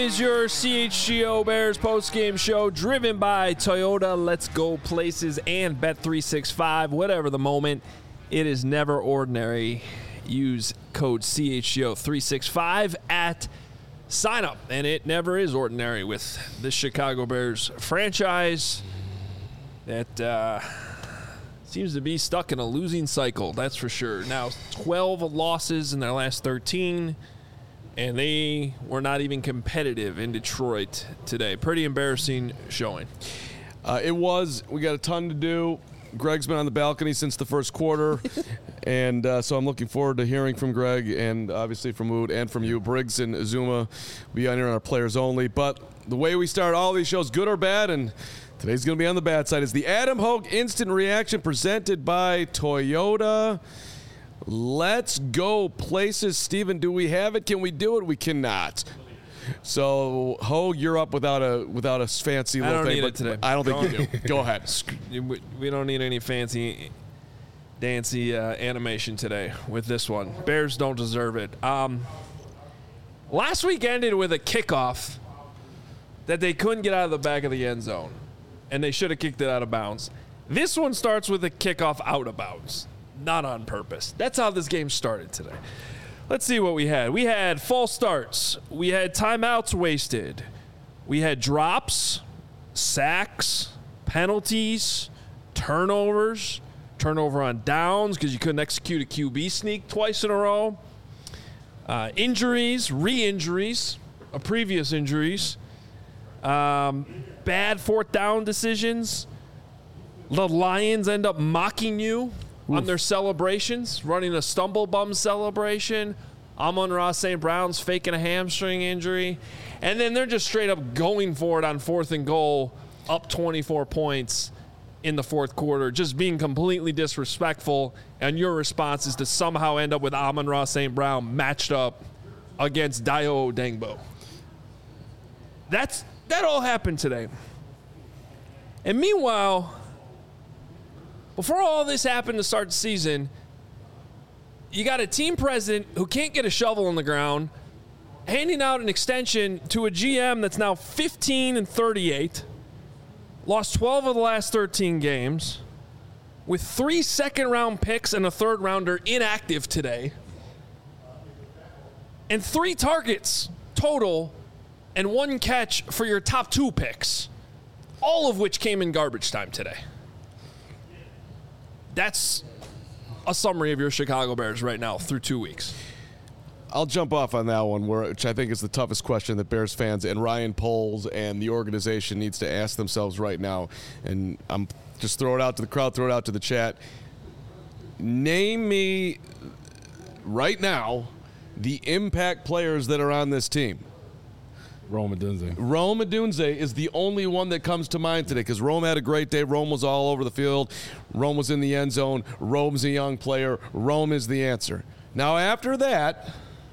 is your CHGO Bears postgame show driven by Toyota. Let's go places and Bet365. Whatever the moment, it is never ordinary. Use code CHGO365 at sign up, and it never is ordinary with the Chicago Bears franchise that seems to be stuck in a losing cycle, that's for sure. Now 12 losses in their last 13, and they were not even competitive in Detroit today. Pretty embarrassing showing. It was. We got a ton to do. Greg's been on the balcony since the first quarter, and so I'm looking forward to hearing from Greg and obviously from Wood and from you. Briggs and Azuma will be on here on our players only. But the way we start all these shows, good or bad, and today's going to be on the bad side, is the Adam Hogue Instant Reaction presented by Toyota. Let's go places. Steven, do we have it? Can we do it? We cannot. So, Hogue, you're up without a fancy little thing. I don't need it today. I don't think you do. Go ahead. We don't need any fancy, dancy animation today with this one. Bears don't deserve it. Last week ended with a kickoff that they couldn't get out of the back of the end zone, and they should have kicked it out of bounds. This one starts with a kickoff out of bounds, not on purpose. That's how this game started today. Let's see what we had. We had false starts. We had timeouts wasted. We had drops, sacks, penalties, turnovers, turnover on downs because you couldn't execute a QB sneak twice in a row, injuries, re-injuries, previous injuries, bad fourth down decisions. The Lions end up mocking you on their celebrations, running a stumble bum celebration. Amon-Ra St. Brown's faking a hamstring injury. And then they're just straight up going for it on 4th and goal, up 24 points in the fourth quarter, just being completely disrespectful. And your response is to somehow end up with Amon-Ra St. Brown matched up against Dayo Odeyingbo. That all happened today. And meanwhile, before all this happened to start the season, you got a team president who can't get a shovel in the ground, handing out an extension to a GM that's now 15-38, lost 12 of the last 13 games, with 3 second-round picks and a third-rounder inactive today, and 3 targets total and 1 catch for your top 2 picks, all of which came in garbage time today. That's a summary of your Chicago Bears right now through 2 weeks. I'll jump off on that one, which I think is the toughest question that Bears fans and Ryan Poles and the organization needs to ask themselves right now. And I'm just throw it out to the crowd, throw it out to the chat. Name me right now the impact players that are on this team. Rome Odunze. Rome Odunze is the only one that comes to mind today because Rome had a great day. Rome was all over the field. Rome was in the end zone. Rome's a young player. Rome is the answer. Now, after that,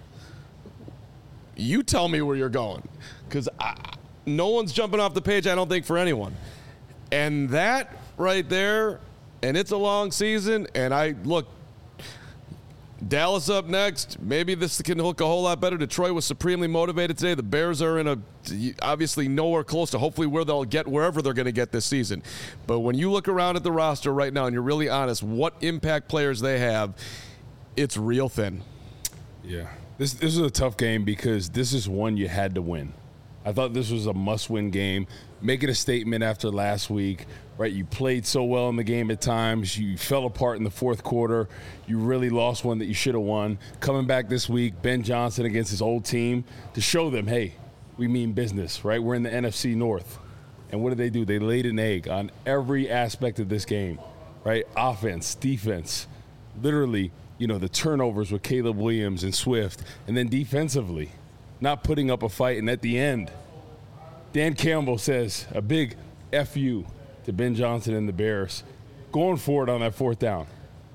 you tell me where you're going because no one's jumping off the page, I don't think, for anyone. And that right there, and it's a long season, and look, Dallas up next. Maybe this can look a whole lot better. Detroit was supremely motivated today. The Bears are obviously nowhere close to hopefully where they'll get wherever they're going to get this season. But when you look around at the roster right now and you're really honest, what impact players they have, it's real thin. Yeah. This is a tough game because this is one you had to win. I thought this was a must-win game. Making a statement after last week, right? You played so well in the game at times. You fell apart in the fourth quarter. You really lost one that you should have won. Coming back this week, Ben Johnson against his old team to show them, hey, we mean business, right? We're in the NFC North. And what did? They laid an egg on every aspect of this game, right? Offense, defense, literally, the turnovers with Caleb Williams and Swift, and then defensively, not putting up a fight. And at the end, Dan Campbell says a big F you to Ben Johnson and the Bears, going for it on that fourth down.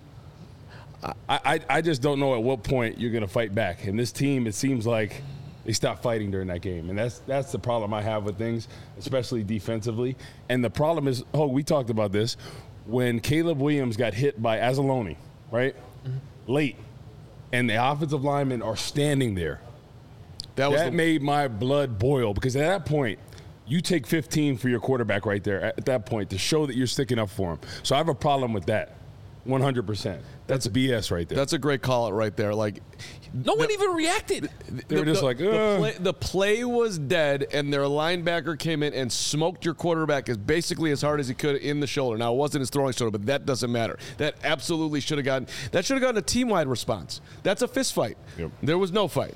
I just don't know at what point you're going to fight back. And this team, it seems like they stopped fighting during that game. And that's the problem I have with things, especially defensively. And the problem is, we talked about this, when Caleb Williams got hit by Anzalone, right, late, and the offensive linemen are standing there. That made my blood boil because at that point, you take 15 for your quarterback right there at that point to show that you're sticking up for him. So I have a problem with that, 100%. That's BS right there. That's a great call it right there. Like, no one even reacted. They were just like, the play was dead, and their linebacker came in and smoked your quarterback basically as hard as he could in the shoulder. Now, it wasn't his throwing shoulder, but that doesn't matter. That absolutely should have gotten a team-wide response. That's a fist fight. Yep. There was no fight.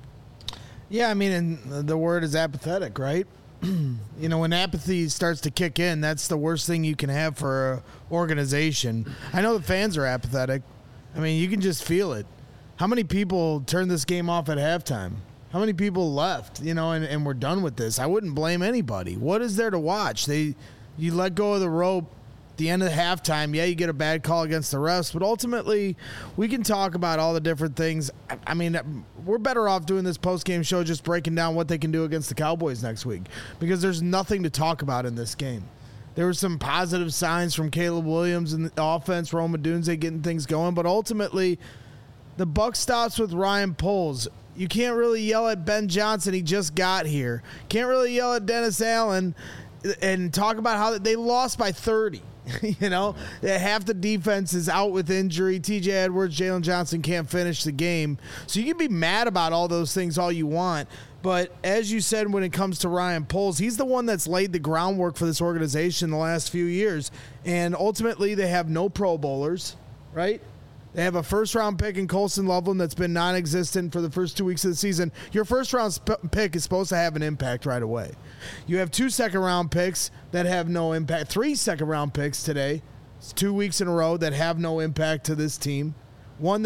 Yeah, I mean, and the word is apathetic, right? You know, when apathy starts to kick in, that's the worst thing you can have for an organization. I know the fans are apathetic. I mean, you can just feel it. How many people turned this game off at halftime? How many people left, you know, and we're done with this? I wouldn't blame anybody. What is there to watch? You let go of the rope at the end of halftime. Yeah, you get a bad call against the refs, but ultimately we can talk about all the different things. I mean, we're better off doing this post-game show just breaking down what they can do against the Cowboys next week because there's nothing to talk about in this game. There were some positive signs from Caleb Williams and the offense, Rome Odunze getting things going, but ultimately the buck stops with Ryan Poles. You can't really yell at Ben Johnson. He just got here. Can't really yell at Dennis Allen and talk about how they lost by 30. You know, half the defense is out with injury. TJ Edwards, Jalen Johnson can't finish the game. So you can be mad about all those things all you want. But as you said, when it comes to Ryan Poles, he's the one that's laid the groundwork for this organization the last few years. And ultimately, they have no Pro Bowlers, right? They have a first-round pick in Colson Loveland that's been non-existent for the first 2 weeks of the season. Your first-round pick is supposed to have an impact right away. You have 2 second-round picks that have no impact. 3 second-round picks today. It's 2 weeks in a row that have no impact to this team. 2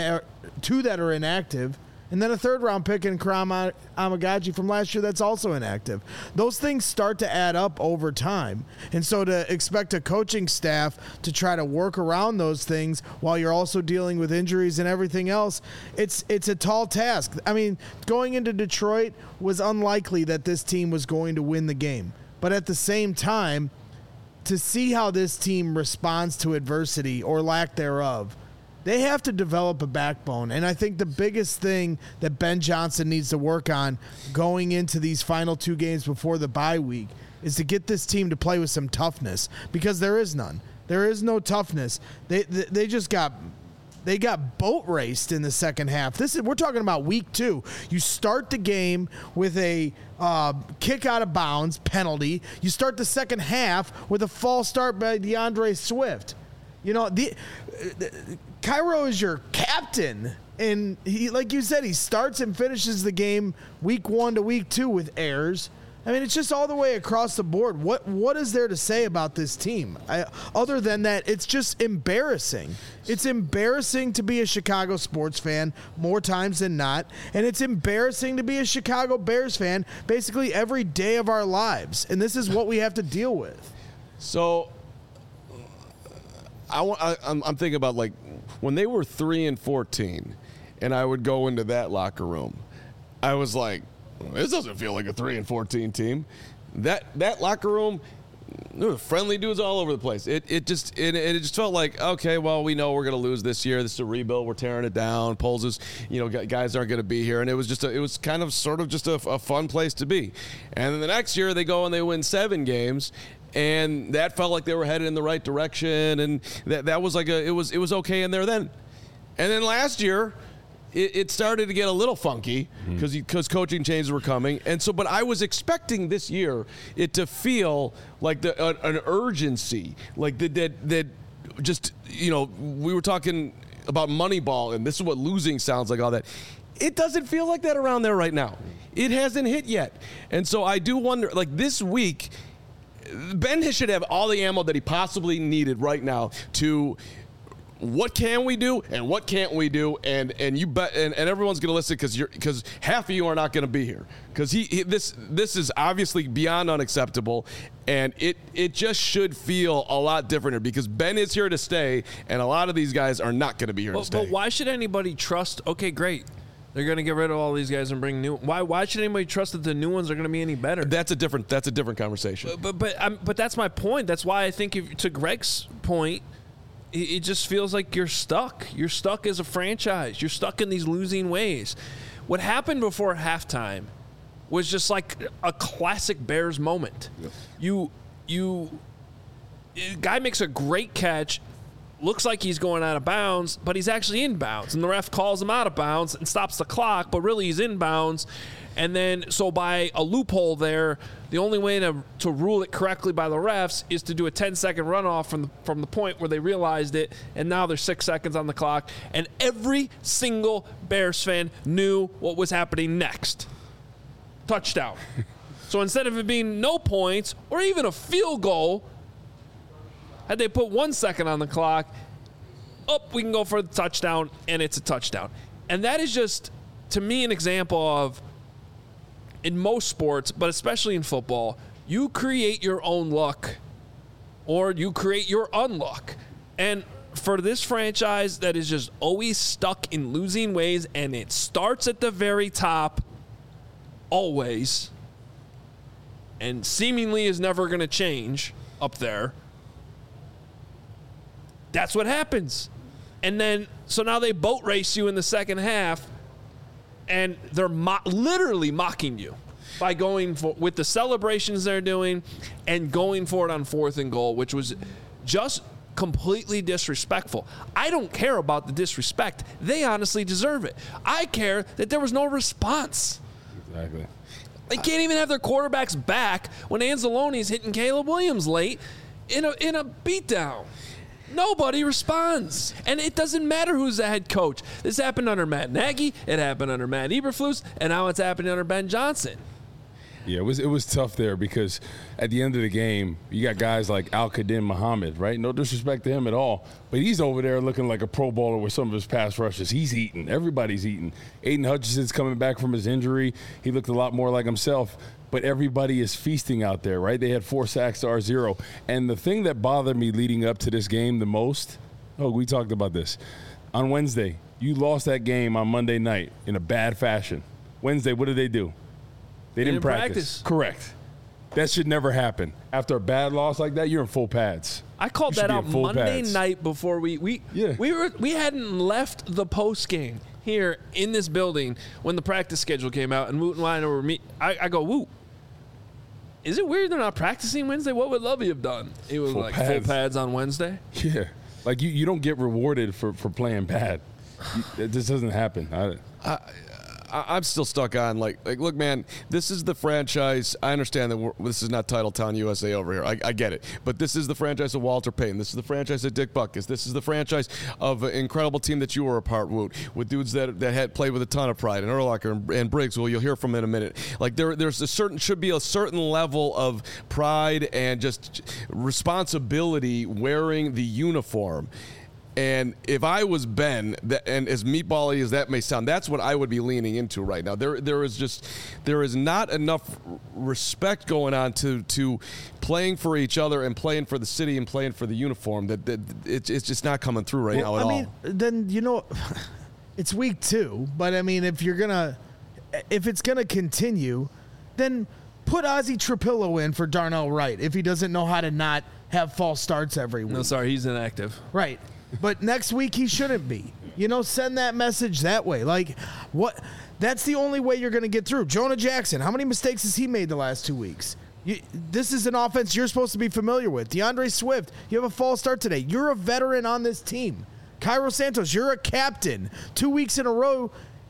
that are inactive. And then a 3rd-round pick in Karam Amagaji from last year that's also inactive. Those things start to add up over time. And so to expect a coaching staff to try to work around those things while you're also dealing with injuries and everything else, it's a tall task. I mean, going into Detroit was unlikely that this team was going to win the game. But at the same time, to see how this team responds to adversity or lack thereof, they have to develop a backbone. And I think the biggest thing that Ben Johnson needs to work on going into these final 2 games before the bye week is to get this team to play with some toughness because there is none. There is no toughness. They just got boat raced in the second half. We're talking about week 2. You start the game with a kick out of bounds penalty. You start the second half with a false start by DeAndre Swift. You know, Cairo is your captain, and he, like you said, he starts and finishes the game week 1 to week 2 with errors. I mean, it's just all the way across the board. What is there to say about this team? Other than that, it's just embarrassing. It's embarrassing to be a Chicago sports fan more times than not, and it's embarrassing to be a Chicago Bears fan basically every day of our lives, and this is what we have to deal with. So I'm thinking about, like, when they were 3-14, and I would go into that locker room, I was like, this doesn't feel like a 3-14 team. That locker room, there were friendly dudes all over the place. It just felt like, okay, well, we know we're going to lose this year. This is a rebuild. We're tearing it down. Poles is, guys aren't going to be here. And it was kind of sort of just a fun place to be. And then the next year they go and they win 7 games. And that felt like they were headed in the right direction, and that was like it was okay in there then. And then last year, it started to get a little funky because coaching changes were coming, and so. But I was expecting this year it to feel like an urgency, like that just we were talking about Moneyball, and this is what losing sounds like. All that, it doesn't feel like that around there right now. It hasn't hit yet, and so I do wonder, like this week. Ben should have all the ammo that he possibly needed right now to what can we do and what can't we do, and you bet, and everyone's going to listen because half of you are not going to be here because this is obviously beyond unacceptable, and it just should feel a lot different here because Ben is here to stay, and a lot of these guys are not going to be here to stay. But why should anybody trust? Okay, great. They're going to get rid of all these guys and bring new. Why should anybody trust that the new ones are going to be any better? That's a different conversation. But that's my point. That's why I think to Greg's point, it just feels like you're stuck. You're stuck as a franchise. You're stuck in these losing ways. What happened before halftime was just like a classic Bears moment. Guy makes a great catch, looks like he's going out of bounds, but he's actually in bounds. And the ref calls him out of bounds and stops the clock, but really he's in bounds. And then, so by a loophole there, the only way to rule it correctly by the refs is to do a 10-second runoff from the point where they realized it, and now there's 6 seconds on the clock. And every single Bears fan knew what was happening next. Touchdown. So instead of it being no points or even a field goal, had they put 1 second on the clock, we can go for the touchdown, and it's a touchdown. And that is just, to me, an example of, in most sports, but especially in football, you create your own luck or you create your unluck. And for this franchise that is just always stuck in losing ways, and it starts at the very top, always, and seemingly is never going to change up there, that's what happens. And then, so now they boat race you in the second half, and they're literally mocking you by going for, with the celebrations they're doing and going for it on 4th and goal, which was just completely disrespectful. I don't care about the disrespect. They honestly deserve it. I care that there was no response. Exactly. They can't even have their quarterbacks back when Anzalone's hitting Caleb Williams late in a beatdown. Nobody responds. And it doesn't matter who's the head coach. This happened under Matt Nagy. It happened under Matt Eberflus. And now it's happening under Ben Johnson. Yeah, it was tough there because at the end of the game, you got guys like Al-Qadim Muhammad, right? No disrespect to him at all. But he's over there looking like a Pro Bowler with some of his pass rushes. He's eating. Everybody's eating. Aiden Hutchinson's coming back from his injury. He looked a lot more like himself. But everybody is feasting out there, right? They had 4 sacks to our 0. And the thing that bothered me leading up to this game the most, we talked about this. On Wednesday, you lost that game on Monday night in a bad fashion. Wednesday, what did they do? They didn't practice. Correct. That should never happen. After a bad loss like that, you're in full pads. I called that out Monday night before we hadn't left the post game here in this building when the practice schedule came out, and Woot and I were meeting. I go, Woot, is it weird they're not practicing Wednesday? What would Lovey have done? It was full pads on Wednesday. Yeah, like you don't get rewarded for playing bad. It just doesn't happen. I'm still stuck on like look, man, this is the franchise. I understand that this is not Titletown USA over here. I get it, but this is the franchise of Walter Payton. This is the franchise of Dick Butkus. This is the franchise of an incredible team that you were a part of, with dudes that had played with a ton of pride, and Urlacher and Briggs, who you'll hear from in a minute. Like there's should be a certain level of pride and just responsibility wearing the uniform. And if I was Ben, and as meatball-y as that may sound, that's what I would be leaning into right now. There is not enough respect going on to playing for each other and playing for the city and playing for the uniform. That it's just not coming through right now at all. I mean, then it's week 2, but I mean, if it's gonna continue, then put Ozzie Trapillo in for Darnell Wright if he doesn't know how to not have false starts every week. No, sorry, he's inactive. Right. But next week he shouldn't be. Send that message that way. Like, what? That's the only way you're going to get through. Jonah Jackson, how many mistakes has he made the last 2 weeks? This is an offense you're supposed to be familiar with. DeAndre Swift, you have a false start today. You're a veteran on this team. Cairo Santos, you're a captain. 2 weeks in a row,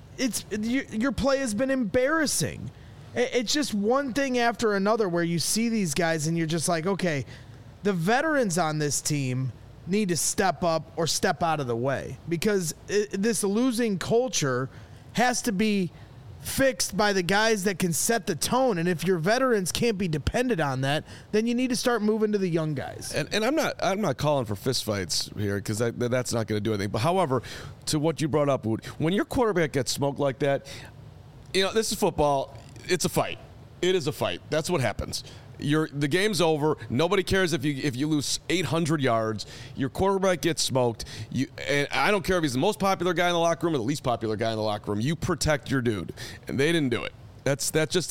your play has been embarrassing. It's just one thing after another where you see these guys and you're just like, okay, the veterans on this team need to step up or step out of the way, because this losing culture has to be fixed by the guys that can set the tone. And if your veterans can't be dependent on that, then you need to start moving to the young guys. And I'm not calling for fistfights here, because that's not going to do anything. But however, to what you brought up, Wood, when your quarterback gets smoked like that, this is football. It's a fight. It is a fight. That's what happens. The game's over. Nobody cares if you lose 800 yards. Your quarterback gets smoked. And I don't care if he's the most popular guy in the locker room or the least popular guy in the locker room. You protect your dude, and they didn't do it. It's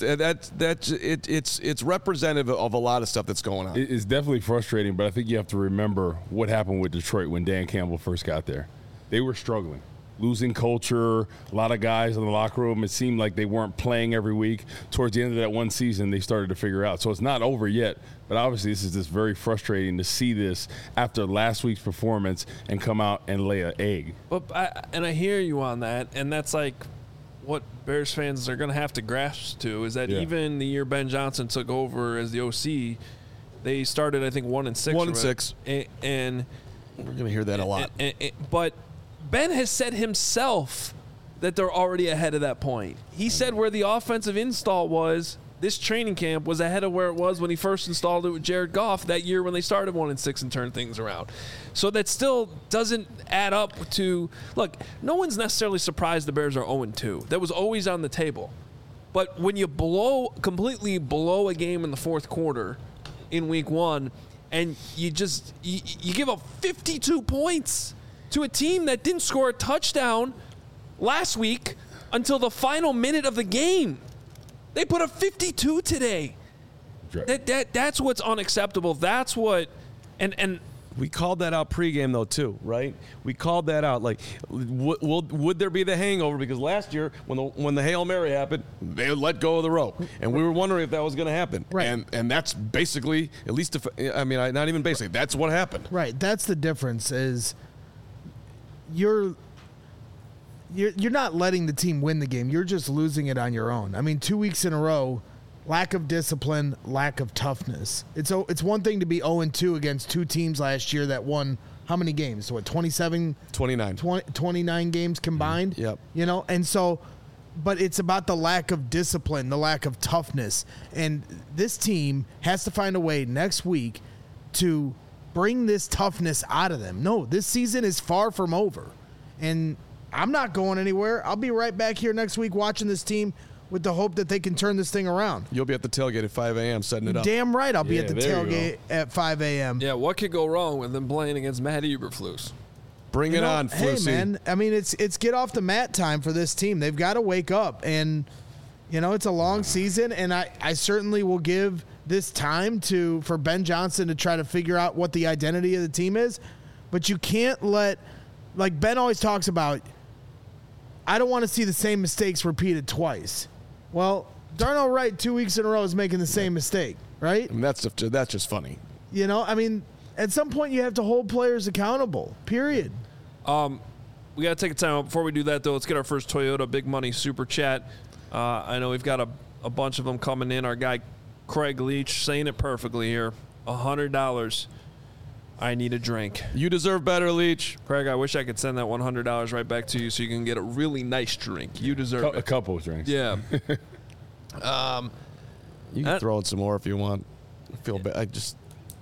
representative of a lot of stuff that's going on. It's definitely frustrating, but I think you have to remember what happened with Detroit when Dan Campbell first got there. They were struggling. losing culture, a lot of guys in the locker room, it seemed like they weren't playing every week. Towards the end of that one season, they started to figure out. So it's not over yet, but obviously this is just very frustrating to see this after last week's performance and come out and lay an egg. But I hear you on that, and that's like what Bears fans are going to have to grasp to is that even the year Ben Johnson took over as the OC, they started, I think, 1-6. 1-6. And we're going to hear that a lot. But Ben has said himself that they're already ahead of that point. He said where the offensive install was, this training camp was ahead of where it was when he first installed it with Jared Goff that year when they started 1-6 and turned things around. So that still doesn't add up to – look, no one's necessarily surprised the Bears are 0-2. That was always on the table. But when you completely blow a game in the fourth quarter in week one and you give up 52 points to a team that didn't score a touchdown last week until the final minute of the game. They put up 52 today. That's what's unacceptable. That's what and we called that out pregame though too, right? We called that out. Like, would there be the hangover? Because last year when the Hail Mary happened, they let go of the rope, and we were wondering if that was going to happen. Right. And that's basically, at least not even basically, that's what happened. Right. That's the difference. Is you're not letting the team win the game. You're just losing it on your own. I mean, 2 weeks in a row, lack of discipline, lack of toughness. It's one thing to be 0-2 against two teams last year that won how many games? What, 27? 29. 29 games combined? Yep. You know, and so, but it's about the lack of discipline, the lack of toughness. And this team has to find a way next week to bring this toughness out of them. No, this season is far from over. And I'm not going anywhere. I'll be right back here next week watching this team with the hope that they can turn this thing around. You'll be at the tailgate at 5 a.m. setting it up. Damn right I'll be at the tailgate at 5 a.m. Yeah, what could go wrong with them playing against Matt Eberflus? Bring it on, Flusy. Hey, man, I mean, it's get off the mat time for this team. They've got to wake up. And, you know, it's a long season, and I certainly will give this time for Ben Johnson to try to figure out what the identity of the team is. But you can't let, like Ben always talks about, I don't want to see the same mistakes repeated twice. Well, Darnell Wright 2 weeks in a row is making the same mistake, right? I mean, that's just funny. You know, I mean, at some point you have to hold players accountable, period. We got to take a time out. Before we do that, though, let's get our first Toyota Big Money Super Chat. I know we've got a bunch of them coming in. Our guy Craig Leach saying it perfectly here. $100. I need a drink. You deserve better, Leach. Craig, I wish I could send that $100 right back to you so you can get a really nice drink. You deserve it. A couple of drinks. Yeah. You can throw in some more if you want. I feel bad. I just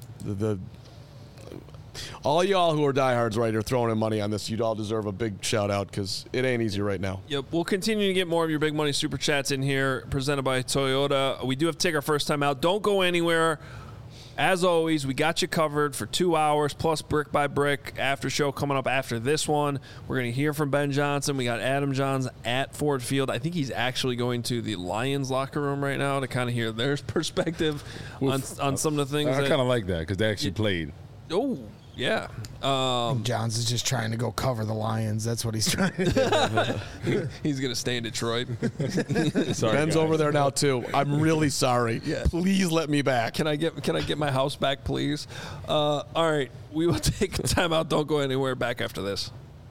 all y'all who are diehards right here throwing in money on this, you'd all deserve a big shout out because it ain't easy right now. Yep, we'll continue to get more of your Big Money Super Chats in here, presented by Toyota. We do have to take our first time out. Don't go anywhere. As always, we got you covered for 2 hours, plus Brick by Brick after show coming up after this one. We're going to hear from Ben Johnson. We got Adam Johns at Ford Field. I think he's actually going to the Lions locker room right now to kind of hear their perspective on some of the things. I kind of like that because they actually played. Oh, yeah. Johns is just trying to go cover the Lions. That's what he's trying to do. He's going to stay in Detroit. Sorry, Ben's guys. over there now too. I'm really sorry. Yeah. Please let me back. Can I get my house back, please? All right. We will take a timeout. Don't go anywhere. Back after this.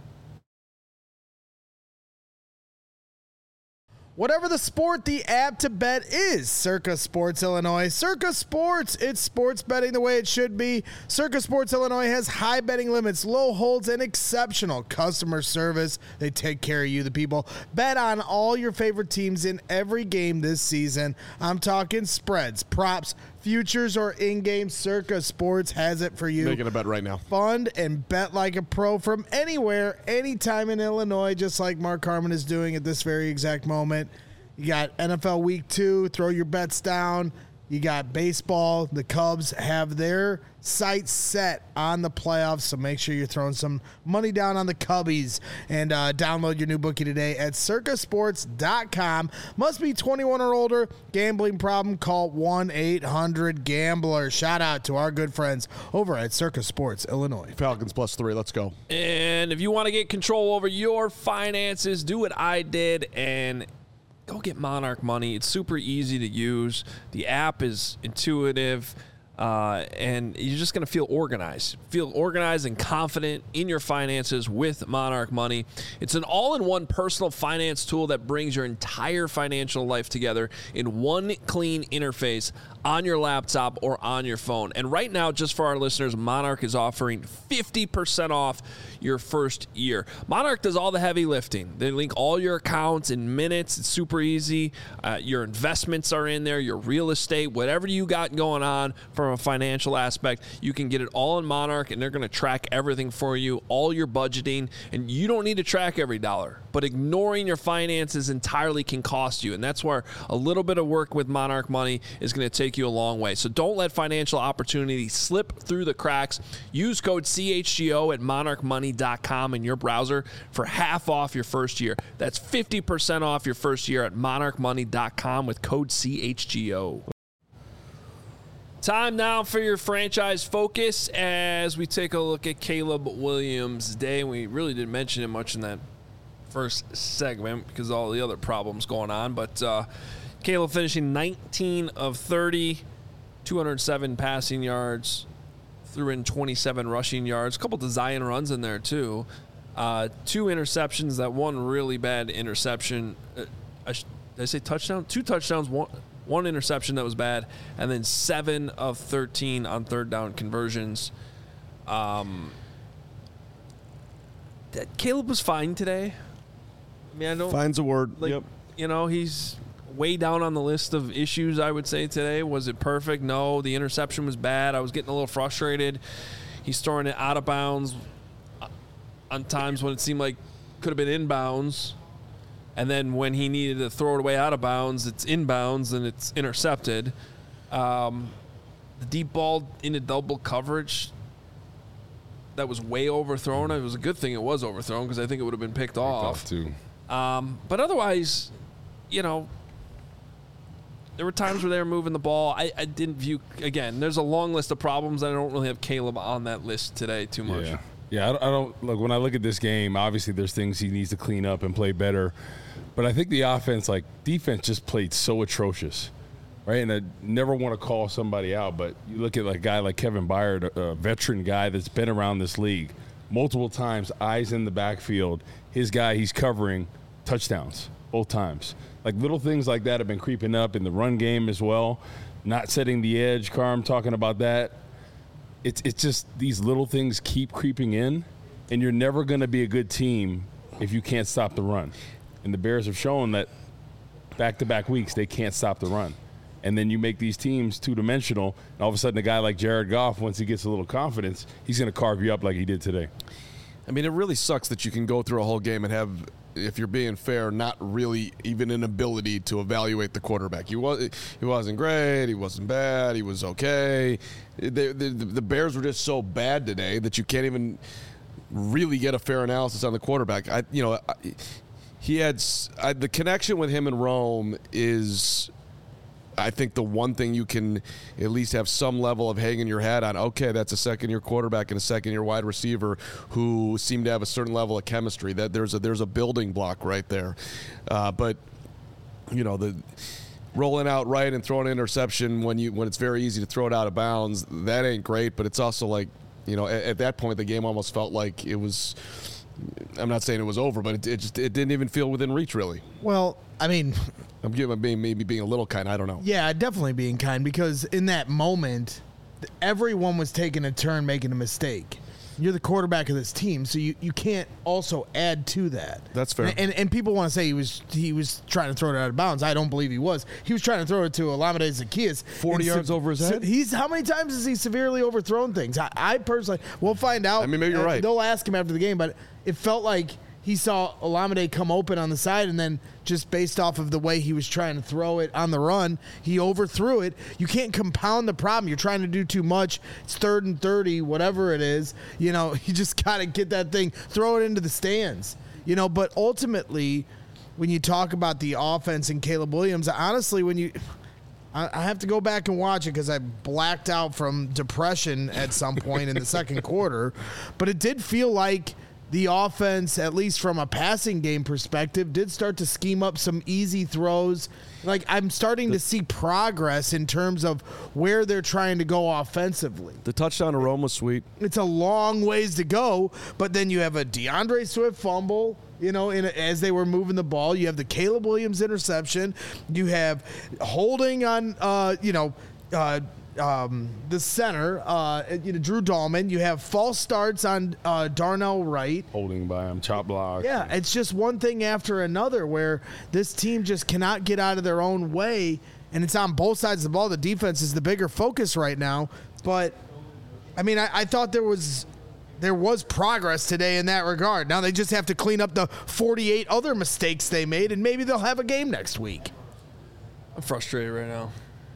Whatever the sport, the app to bet is Circa Sports Illinois. Circa Sports, it's sports betting the way it should be. Circa Sports Illinois has high betting limits, low holds, and exceptional customer service. They take care of you, the people. Bet on all your favorite teams in every game this season. I'm talking spreads, props, futures, or in-game. Circa Sports has it for you. Making a bet right now. Fund and bet like a pro from anywhere, anytime in Illinois, just like Mark Harmon is doing at this very exact moment. You got NFL Week 2, throw your bets down, You got baseball. The Cubs have their sights set on the playoffs, so make sure you're throwing some money down on the Cubbies. And download your new bookie today at circasports.com. Must be 21 or older. Gambling problem? Call 1-800-GAMBLER. Shout out to our good friends over at Circa Sports, Illinois. Falcons +3. Let's go. And if you want to get control over your finances, do what I did and go get Monarch Money. It's super easy to use. The app is intuitive, and you're just going to feel organized. Feel organized and confident in your finances with Monarch Money. It's an all-in-one personal finance tool that brings your entire financial life together in one clean interface on your laptop or on your phone. And right now, just for our listeners, Monarch is offering 50% off your first year. Monarch does all the heavy lifting. They link all your accounts in minutes. It's super easy. Your investments are in there, your real estate, whatever you got going on from a financial aspect, you can get it all in Monarch, and they're going to track everything for you, all your budgeting, and you don't need to track every dollar. But ignoring your finances entirely can cost you, and that's where a little bit of work with Monarch Money is going to take you a long way. So don't let financial opportunity slip through the cracks. Use code CHGO at monarchmoney.com in your browser for half off your first year. That's 50% off your first year at monarchmoney.com with code CHGO. Time now for your franchise focus as we take a look at Caleb Williams' day. We really didn't mention him much in that first segment because of all the other problems going on. But Caleb finishing 19 of 30, 207 passing yards, threw in 27 rushing yards, a couple design runs in there too. 2 interceptions, that one really bad interception. Did I say touchdown? 2 touchdowns, one interception that was bad, and then 7 of 13 on third down conversions. Caleb was fine today. I mean, I don't. Fine's a word. Yep. You know, he's way down on the list of issues, I would say, today. Was it perfect? No. The interception was bad. I was getting a little frustrated. He's throwing it out of bounds on times when it seemed like could have been inbounds. And then when he needed to throw it away out of bounds, it's inbounds and it's intercepted. The deep ball into double coverage, that was way overthrown. It was a good thing it was overthrown because I think it would have been picked off. Too. But otherwise, you know, there were times where they were moving the ball. I didn't view, again, there's a long list of problems. I don't really have Caleb on that list today too much. Yeah, I don't look, when I look at this game, obviously there's things he needs to clean up and play better. But I think the defense just played so atrocious, right? And I never want to call somebody out, but you look at a guy like Kevin Byard, a veteran guy that's been around this league multiple times, eyes in the backfield. His guy he's covering, touchdowns both times. Like little things like that have been creeping up in the run game as well. Not setting the edge, Carm talking about that. It's just these little things keep creeping in, and you're never going to be a good team if you can't stop the run. And the Bears have shown that back-to-back weeks they can't stop the run. And then you make these teams two-dimensional, and all of a sudden a guy like Jared Goff, once he gets a little confidence, he's going to carve you up like he did today. I mean, it really sucks that you can go through a whole game and have, if you're being fair, not really even an ability to evaluate the quarterback. He wasn't great. He wasn't bad. He was okay. The Bears were just so bad today that you can't even really get a fair analysis on the quarterback. He had the connection with him and Rome is, I think, the one thing you can at least have some level of hanging your hat on. Okay, that's a second-year quarterback and a second-year wide receiver who seem to have a certain level of chemistry. That there's a building block right there. But the rolling out right and throwing an interception when it's very easy to throw it out of bounds, that ain't great. But it's also like, at that point the game almost felt like it was. I'm not saying it was over, but it didn't even feel within reach, really. Well, I mean, I'm maybe being a little kind. I don't know. Yeah, definitely being kind, because in that moment, everyone was taking a turn making a mistake. You're the quarterback of this team, so you can't also add to that. That's fair. And people want to say he was trying to throw it out of bounds. I don't believe he was. He was trying to throw it to Olamide Zaccheaus. 40 yards over his head? How many times has he severely overthrown things? I personally, we'll find out. I mean, maybe you're right. They'll ask him after the game, but it felt like he saw Olamide come open on the side, and then just based off of the way he was trying to throw it on the run, he overthrew it. You can't compound the problem. You're trying to do too much. It's 3rd and 30, whatever it is. You just got to get that thing, throw it into the stands. But ultimately, when you talk about the offense and Caleb Williams, honestly, I have to go back and watch it because I blacked out from depression at some point in the second quarter, but it did feel like the offense, at least from a passing game perspective, did start to scheme up some easy throws. Like, I'm starting to see progress in terms of where they're trying to go offensively. The touchdown to Rome was sweet. It's a long ways to go, but then you have a DeAndre Swift fumble, as they were moving the ball. You have the Caleb Williams interception. You have holding on, the center, Drew Dahlman. You have false starts on Darnell Wright. Holding by him, chop block. Yeah, it's just one thing after another where this team just cannot get out of their own way, and it's on both sides of the ball. The defense is the bigger focus right now. But, I thought there was progress today in that regard. Now they just have to clean up the 48 other mistakes they made, and maybe they'll have a game next week. I'm frustrated right now.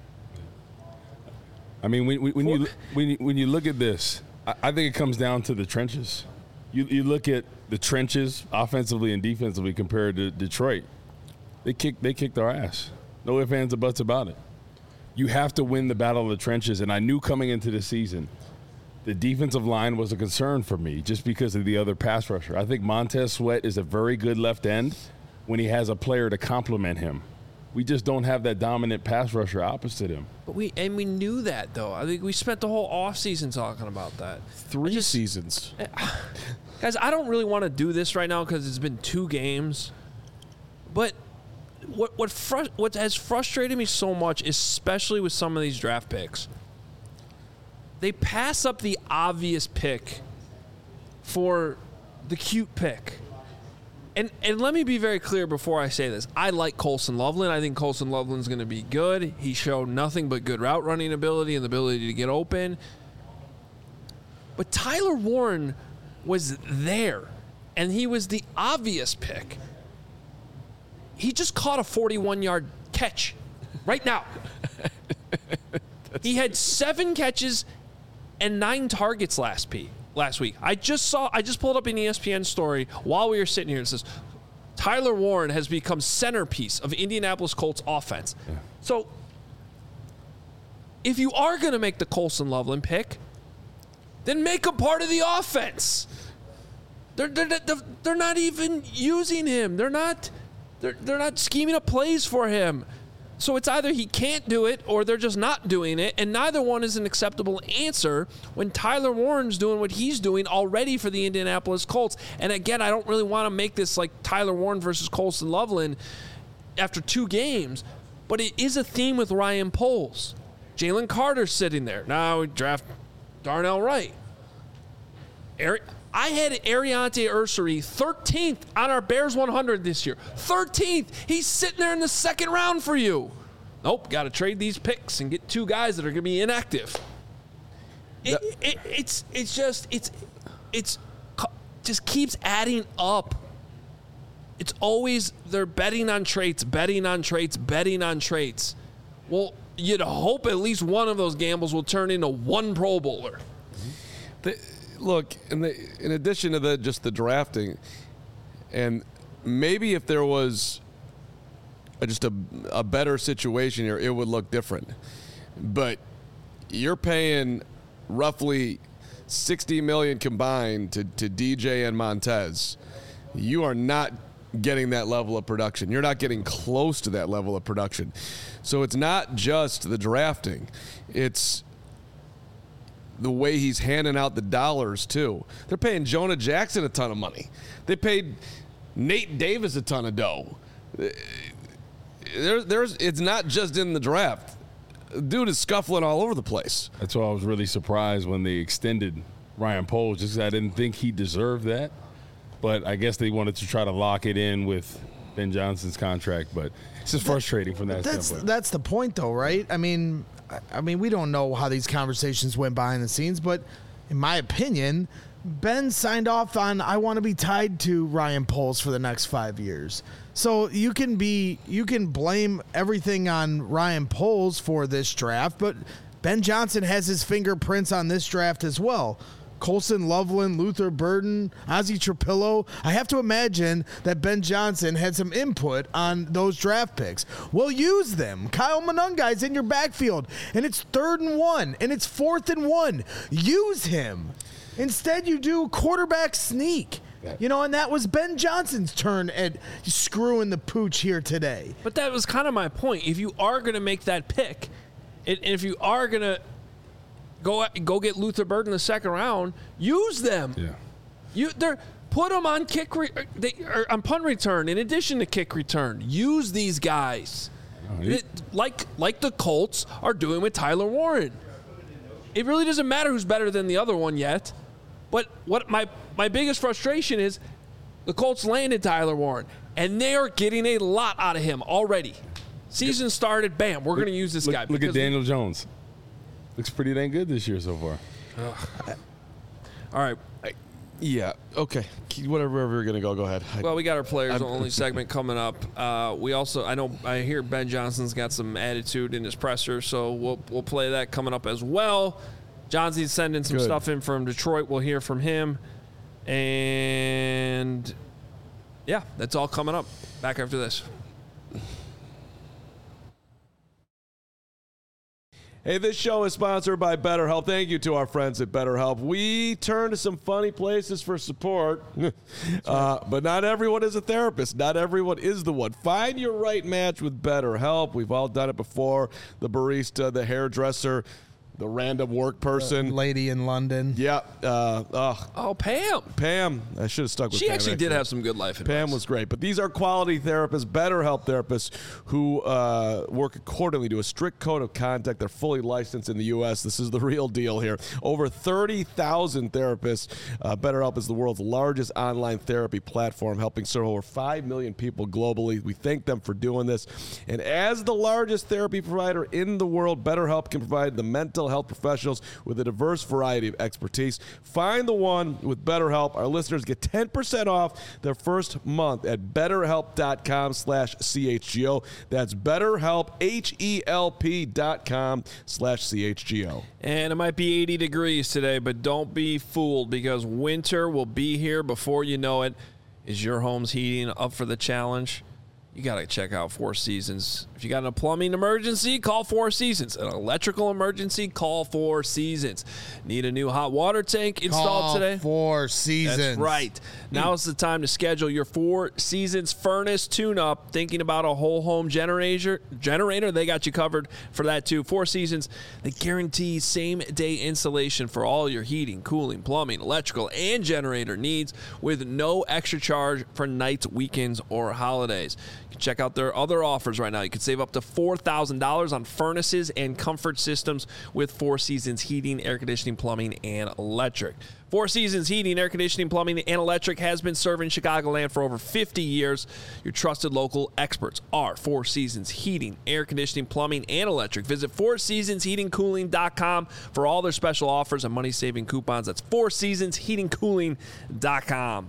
When you look at this, I think it comes down to the trenches. You look at the trenches offensively and defensively compared to Detroit. They kicked our ass. No ifs, ands, or buts about it. You have to win the battle of the trenches, and I knew coming into the season the defensive line was a concern for me just because of the other pass rusher. I think Montez Sweat is a very good left end when he has a player to complement him. We just don't have that dominant pass rusher opposite him. But we knew that, though. I think we spent the whole offseason talking about that. 3 seasons. Guys, I don't really want to do this right now because it's been 2 games. But what has frustrated me so much, especially with some of these draft picks, they pass up the obvious pick for the cute pick. And let me be very clear before I say this. I like Colson Loveland. I think Colson Loveland's going to be good. He showed nothing but good route running ability and the ability to get open. But Tyler Warren was there, and he was the obvious pick. He just caught a 41-yard catch right now. He had 7 catches and 9 targets last week. I just pulled up an ESPN story while we were sitting here. It says Tyler Warren has become centerpiece of Indianapolis Colts offense. Yeah. So if you are going to make the Colson Loveland pick, then make him part of the offense. They're not even using him. They're not scheming up plays for him. So it's either he can't do it or they're just not doing it, and neither one is an acceptable answer when Tyler Warren's doing what he's doing already for the Indianapolis Colts. And again, I don't really want to make this like Tyler Warren versus Colson Loveland after 2 games, but it is a theme with Ryan Poles. Jalen Carter's sitting there. Now we draft Darnell Wright. I had Ariante Ursary 13th on our Bears 100 this year. 13th. He's sitting there in the 2nd round for you. Nope, got to trade these picks and get 2 guys that are going to be inactive. It just keeps adding up. It's always they're betting on traits. Well, you'd hope at least one of those gambles will turn into 1 Pro Bowler. Look, in addition to just the drafting, and maybe if there was just a better situation here, it would look different. But you're paying roughly $60 million combined to DJ and Montez. You are not getting that level of production. You're not getting close to that level of production. So it's not just the drafting. It's the way he's handing out the dollars, too. They're paying Jonah Jackson a ton of money. They paid Nate Davis a ton of dough. It's not just in the draft. Dude is scuffling all over the place. That's why I was really surprised when they extended Ryan Poles, just because I didn't think he deserved that. But I guess they wanted to try to lock it in with Ben Johnson's contract. But it's just frustrating from that standpoint. That's the point, though, right? I mean, we don't know how these conversations went behind the scenes, but in my opinion, Ben signed off on, I want to be tied to Ryan Poles for the next 5 years. So you can blame everything on Ryan Poles for this draft, but Ben Johnson has his fingerprints on this draft as well. Colson Loveland, Luther Burden, Ozzie Trapillo. I have to imagine that Ben Johnson had some input on those draft picks. Well, use them. Kyle Monungai's in your backfield, and it's 3rd and 1, and it's 4th and 1. Use him. Instead, you do quarterback sneak. And that was Ben Johnson's turn at screwing the pooch here today. But that was kind of my point. If you are going to make that pick, and if you are going to go get Luther Burden in the 2nd round, use them. Yeah. Put them on on punt return in addition to kick return. Use these guys. Like the Colts are doing with Tyler Warren. It really doesn't matter who's better than the other one yet. But what my biggest frustration is, the Colts landed Tyler Warren, and they are getting a lot out of him already. Season started, bam, we're going to use this guy. Look at Daniel Jones. Looks pretty dang good this year so far. All right. Yeah. Okay. Wherever you're going to go ahead. Well, we got our players only segment coming up. We also, I hear Ben Johnson's got some attitude in his presser, so we'll play that coming up as well. Johnsy's sending some stuff in from Detroit. We'll hear from him. And, yeah, that's all coming up. Back after this. Hey, this show is sponsored by BetterHelp. Thank you to our friends at BetterHelp. We turn to some funny places for support, but not everyone is a therapist. Not everyone is the one. Find your right match with BetterHelp. We've all done it before. The barista, the hairdresser, the random work person. Lady in London. Yeah. Pam. Pam. I should have stuck with Pam. She actually did have some good life advice. Pam was great. But these are quality therapists, BetterHelp therapists, who work accordingly to a strict code of conduct. They're fully licensed in the U.S. This is the real deal here. Over 30,000 therapists. BetterHelp is the world's largest online therapy platform, helping serve over 5 million people globally. We thank them for doing this. And as the largest therapy provider in the world, BetterHelp can provide the mental health professionals with a diverse variety of expertise. Find the one with BetterHelp. Our listeners get 10% off their first month at BetterHelp.com/CHGO. That's BetterHelp, HELP.com/CHGO. And it might be 80 degrees today, but don't be fooled, because winter will be here before you know it. Is your home's heating up for the challenge? You got to check out Four Seasons. If you got a plumbing emergency, call Four Seasons. An electrical emergency, call Four Seasons. Need a new hot water tank installed today? Call Four Seasons. That's right. Now is the time to schedule your Four Seasons furnace tune-up. Thinking about a whole home generator? They got you covered for that too. Four Seasons, they guarantee same-day installation for all your heating, cooling, plumbing, electrical, and generator needs with no extra charge for nights, weekends, or holidays. Check out their other offers right now. You can save up to $4,000 on furnaces and comfort systems with Four Seasons Heating, Air Conditioning, Plumbing, and Electric. Four Seasons Heating, Air Conditioning, Plumbing, and Electric has been serving Chicagoland for over 50 years. Your trusted local experts are Four Seasons Heating, Air Conditioning, Plumbing, and Electric. Visit FourSeasonsHeatingCooling.com for all their special offers and money-saving coupons. That's FourSeasonsHeatingCooling.com.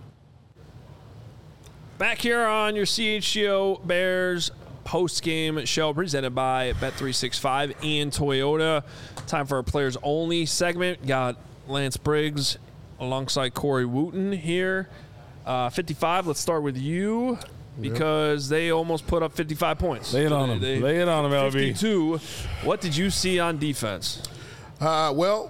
Back here on your CHGO Bears post-game show presented by Bet365 and Toyota. Time for our players only segment. Got Lance Briggs alongside Corey Wooten here. 55, let's start with you because they almost put up 55 points. Lay it on them. Lay it on them, LB. 52. What did you see on defense? I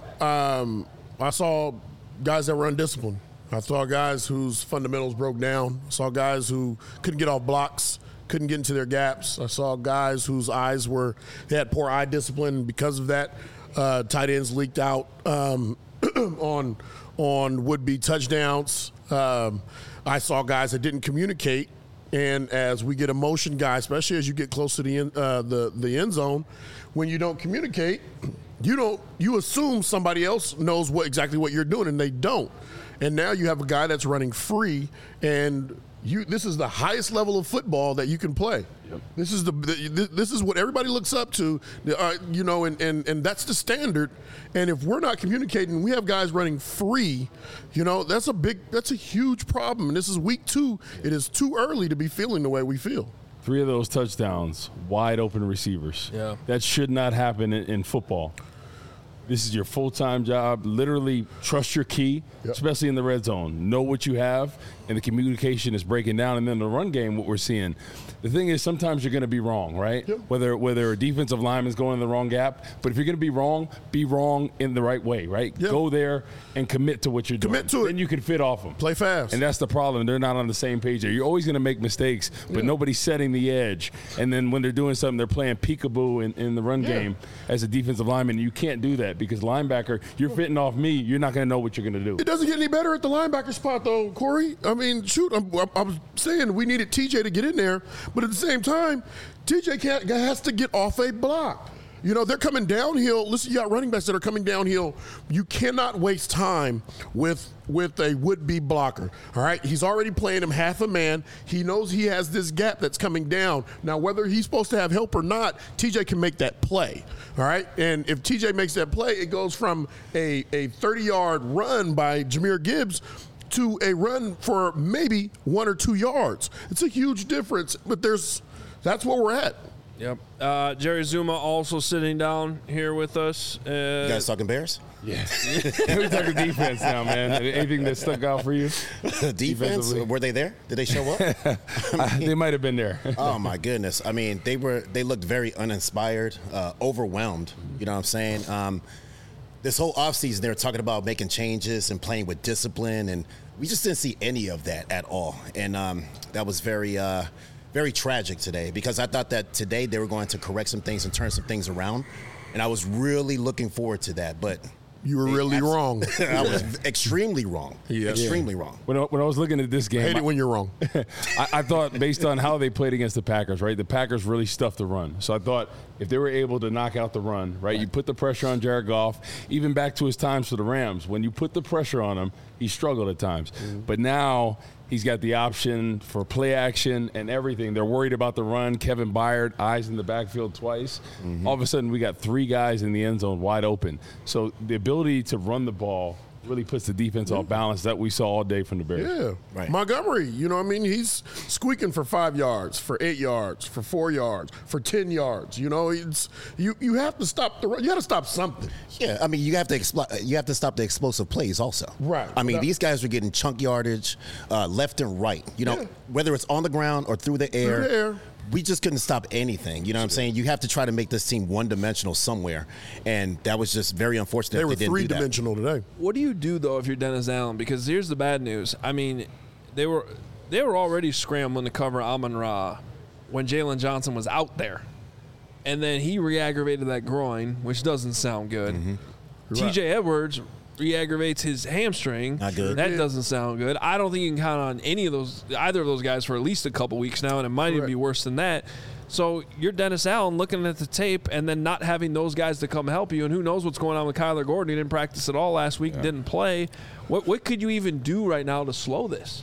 saw guys that were undisciplined. I saw guys whose fundamentals broke down. I saw guys who couldn't get off blocks, couldn't get into their gaps. I saw guys whose eyes they had poor eye discipline. Because of that, tight ends leaked out on would-be touchdowns. I saw guys that didn't communicate. And as we get a motion guy, especially as you get close to the end zone, when you don't communicate, you assume somebody else knows exactly what you're doing, and they don't. And now you have a guy that's running free, and this is the highest level of football that you can play. Yep. This is what everybody looks up to, and that's the standard. And if we're not communicating, we have guys running free. That's a huge problem. And this is week 2. It is too early to be feeling the way we feel. 3 of those touchdowns, wide open receivers. Yeah. That should not happen in football. This is your full-time job. Literally trust your key, especially in the red zone. Know what you have, and the communication is breaking down. And then the run game, what we're seeing. The thing is, sometimes you're going to be wrong, right? Yep. Whether a defensive lineman's going in the wrong gap. But if you're going to be wrong in the right way, right? Yep. Go there and commit to what you're doing. Commit to it. Then you can fit off them. Play fast. And that's the problem. They're not on the same page there. You're always going to make mistakes, but nobody's setting the edge. And then when they're doing something, they're playing peekaboo in the run game as a defensive lineman. You can't do that because linebacker, you're fitting off me. You're not going to know what you're going to do. It doesn't get any better at the linebacker spot, though, Corey. I mean, shoot, I was saying we needed TJ to get in there, but at the same time, TJ has to get off a block. They're coming downhill. Listen, you got running backs that are coming downhill. You cannot waste time with a would-be blocker. All right? He's already playing him half a man. He knows he has this gap that's coming down. Now, whether he's supposed to have help or not, TJ can make that play. All right? And if TJ makes that play, it goes from a 30-yard run by Jahmyr Gibbs to a run for maybe 1 or 2 yards. It's a huge difference, but that's where we're at. Yep. Jerry Zuma also sitting down here with us. You guys talking Bears? Yeah. We're talking defense now, man. Anything that stuck out for you? Defense? Were they there? Did they show up? They might have been there. Oh, my goodness. I mean, they looked very uninspired, overwhelmed. You know what I'm saying? This whole offseason, they were talking about making changes and playing with discipline, and we just didn't see any of that at all. And that was very tragic today because I thought that today they were going to correct some things and turn some things around, and I was really looking forward to that. But you were really wrong. I was extremely wrong. Yeah. Extremely wrong. When I was looking at this game, I hate it when you're wrong. I thought based on how they played against the Packers, right? The Packers really stuffed the run. So I thought if they were able to knock out the run, right? You put the pressure on Jared Goff, even back to his times for the Rams. When you put the pressure on him, he struggled at times. Mm-hmm. But now he's got the option for play action and everything. They're worried about the run. Kevin Byard, eyes in the backfield twice. Mm-hmm. All of a sudden, we got 3 guys in the end zone wide open. So the ability to run the ball really puts the defense off balance that we saw all day from the Bears. Yeah. Right. Montgomery, he's squeaking for 5 yards, for 8 yards, for 4 yards, for 10 yards. It's you have to stop the run. You got to stop something. Yeah, I mean, you have to stop the explosive plays also. Right. I mean, these guys are getting chunk yardage left and right. Whether it's on the ground or through the air. We just couldn't stop anything. You know what I'm saying? You have to try to make this team one-dimensional somewhere, and that was just very unfortunate. They were didn't do that. 3-dimensional today. What do you do, though, if you're Dennis Allen? Because here's the bad news. I mean, they were already scrambling to cover Amon-Ra when Jalen Johnson was out there. And then he re-aggravated that groin, which doesn't sound good. Mm-hmm. TJ Edwards re-aggravates his hamstring. Not good. That doesn't sound good. I don't think you can count on either of those guys for at least a couple weeks now, and it might even be worse than that. So you're Dennis Allen looking at the tape and then not having those guys to come help you, and who knows what's going on with Kyler Gordon. He didn't practice at all last week, didn't play. What could you even do right now to slow this?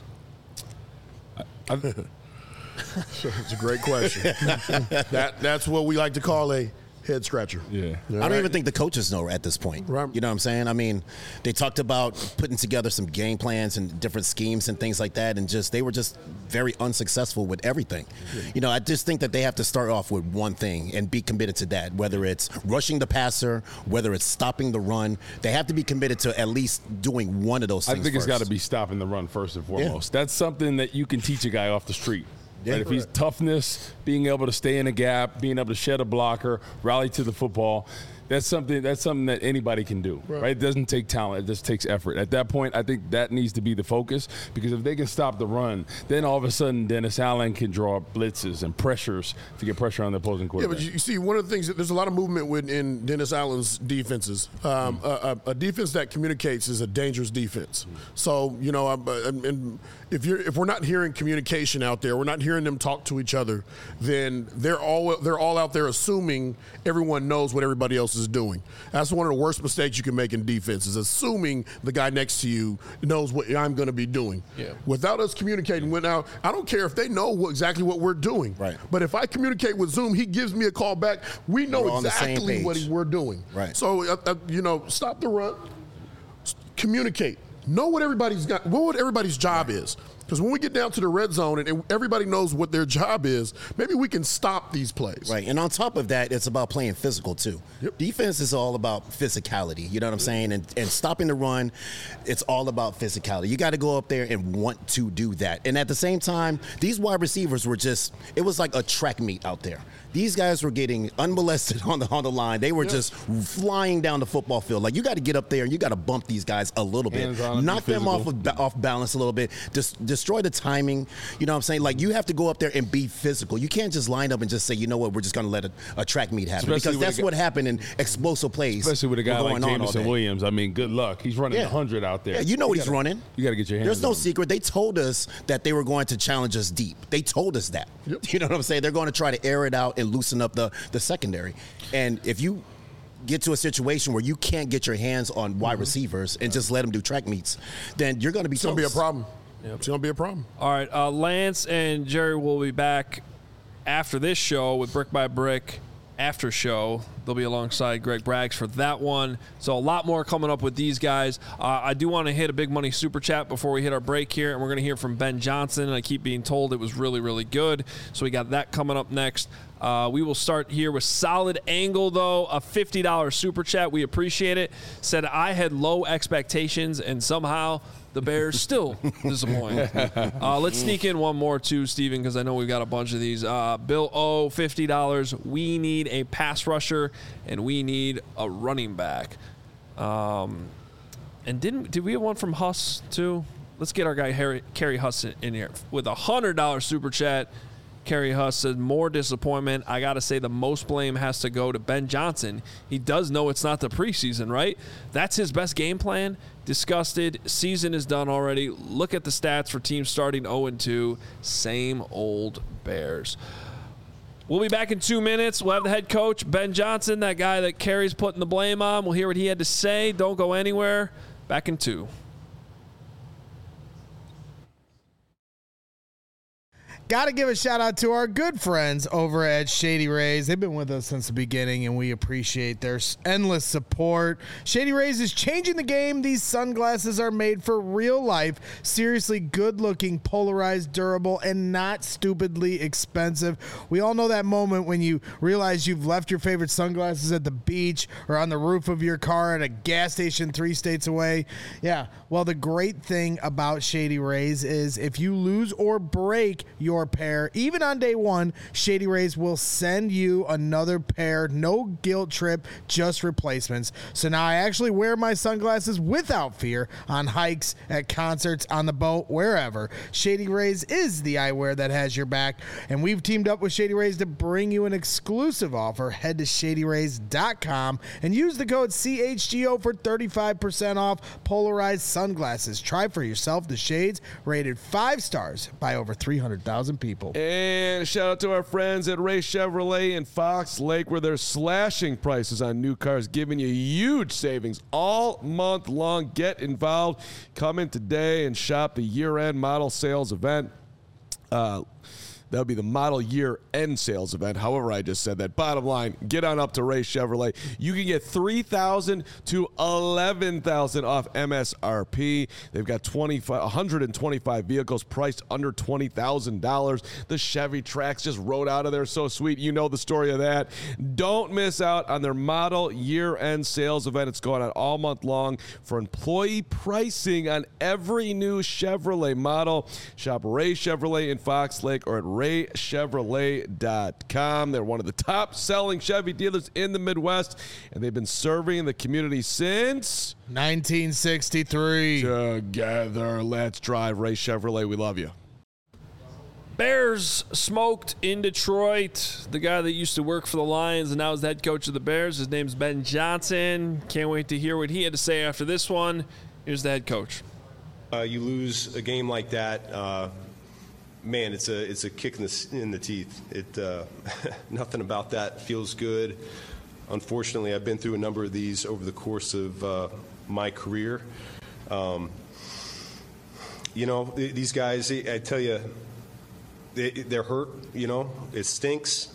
It's a great question. That's what we like to call a head scratcher. Yeah. I don't even think the coaches know at this point. Right. You know what I'm saying? I mean, they talked about putting together some game plans and different schemes and things like that, and they were just very unsuccessful with everything. Yeah. I just think that they have to start off with one thing and be committed to that, whether it's rushing the passer, whether it's stopping the run. They have to be committed to at least doing one of those things I think first. It's got to be stopping the run first and foremost. That's something that you can teach a guy off the street. Yeah, right? If he's toughness, being able to stay in a gap, being able to shed a blocker, rally to the football, that's something that anybody can do. Right? It doesn't take talent, it just takes effort. At that point, I think that needs to be the focus, because if they can stop the run, then all of a sudden Dennis Allen can draw blitzes and pressures to get pressure on the opposing quarterback. Yeah, but you see, one of the things, there's a lot of movement within Dennis Allen's defenses. A defense that communicates is a dangerous defense. So, if we're not hearing communication out there, we're not hearing them talk to each other, then they're all out there assuming everyone knows what everybody else else is doing. That's one of the worst mistakes you can make in defense, is assuming the guy next to you knows what I'm going to be doing. Yeah. Without us communicating with now, I don't care if they know exactly what we're doing. Right. But if I communicate with Zoom, he gives me a call back. We know exactly what we're doing. Right. So, stop the run. Communicate. Know what everybody's got. What everybody's job is. Because when we get down to the red zone and everybody knows what their job is, maybe we can stop these plays. Right, and on top of that, it's about playing physical too. Yep. Defense is all about physicality, you know what I'm saying? And stopping the run, it's all about physicality. You got to go up there and want to do that. And at the same time, these wide receivers were it was like a track meet out there. These guys were getting unmolested on the line. They were just flying down the football field. Like, you got to get up there and you got to bump these guys a little bit. Knock them off balance a little bit. Just destroy the timing. You know what I'm saying? Like, you have to go up there and be physical. You can't just line up and just say, you know what, we're just going to let a track meet happen. Because that's what happened in explosive plays. Especially with a guy like Jameson Williams. I mean, good luck. He's running 100 out there. Yeah, you know what he's running. You got to get your hands There's no on him. secret. They told us that they were going to challenge us deep. They told us that. Yep. You know what I'm saying? They're going to try to air it out and loosen up the secondary. And if you get to a situation where you can't get your hands on wide receivers and just let them do track meets, then you're going to be It's going to be a problem. Yep. It's going to be a problem. All right, Lance and Jerry will be back after this show with Brick by Brick after show. They'll be alongside Greg Braggs for that one. So a lot more coming up with these guys. I do want to hit a big money super chat before we hit our break here, and we're going to hear from Ben Johnson. And I keep being told it was really, really good. So we got that coming up next. We will start here with Solid Angle, though, a $50 super chat. We appreciate it. Said I had low expectations, and somehow the Bears still disappoint. Let's sneak in one more, too, Steven, because I know we've got a bunch of these. Bill O, $50. We need a pass rusher, and we need a running back. And did we have one from Huss, too? Let's get our guy, Kerry Huss, in here with a $100 super chat. Kerry Huss said, more disappointment. I got to say the most blame has to go to Ben Johnson. He does know it's not the preseason, right? That's his best game plan. Disgusted. Season is done already. Look at the stats for teams starting 0-2. Same old Bears. We'll be back in 2 minutes. We'll have the head coach, Ben Johnson, that guy that Kerry's putting the blame on. We'll hear what he had to say. Don't go anywhere. Back in 2. Got to give a shout out to our good friends over at Shady Rays. They've been with us since the beginning, and we appreciate their endless support. Shady Rays is changing the game. These sunglasses are made for real life, seriously good-looking, polarized, durable, and not stupidly expensive. We all know that moment when you realize you've left your favorite sunglasses at the beach or on the roof of your car at a gas station 3 states away. Yeah, well, the great thing about Shady Rays is if you lose or break your pair, even on day one, Shady Rays will send you another pair. No guilt trip, just replacements. So now I actually wear my sunglasses without fear on hikes, at concerts, on the boat, wherever. Shady Rays is the eyewear that has your back, and we've teamed up with Shady Rays to bring you an exclusive offer. Head to ShadyRays.com and use the code CHGO for 35% off polarized sunglasses. Try for yourself the shades rated 5 stars by over 300,000 people. And shout out to our friends at Ray Chevrolet in Fox Lake, where they're slashing prices on new cars, giving you huge savings all month long. Get involved. Come in today and shop the year-end model sales event. That would be the model year end sales event. However, I just said that. Bottom line, get on up to Ray Chevrolet. You can get $3,000 to $11,000 off MSRP. They've got 125 vehicles priced under $20,000. The Chevy Trax just rode out of there. So sweet. You know the story of that. Don't miss out on their model year end sales event. It's going on all month long for employee pricing on every new Chevrolet model. Shop Ray Chevrolet in Fox Lake or at RayChevrolet.com. They're one of the top-selling Chevy dealers in the Midwest, and they've been serving the community since 1963. Together, let's drive Ray Chevrolet. We love you. Bears smoked in Detroit. The guy that used to work for the Lions and now is the head coach of the Bears. His name's Ben Johnson. Can't wait to hear what he had to say after this one. Here's the head coach. You lose a game like that. Man, it's a kick in the teeth. Nothing about that feels good. Unfortunately, I've been through a number of these over the course of my career. These guys, I tell you, they're hurt. It stinks.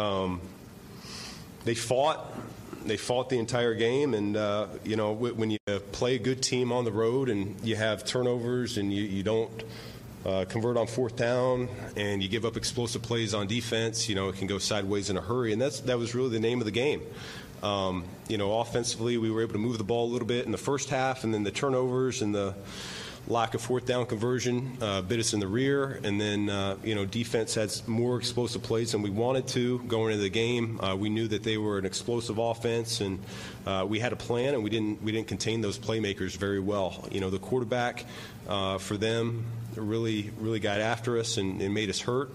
They fought the entire game, and when you play a good team on the road and you have turnovers and you don't convert on fourth down and you give up explosive plays on defense, it can go sideways in a hurry, and that was really the name of the game. Offensively, we were able to move the ball a little bit in the first half, and then the turnovers and the lack of fourth down conversion bit us in the rear, and then defense had more explosive plays than we wanted to going into the game. We knew that they were an explosive offense, and we had a plan, and we didn't contain those playmakers very well. The quarterback for them really got after us and made us hurt.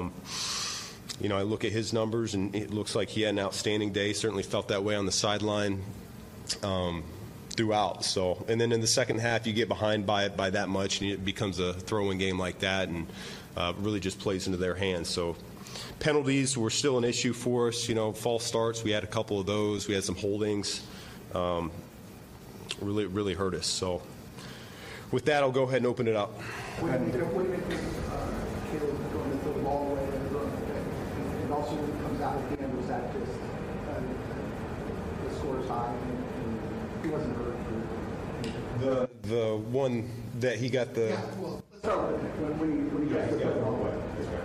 I look at his numbers, and it looks like he had an outstanding day. Certainly felt that way on the sideline throughout. So, and then in the second half, you get behind by that much, and it becomes a throwing game like that, and really just plays into their hands. So, penalties were still an issue for us. False starts, we had a couple of those. We had some holdings. Really hurt us. So, with that, I'll go ahead and open it up. What do you think Caleb going to throw the ball away and also when it comes out at the end, was that just the score's high and he wasn't hurt? The one that he got the. Yeah, well, let's start with it. When he got the ball away.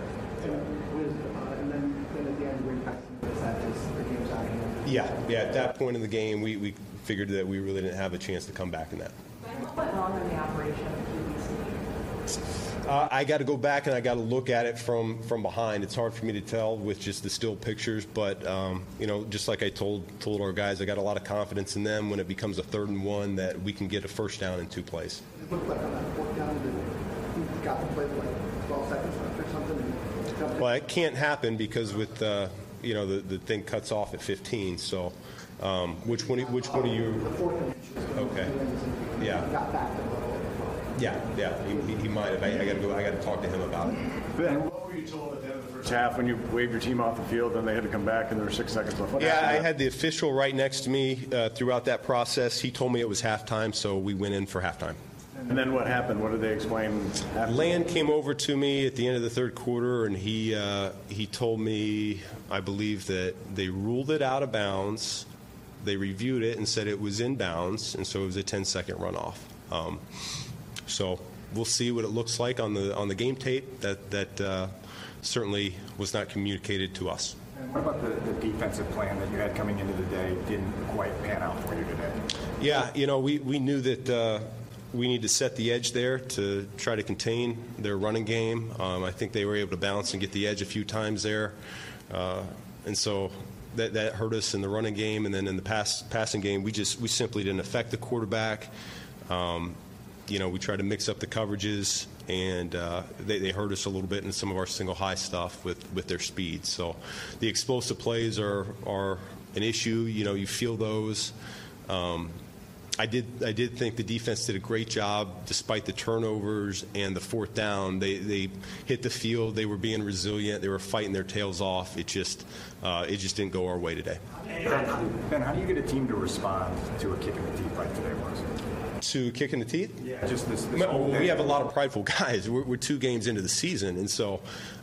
And then at the end, when he passed, was that just the game's out of hand? Yeah. At that point in the game, we figured that we really didn't have a chance to come back in that. What went wrong in the operation of QVC? I got to go back and I got to look at it from behind. It's hard for me to tell with just the still pictures, but just like I told our guys, I got a lot of confidence in them when it becomes a 3rd and 1 that we can get a first down in 2 plays. It looked like on that 4th down that he got the play like 12 seconds left or something. Well, it can't happen because with the thing cuts off at 15. So, which one are you? The 4th and okay. Yeah. He got back to the level. Yeah. He might have. I got to talk to him about it. Ben, what were you told at the end of the first half when you waved your team off the field and they had to come back and there were 6 seconds left? I had the official right next to me throughout that process. He told me it was halftime, so we went in for halftime. And then what happened? What did they explain after? Land came over to me at the end of the 3rd quarter, and he told me, I believe, that they ruled it out of bounds. They reviewed it and said it was in bounds, and so it was a 10-second runoff. So we'll see what it looks like on the game tape. That certainly was not communicated to us. And what about the defensive plan that you had coming into the day didn't quite pan out for you today? Yeah, we knew that we need to set the edge there to try to contain their running game. I think they were able to bounce and get the edge a few times there, and so that hurt us in the running game. And then in the passing game, we simply didn't affect the quarterback. We tried to mix up the coverages, and they hurt us a little bit in some of our single high stuff with their speed. So the explosive plays are an issue. You feel those. I did think the defense did a great job despite the turnovers and the 4th down. They hit the field. They were being resilient. They were fighting their tails off. It just didn't go our way today. Ben, how do you get a team to respond to a kick in the teeth like today was? To kick in the teeth? Yeah, just this we have a lot of prideful guys. We're 2 games into the season, and so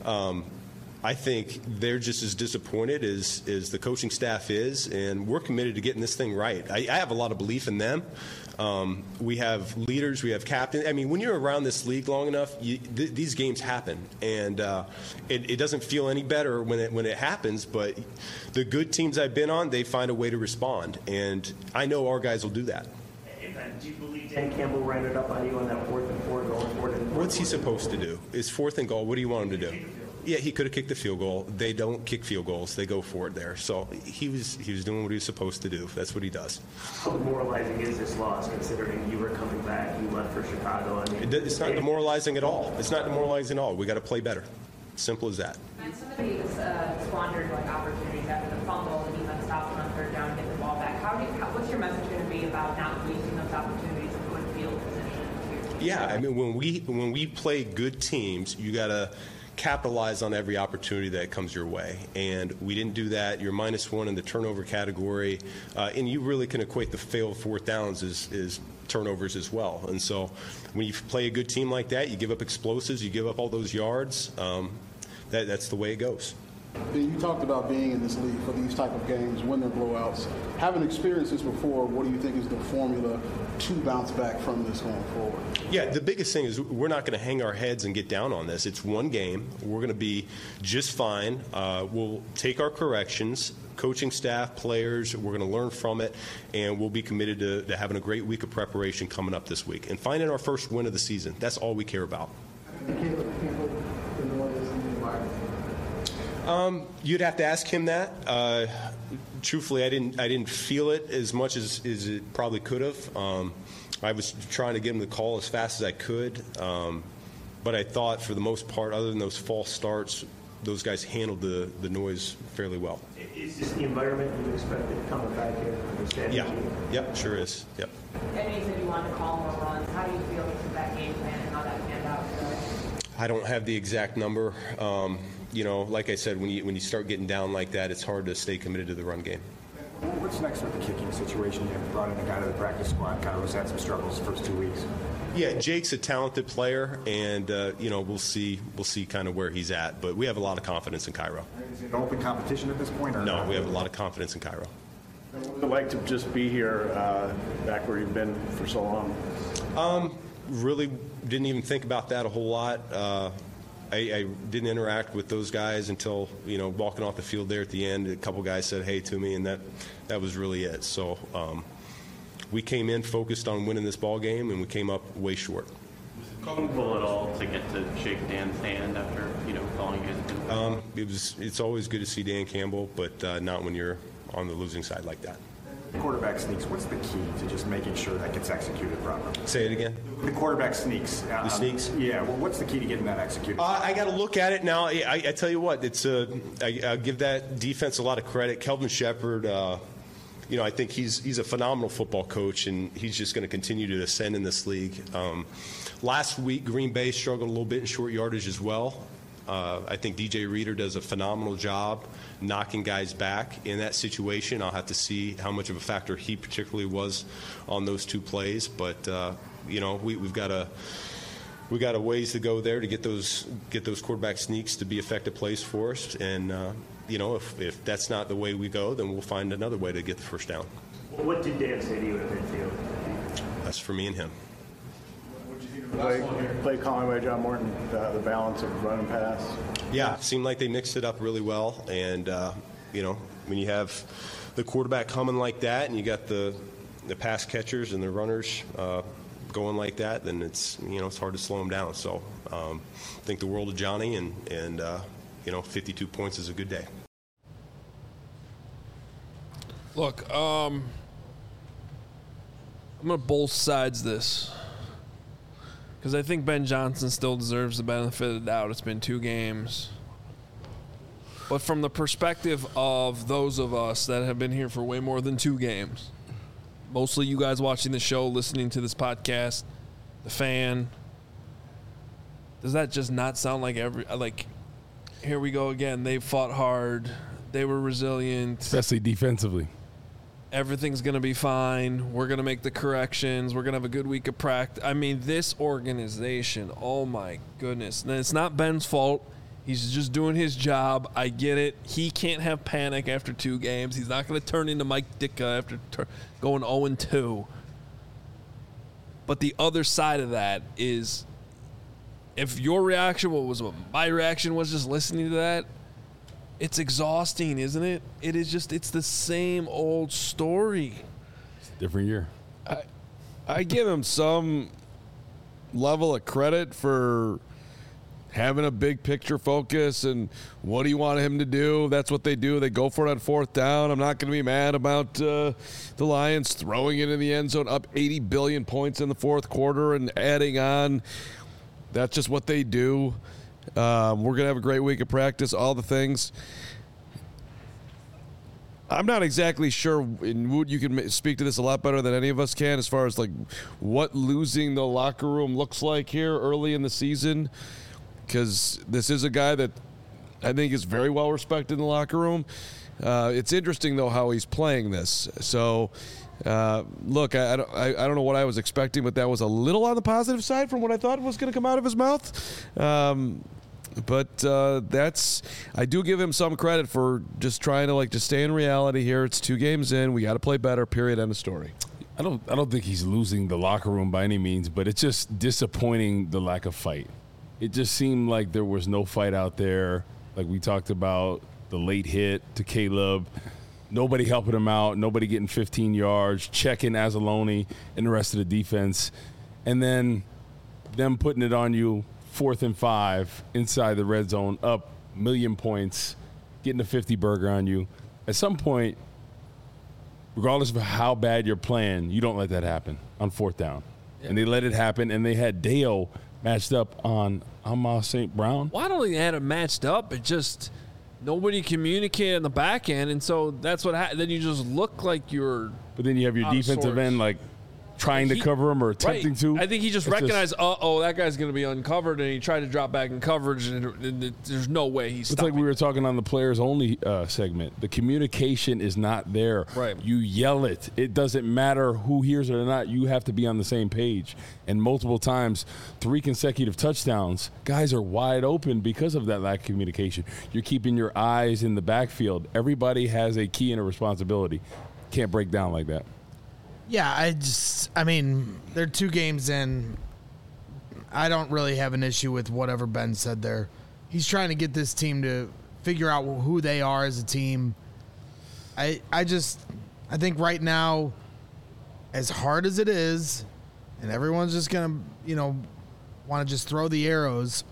I think they're just as disappointed as the coaching staff is, and we're committed to getting this thing right. I have a lot of belief in them. We have leaders, we have captains. I mean, when you're around this league long enough, these games happen, and it doesn't feel any better when it happens. But the good teams I've been on, they find a way to respond, and I know our guys will do that. Do you believe Dan Campbell ran it up on you on that 4th and 4 going forward? What's he supposed to do? It's 4th and goal. What do you want him to do? Yeah, he could have kicked the field goal. They don't kick field goals. They go for it there. So he was doing what he was supposed to do. That's what he does. How demoralizing is this loss considering you were coming back, you left for Chicago? It's not demoralizing at all. It's not demoralizing at all. We got to play better. Simple as that. And some of these squandered opportunities after the fumble, and even stopped on 3rd down and get the ball back. What's your message going to be about not wasting those opportunities and good field position? Yeah, I mean, when we play good teams, you got to capitalize on every opportunity that comes your way. And we didn't do that. You're -1 in the turnover category. And you really can equate the failed fourth downs as turnovers as well. And so when you play a good team like that, you give up explosives, you give up all those yards. That's the way it goes. You talked about being in this league for these type of games, when they're blowouts. Having experienced this before, what do you think is the formula to bounce back from this going forward? Yeah, the biggest thing is we're not going to hang our heads and get down on this. It's one game. We're going to be just fine. We'll take our corrections. Coaching staff, players, we're going to learn from it, and we'll be committed to having a great week of preparation coming up this week and finding our first win of the season. That's all we care about. You'd have to ask him that. Truthfully, I didn't feel it as much as it probably could have. I was trying to get him the call as fast as I could, but I thought for the most part, other than those false starts, those guys handled the noise fairly well. Is this the environment you expected coming back here? Yeah. Yep, sure is. Yep. And you said you wanted to call more runs. How do you feel with that game plan and how that panned out today? I don't have the exact number. Like I said, when you start getting down like that, it's hard to stay committed to the run game. What's next with the kicking situation? You brought in a guy to the practice squad, kind of had some struggles the first 2 weeks. Yeah, Jake's a talented player, and we'll see kind of where he's at. But we have a lot of confidence in Cairo. Is it open competition at this point? Or no, we have a lot of confidence in Cairo. What would it like to just be here, back where you've been for so long? Really didn't even think about that a whole lot. I didn't interact with those guys until, walking off the field there at the end. A couple guys said hey to me, and that was really it. So we came in focused on winning this ball game, and we came up way short. Was it comfortable at all to get to shake Dan's hand after, calling you? It's always good to see Dan Campbell, but not when you're on the losing side like that. Quarterback sneaks. What's the key to just making sure that gets executed properly? Say it again. The quarterback sneaks. The sneaks? Yeah. Well, what's the key to getting that executed? I got to look at it now. I tell you what, I give that defense a lot of credit. Kelvin Shepherd, I think he's a phenomenal football coach, and he's just going to continue to ascend in this league. Last week, Green Bay struggled a little bit in short yardage as well. I think DJ Reader does a phenomenal job knocking guys back in that situation. I'll have to see how much of a factor he particularly was on those two plays. But we've got a ways to go there to get those quarterback sneaks to be effective plays for us. And if that's not the way we go, then we'll find another way to get the first down. What did Dan say to you at midfield? That's for me and him. Play calling by John Morton, the balance of run and pass. Yeah, it seemed like they mixed it up really well. And, when you have the quarterback coming like that and you got the pass catchers and the runners going like that, then it's hard to slow them down. So I think the world of Johnny, and 52 points is a good day. Look, I'm going to both sides this. Because I think Ben Johnson still deserves the benefit of the doubt. It's been 2 games. But from the perspective of those of us that have been here for way more than 2 games, mostly you guys watching the show, listening to this podcast, the fan, does that just not sound like here we go again. They fought hard. They were resilient. Especially defensively. Everything's going to be fine. We're going to make the corrections. We're going to have a good week of practice. I mean, this organization, oh, my goodness. And it's not Ben's fault. He's just doing his job. I get it. He can't have panic after 2 games. He's not going to turn into Mike Ditka after going 0-2. But the other side of that is if your reaction, what my reaction was just listening to that, it's exhausting, isn't it? It is just, it's the same old story. It's a different year. I give him some level of credit for having a big picture focus and what do you want him to do? That's what they do. They go for it on 4th down. I'm not going to be mad about the Lions throwing it in the end zone, up 80 billion points in the 4th quarter and adding on. That's just what they do. We're going to have a great week of practice, all the things. I'm not exactly sure, and Wood, you can speak to this a lot better than any of us can, as far as what losing the locker room looks like here early in the season. because this is a guy that I think is very well respected in the locker room. It's interesting, though, how he's playing this. So, look, I don't know what I was expecting, but that was a little on the positive side from what I thought was going to come out of his mouth. But I do give him some credit for just trying to just stay in reality here. It's 2 games in. We got to play better, period, end of story. I don't think he's losing the locker room by any means, but it's just disappointing, the lack of fight. It just seemed like there was no fight out there. Like we talked about, the late hit to Caleb, nobody helping him out, nobody getting 15 yards, checking Anzalone and the rest of the defense, and then them putting it on you 4th and 5 inside the red zone, up 1,000,000 points, getting a 50 burger on you. At some point, regardless of how bad you're playing, you don't let that happen on 4th down. Yeah. And they let it happen, and they had Dale matched up on Amon St. Brown. Well, I don't think they had it matched up. It just nobody communicated on the back end, and so that's what happened. Then you just look like you're. But then you have your defensive end trying to cover him or attempting to. I think he just recognized, that guy's going to be uncovered, and he tried to drop back in coverage, and there's no way he's stopping. It's like we were talking on the players only segment. The communication is not there. Right. You yell it. It doesn't matter who hears it or not. You have to be on the same page. And multiple times, 3 consecutive touchdowns, guys are wide open because of that lack of communication. You're keeping your eyes in the backfield. Everybody has a key and a responsibility. Can't break down like that. Yeah, they're 2 games in. I don't really have an issue with whatever Ben said there. He's trying to get this team to figure out who they are as a team. I think right now, as hard as it is, and everyone's just going to, want to just throw the arrows.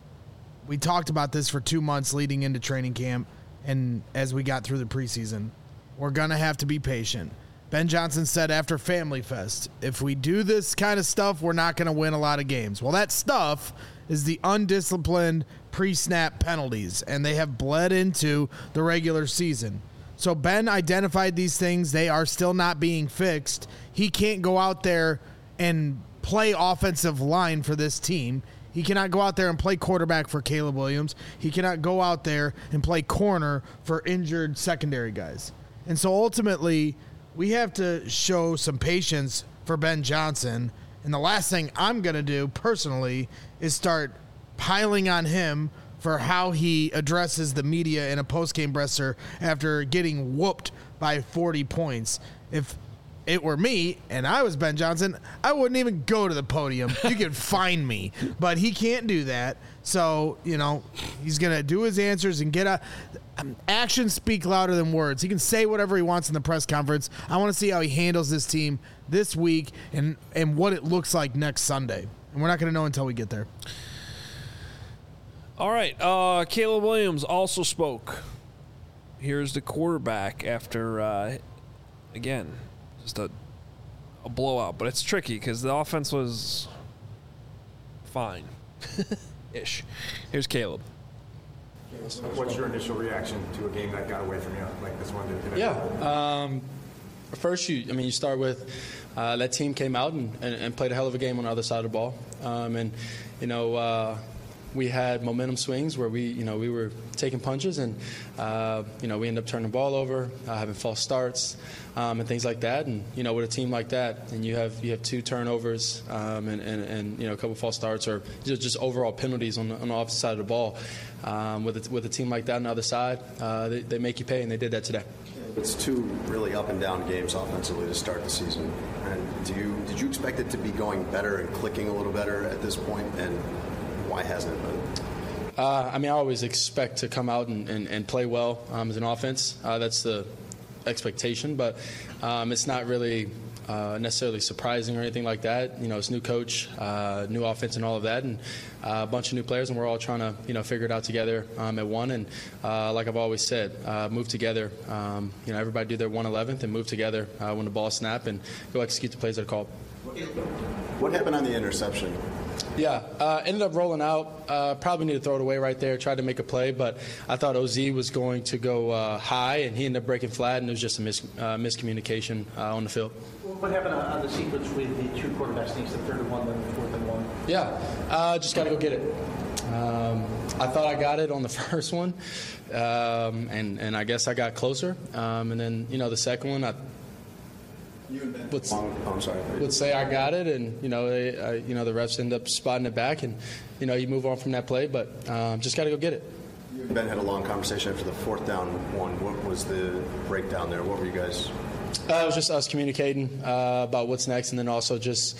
We talked about this for 2 months leading into training camp, and as we got through the preseason, we're going to have to be patient. Ben Johnson said after Family Fest, if we do this kind of stuff, we're not going to win a lot of games. Well, that stuff is the undisciplined pre-snap penalties, and they have bled into the regular season. So Ben identified these things. They are still not being fixed. He can't go out there and play offensive line for this team. He cannot go out there and play quarterback for Caleb Williams. He cannot go out there and play corner for injured secondary guys. And so ultimately, we have to show some patience for Ben Johnson. And the last thing I'm going to do personally is start piling on him for how he addresses the media in a post-game presser after getting whooped by 40 points. If it were me and I was Ben Johnson, I wouldn't even go to the podium. You can find me. But he can't do that. So, he's going to do his answers and get actions speak louder than words. He can say whatever he wants in the press conference. I want to see how he handles this team this week and what it looks like next Sunday. And we're not going to know until we get there. All right. Caleb Williams also spoke. Here's the quarterback after, again, just a blowout. But it's tricky because the offense was fine-ish. Here's Caleb. What's your initial reaction to a game that got away from you like this one did today? Yeah. First, you start with that team came out and played a hell of a game on the other side of the ball. We had momentum swings where we were taking punches and, we ended up turning the ball over, having false starts and things like that. And, with a team like that and you have 2 turnovers and a couple false starts or just overall penalties on the opposite side of the ball, with a team like that on the other side, they make you pay, and they did that today. It's 2 really up and down games offensively to start the season. And did you expect it to be going better and clicking a little better at this point? And why hasn't it been? I always expect to come out and play well as an offense. That's the expectation, but it's not really necessarily surprising or anything like that. It's new coach, new offense and all of that, and a bunch of new players, and we're all trying to, figure it out together at one. And like I've always said, move together. Everybody do their 1/11th and move together when the ball snap and go execute the plays that are called. What happened on the interception? Yeah, ended up rolling out. Probably need to throw it away right there. Tried to make a play, but I thought OZ was going to go high, and he ended up breaking flat, and it was just a miscommunication on the field. What happened on the sequence with the 2 quarterback sneaks, the 3rd and 1, then the 4th and 1? Yeah, just got to go get it. I thought I got it on the first one, and I guess I got closer. And then, the second one, I would say I got it, and, the refs end up spotting it back, and, you move on from that play, but just got to go get it. You and Ben had a long conversation after the fourth down one. What was the breakdown there? What were you guys? It was just us communicating about what's next, and then also just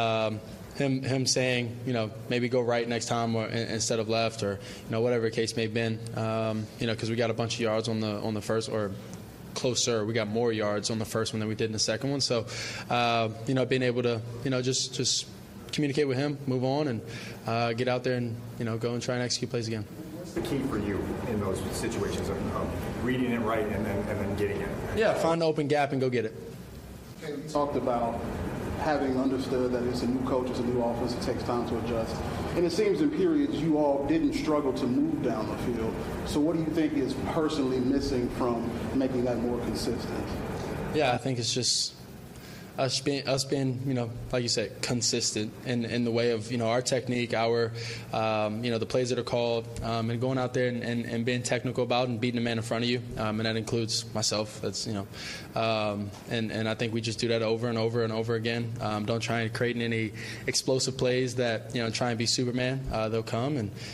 him saying, maybe go right next time or instead of left, or whatever the case may have been. Because we got a bunch of yards on the first, or closer. We got more yards on the first one than we did in the second one. So, being able to, just communicate with him, move on, and get out there and go and try and execute plays again. What's the key for you in those situations of reading it right and then getting it? Yeah, find the open gap and go get it. You talked about having understood that it's a new coach, it's a new offense, it takes time to adjust. And it seems in periods you all didn't struggle to move down the field. So what do you think is personally missing from making that more consistent? Yeah, I think it's just us being, like you said, consistent in the way of, our technique, our, the plays that are called, and going out there and being technical about and beating the man in front of you, and that includes myself. That's, and I think we just do that over and over and over again. Don't try and create any explosive plays that, try and be Superman. They'll come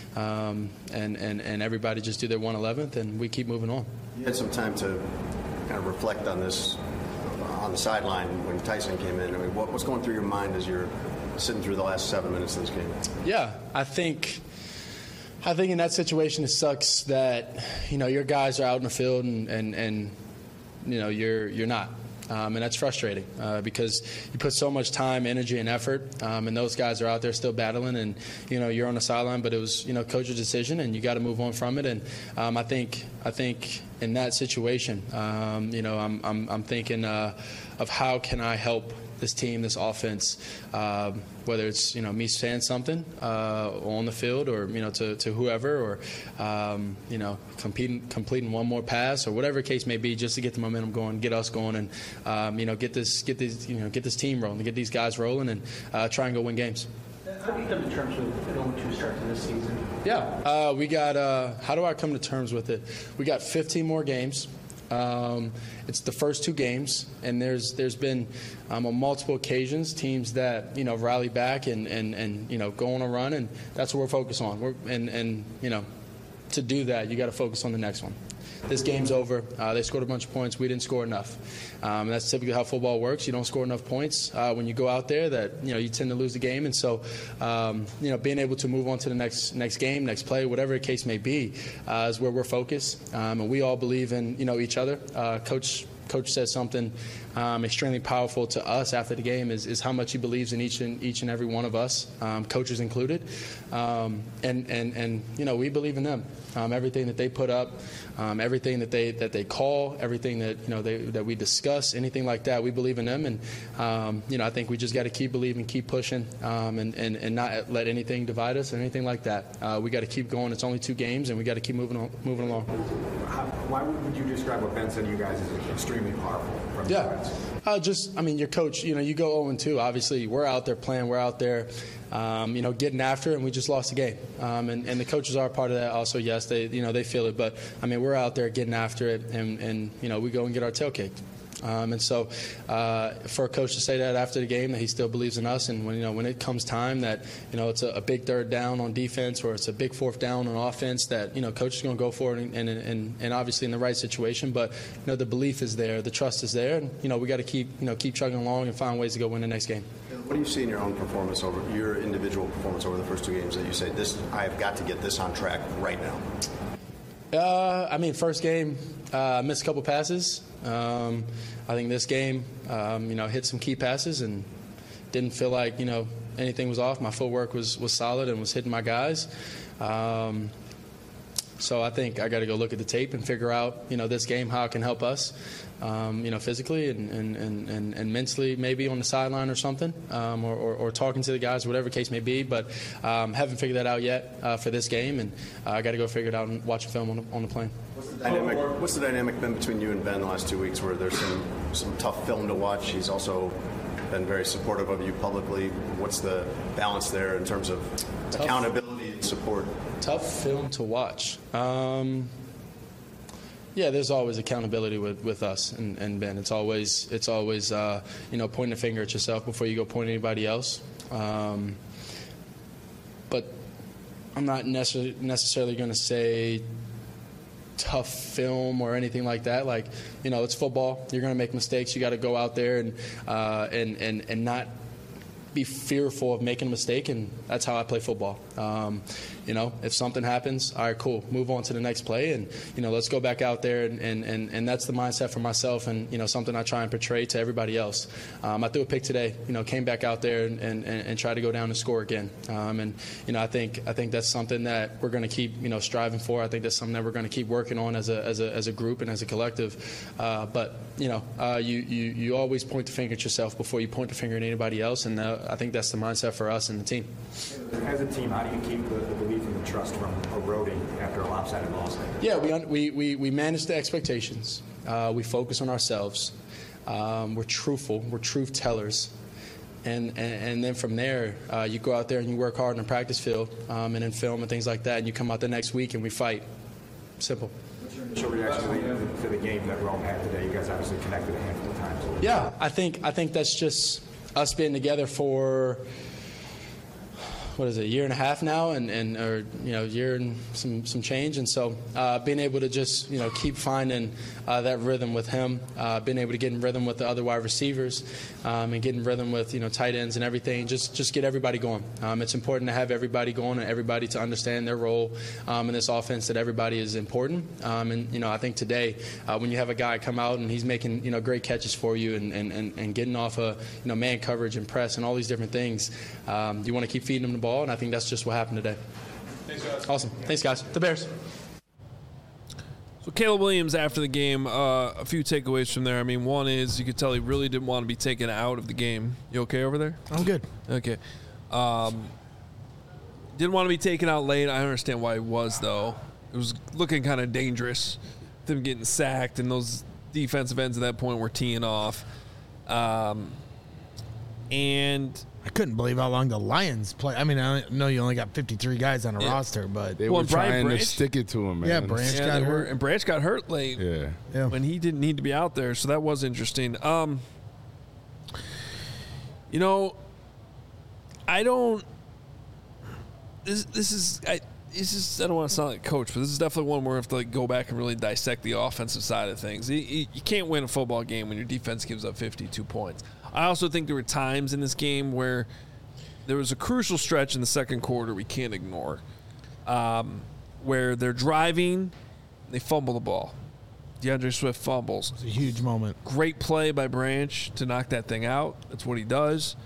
and everybody just do their 111th, and we keep moving on. You had some time to kind of reflect on this on the sideline when Tyson came in. I mean, what was going through your mind as you're sitting through the last 7 minutes of this game? Yeah, I think in that situation it sucks that your guys are out in the field and you're not. And that's frustrating because you put so much time, energy, and effort, and those guys are out there still battling, and you're on the sideline. But it was coach's decision, and you got to move on from it. And I think in that situation, I'm thinking of how can I help this team, this offense, whether it's me saying something on the field, or to whoever, or completing one more pass, or whatever the case may be, just to get the momentum going, get us going, and get this team rolling, get these guys rolling, and try and go win games. How do you come to terms with the 0-2 start to this season? Yeah, we got. How do I come to terms with it? We got 15 more games. It's the first 2 games, and there's been on multiple occasions teams that rally back and go on a run, and that's what we're focused on. To do that, you got to focus on the next one. This game's over. They scored a bunch of points. We didn't score enough. And that's typically how football works. You don't score enough points when you go out there. That you tend to lose the game. And so, being able to move on to the next game, next play, whatever the case may be, is where we're focused. And we all believe in each other. Coach said something extremely powerful to us after the game is how much he believes in each and every one of us, coaches included, and we believe in them. Everything that they put up, everything that they call, everything that we discuss, anything like that, we believe in them, and I think we just got to keep believing, keep pushing, and not let anything divide us or anything like that. We got to keep going. It's only 2 games, and we got to keep moving along. Why would you describe what Ben said to you guys as extremely powerful? Your coach. You go 0-2. Obviously, we're out there playing. We're out there, getting after it, and we just lost the game. And the coaches are part of that. Also, yes, they feel it. But we're out there getting after it, and we go and get our tail kicked. And so, for a coach to say that after the game, that he still believes in us, and when it comes time that it's a big 3rd down on defense, or it's a big 4th down on offense, that coach is going to go for it, and obviously in the right situation. But the belief is there, the trust is there, and we got to keep chugging along and find ways to go win the next game. What do you see in your own performance, over your individual performance over the first 2 games, that you say I have got to get this on track right now? First game, missed a couple passes. I think this game, hit some key passes and didn't feel like, anything was off. My footwork was solid and was hitting my guys. So I think I got to go look at the tape and figure out, this game, how it can help us, physically and mentally, maybe on the sideline or something, or talking to the guys, whatever the case may be. But haven't figured that out yet for this game, and I got to go figure it out and watch a film on the plane. What's the dynamic been between you and Ben the last 2 weeks, where there's some tough film to watch? He's also been very supportive of you publicly. What's the balance there in terms of accountability and support? Tough film to watch. Yeah, there's always accountability with us and Ben. It's always pointing a finger at yourself before you go point at anybody else. But I'm not necessarily going to say tough film or anything like that. Like, it's football. You're going to make mistakes. You got to go out there and not be fearful of making a mistake, and that's how I play football. If something happens, all right, cool, move on to the next play, and let's go back out there, and that's the mindset for myself, and something I try and portray to everybody else. I threw a pick today, came back out there and tried to go down and score again, I think that's something that we're going to keep striving for. I think that's something that we're going to keep working on as a group and as a collective. But you always point the finger at yourself before you point the finger at anybody else, and I think that's the mindset for us and the team. As a team, how do you keep the belief and the trust from eroding after a lopsided loss? Yeah, we manage the expectations. We focus on ourselves. We're truthful. We're truth tellers. And then from there, you go out there and you work hard in the practice field and in film and things like that, and you come out the next week and we fight. Simple. What's your initial reaction to the game that Rome had today? You guys obviously connected a handful of times. Yeah, I think that's just us being together for a year and a half now, year and some change, and so being able to just keep finding that rhythm with him, being able to get in rhythm with the other wide receivers, and get in rhythm with tight ends and everything, just get everybody going. It's important to have everybody going and everybody to understand their role in this offense, that everybody is important. I think today when you have a guy come out and he's making great catches for you and getting off man coverage and press and all these different things, you want to keep feeding him the ball, and I think that's just what happened today. Thanks, guys. Awesome. Thanks, guys. The Bears. So Caleb Williams after the game, a few takeaways from there. I mean, one is you could tell he really didn't want to be taken out of the game. You okay over there? I'm good. Okay. Didn't want to be taken out late. I understand why he was, though. It was looking kind of dangerous, them getting sacked, and those defensive ends at that point were teeing off. And I couldn't believe how long the Lions play. I mean, I know you only got 53 guys on a roster, but they were trying to stick it to him, man. Yeah, Branch got hurt. And Branch got hurt late when he didn't need to be out there, so that was interesting. I don't – this is I don't want to sound like a coach, but this is definitely one where I have to go back and really dissect the offensive side of things. You can't win a football game when your defense gives up 52 points. I also think there were times in this game where there was a crucial stretch in the second quarter we can't ignore, where they're driving, they fumble the ball. DeAndre Swift fumbles. It's a huge moment. Great play by Branch to knock that thing out. That's what he does.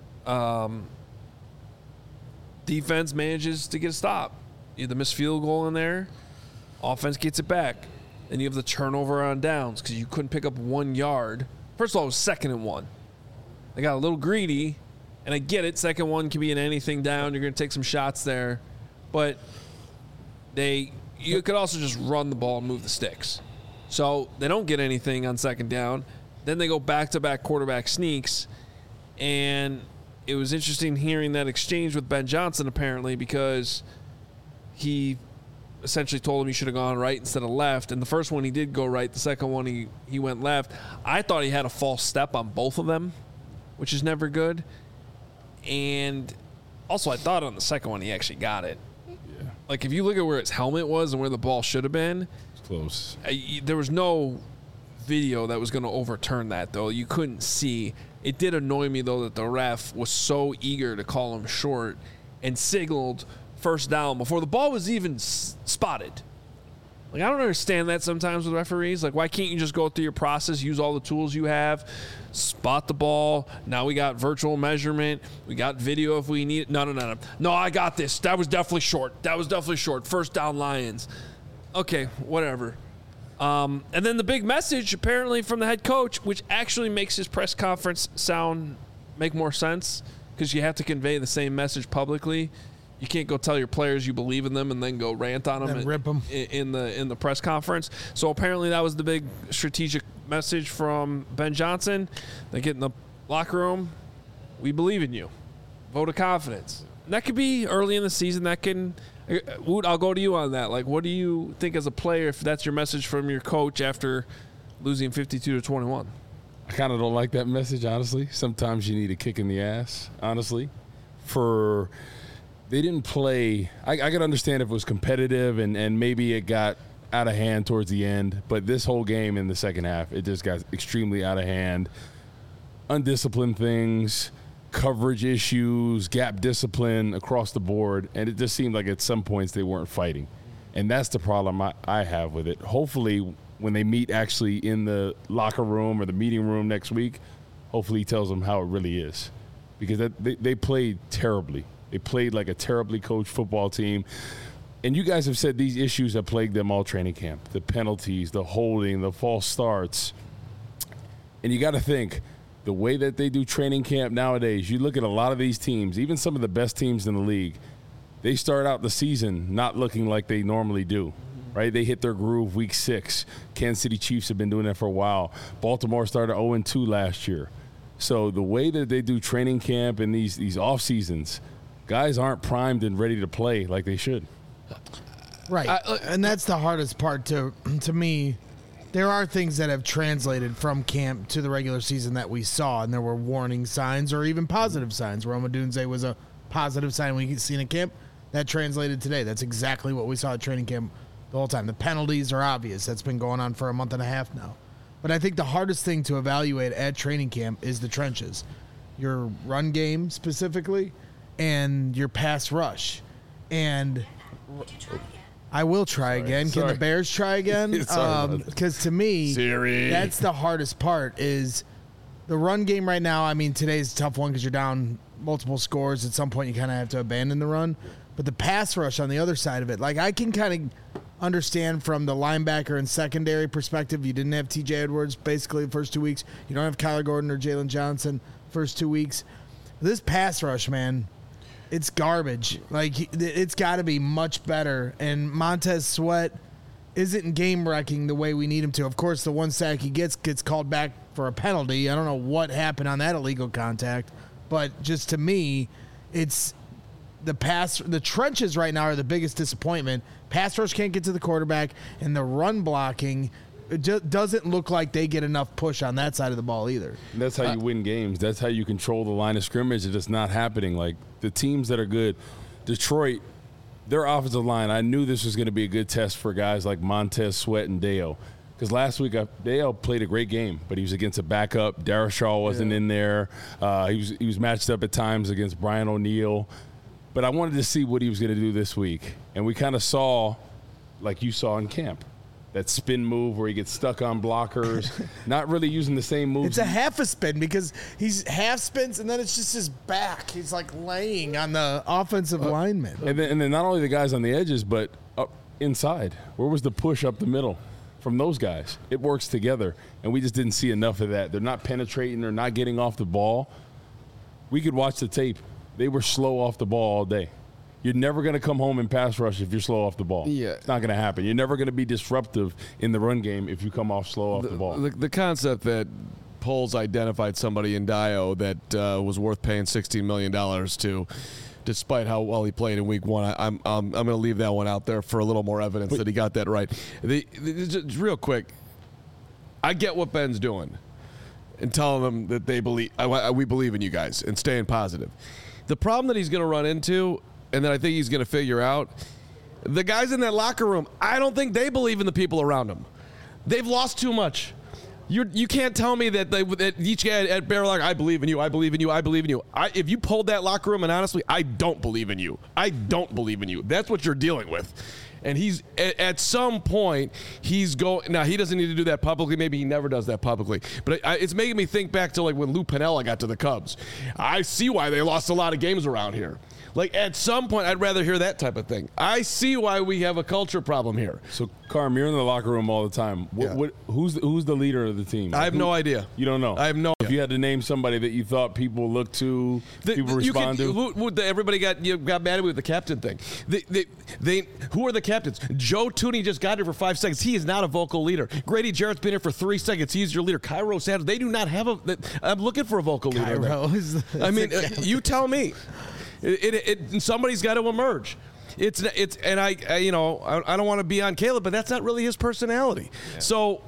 Defense manages to get a stop. You have the missed field goal in there. Offense gets it back. Then you have the turnover on downs because you couldn't pick up 1 yard. First of all, it was 2nd and 1. They got a little greedy, and I get it. 2nd and 1 can be in anything down. You're going to take some shots there. But you could also just run the ball and move the sticks. So they don't get anything on 2nd down. Then they go back-to-back quarterback sneaks. And it was interesting hearing that exchange with Ben Johnson, apparently, because he essentially told him he should have gone right instead of left. And the first one he did go right. The second one he went left. I thought he had a false step on both of them, which is never good. And also I thought on the second one he actually got it. Yeah. Like if you look at where his helmet was and where the ball should have been. It's close. There was no video that was going to overturn that, though. You couldn't see. It did annoy me, though, that the ref was so eager to call him short and signaled first down before the ball was even spotted. Like, I don't understand that sometimes with referees. Like, why can't you just go through your process, use all the tools you have, spot the ball? Now we got virtual measurement. We got video if we need it. No. No, I got this. That was definitely short. First down, Lions. Okay, whatever. And then the big message, apparently, from the head coach, which actually makes his press conference make more sense because you have to convey the same message publicly. You can't go tell your players you believe in them and then go rant on them, rip them in the press conference. So apparently that was the big strategic message from Ben Johnson. They get in the locker room. We believe in you. Vote of confidence. And that could be early in the season. That can Woot, I'll go to you on that. Like, what do you think as a player, if that's your message from your coach after losing 52-21? I kind of don't like that message, honestly. Sometimes you need a kick in the ass, honestly. They didn't play. I could understand if it was competitive and maybe it got out of hand towards the end. But this whole game in the second half, it just got extremely out of hand. Undisciplined things, coverage issues, gap discipline across the board. And it just seemed like at some points they weren't fighting. And that's the problem I have with it. Hopefully, when they meet actually in the locker room or the meeting room next week, hopefully he tells them how it really is. Because they played terribly. They played like a terribly coached football team. And you guys have said these issues have plagued them all training camp. The penalties, the holding, the false starts. And you got to think, the way that they do training camp nowadays, you look at a lot of these teams, even some of the best teams in the league, they start out the season not looking like they normally do. Right? They hit their groove week 6. Kansas City Chiefs have been doing that for a while. Baltimore started 0-2 last year. So the way that they do training camp and these off seasons, guys aren't primed and ready to play like they should. Right. And that's the hardest part to me. There are things that have translated from camp to the regular season that we saw, and there were warning signs or even positive signs. Rome Odunze was a positive sign we seen at camp. That translated today. That's exactly what we saw at training camp the whole time. The penalties are obvious. That's been going on for a month and a half now. But I think the hardest thing to evaluate at training camp is the trenches. Your run game specifically and your pass rush. And I will try again. Can the Bears try again? Because to me, that's the hardest part is the run game right now. I mean, today's a tough one because you're down multiple scores. At some point, you kind of have to abandon the run. But the pass rush on the other side of it, like I can kind of understand from the linebacker and secondary perspective. You didn't have TJ Edwards basically the first 2 weeks. You don't have Kyler Gordon or Jalen Johnson first 2 weeks. This pass rush, man, it's garbage. Like, it's got to be much better. And Montez Sweat isn't game-wrecking the way we need him to. Of course, the one sack he gets called back for a penalty. I don't know what happened on that illegal contact. But just to me, it's the trenches right now are the biggest disappointment. Pass rush can't get to the quarterback, and the run blocking doesn't look like they get enough push on that side of the ball either. And that's how you win games. That's how you control the line of scrimmage. It's just not happening. Like, the teams that are good, Detroit, their offensive line, I knew this was going to be a good test for guys like Montez Sweat and Deo. Because last week, Dale played a great game, but he was against a backup. Darrisaw wasn't in there. He was matched up at times against Brian O'Neill. But I wanted to see what he was going to do this week. And we kind of saw, like you saw in camp, that spin move where he gets stuck on blockers, not really using the same moves. It's a half a spin because he's half spins, and then it's just his back. He's like laying on the offensive lineman. And then not only the guys on the edges, but up inside. Where was the push up the middle from those guys? It works together, and we just didn't see enough of that. They're not penetrating. They're not getting off the ball. We could watch the tape. They were slow off the ball all day. You're never going to come home and pass rush if you're slow off the ball. Yeah. It's not going to happen. You're never going to be disruptive in the run game if you come off slow off the ball. The concept that Poles identified somebody in Dio that was worth paying $16 million to, despite how well he played in week 1, I'm going to leave that one out there for a little more evidence that he got that right. Just real quick, I get what Ben's doing and telling them that we believe in you guys and staying positive. The problem that he's going to run into, and that I think he's going to figure out, the guys in that locker room, I don't think they believe in the people around them. They've lost too much. You can't tell me that each guy at Bear Locker, I believe in you, I believe in you, I believe in you. If you pulled that locker room, and honestly, I don't believe in you. I don't believe in you. That's what you're dealing with. And he's at some point he's going. Now he doesn't need to do that publicly. Maybe he never does that publicly. But it's making me think back to like when Lou Piniella got to the Cubs. I see why they lost a lot of games around here. Like at some point, I'd rather hear that type of thing. I see why we have a culture problem here. So, Carm, you're in the locker room all the time. Who's the leader of the team? I have no idea. You don't know. I have no. If you had to name somebody that you thought people looked to, people respond to. Everybody got mad at me with the captain thing. Who are the captains? Joe Tooney just got here for 5 seconds. He is not a vocal leader. Grady Jarrett's been here for 3 seconds. He's your leader. Cairo Sanders. They do not have I'm looking for a vocal leader. I mean, you tell me. Somebody's got to emerge. and I don't want to be on Caleb, but that's not really his personality. Yeah. So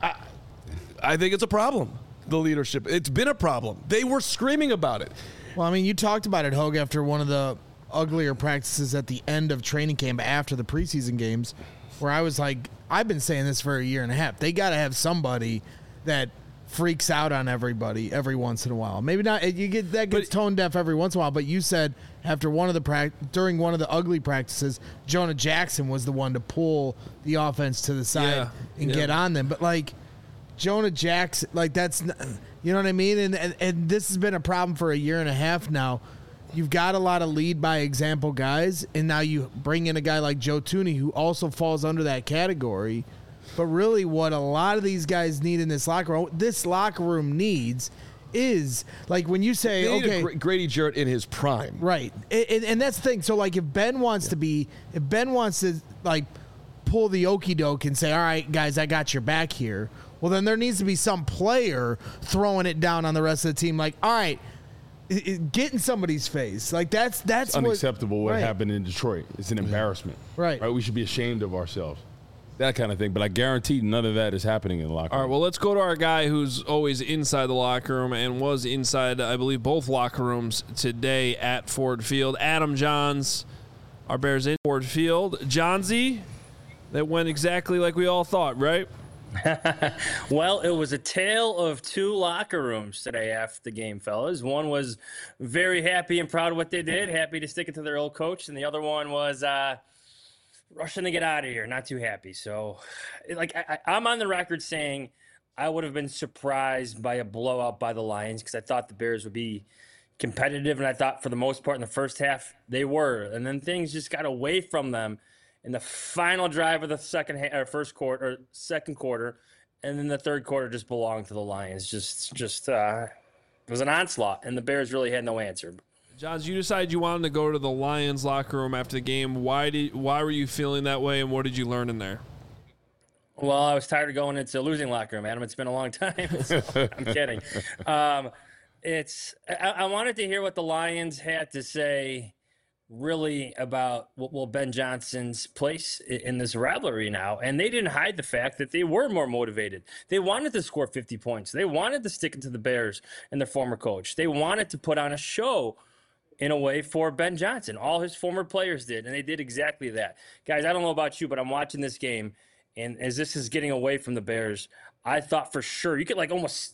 I think it's a problem. The leadership, it's been a problem. They were screaming about it. Well, I mean, you talked about it, Hogue, after one of the uglier practices at the end of training camp after the preseason games, where I was like, I've been saying this for a year and a half. They got to have somebody that freaks out on everybody every once in a while. Maybe not. You get that gets tone deaf every once in a while. But you said after during one of the ugly practices, Jonah Jackson was the one to pull the offense to the side and get on them. But like Jonah Jackson, like that's, you know what I mean. And this has been a problem for a year and a half now. You've got a lot of lead by example guys, and now you bring in a guy like Joe Thuney, who also falls under that category. But really what a lot of these guys need in this locker room needs is, like when you say, they okay. need a Grady Jarrett in his prime. Right. And that's the thing. So, like, if Ben wants to, like, pull the okie doke and say, all right, guys, I got your back here, well, then there needs to be some player throwing it down on the rest of the team. Like, all right, get in somebody's face. Like, that's it's unacceptable what happened in Detroit. It's an embarrassment. Right. We should be ashamed of ourselves. That kind of thing. But I guarantee none of that is happening in the locker room. All right, well, let's go to our guy who's always inside the locker room and was inside, I believe, both locker rooms today at Ford Field. Adam Johns, our Bears in Ford Field. Johnsy, that went exactly like we all thought, right? Well, it was a tale of two locker rooms today after the game, fellas. One was very happy and proud of what they did, happy to stick it to their old coach, and the other one was rushing to get out of here, not too happy. So, like, I'm on the record saying I would have been surprised by a blowout by the Lions because I thought the Bears would be competitive, and I thought for the most part in the first half they were. And then things just got away from them in the final drive of the second quarter, and then the third quarter just belonged to the Lions. Just it was an onslaught, and the Bears really had no answer. Johns, you decided you wanted to go to the Lions locker room after the game. Why were you feeling that way, and what did you learn in there? Well, I was tired of going into a losing locker room, Adam. It's been a long time. So I'm kidding. I wanted to hear what the Lions had to say really about Ben Johnson's place in this rivalry now. And they didn't hide the fact that they were more motivated. They wanted to score 50 points. They wanted to stick it to the Bears and their former coach. They wanted to put on a show in a way for Ben Johnson. All his former players did, and they did exactly that. Guys, I don't know about you, but I'm watching this game, and as this is getting away from the Bears, I thought for sure you could almost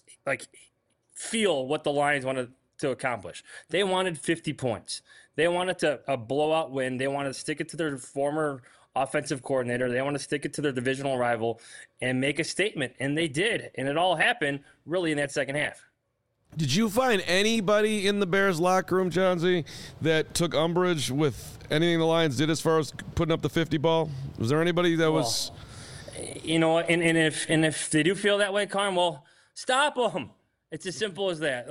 feel what the Lions wanted to accomplish. They wanted 50 points. They wanted a blowout win. They wanted to stick it to their former offensive coordinator. They want to stick it to their divisional rival and make a statement, and they did. And it all happened really in that second half. Did you find anybody in the Bears locker room, Johnsy, that took umbrage with anything the Lions did as far as putting up the 50 ball? Was there anybody that was... You know, and if they do feel that way, Carm, well, stop them. It's as simple as that.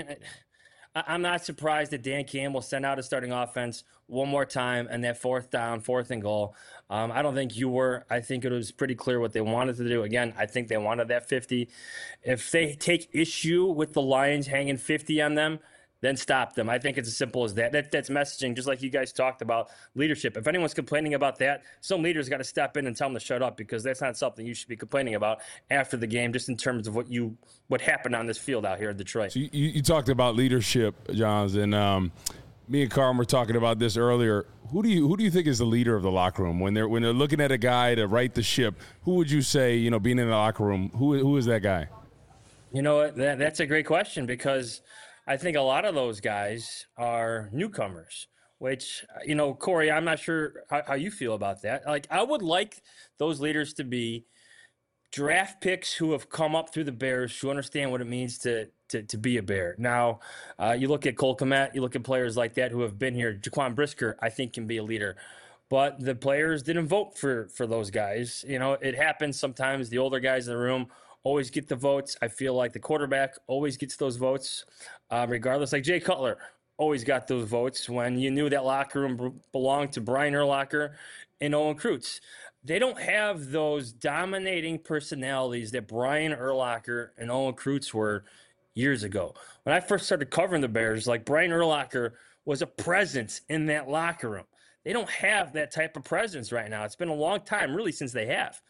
I'm not surprised that Dan Campbell sent out a starting offense one more time and that fourth and goal. I don't think you were. I think it was pretty clear what they wanted to do. Again, I think they wanted that 50. If they take issue with the Lions hanging 50 on them, then stop them. I think it's as simple as that. That's messaging, just like you guys talked about leadership. If anyone's complaining about that, some leaders got to step in and tell them to shut up because that's not something you should be complaining about after the game, just in terms of what happened on this field out here in Detroit. So you talked about leadership, Johns, and me and Carm were talking about this earlier. Who do you think is the leader of the locker room when they're looking at a guy to right the ship? Who would you say, being in the locker room, who is that guy? You know what? That's a great question because I think a lot of those guys are newcomers, which, Corey, I'm not sure how you feel about that. I would like those leaders to be draft picks who have come up through the Bears, who understand what it means to be a Bear. Now, you look at Cole Kmet, you look at players like that who have been here. Jaquan Brisker, I think, can be a leader. But the players didn't vote for those guys. It happens sometimes. The older guys in the room always get the votes. I feel like the quarterback always gets those votes, regardless. Like Jay Cutler always got those votes when you knew that locker room belonged to Brian Urlacher and Owen Kreutz. They don't have those dominating personalities that Brian Urlacher and Owen Kreutz were years ago. When I first started covering the Bears, Brian Urlacher was a presence in that locker room. They don't have that type of presence right now. It's been a long time, really, since they have.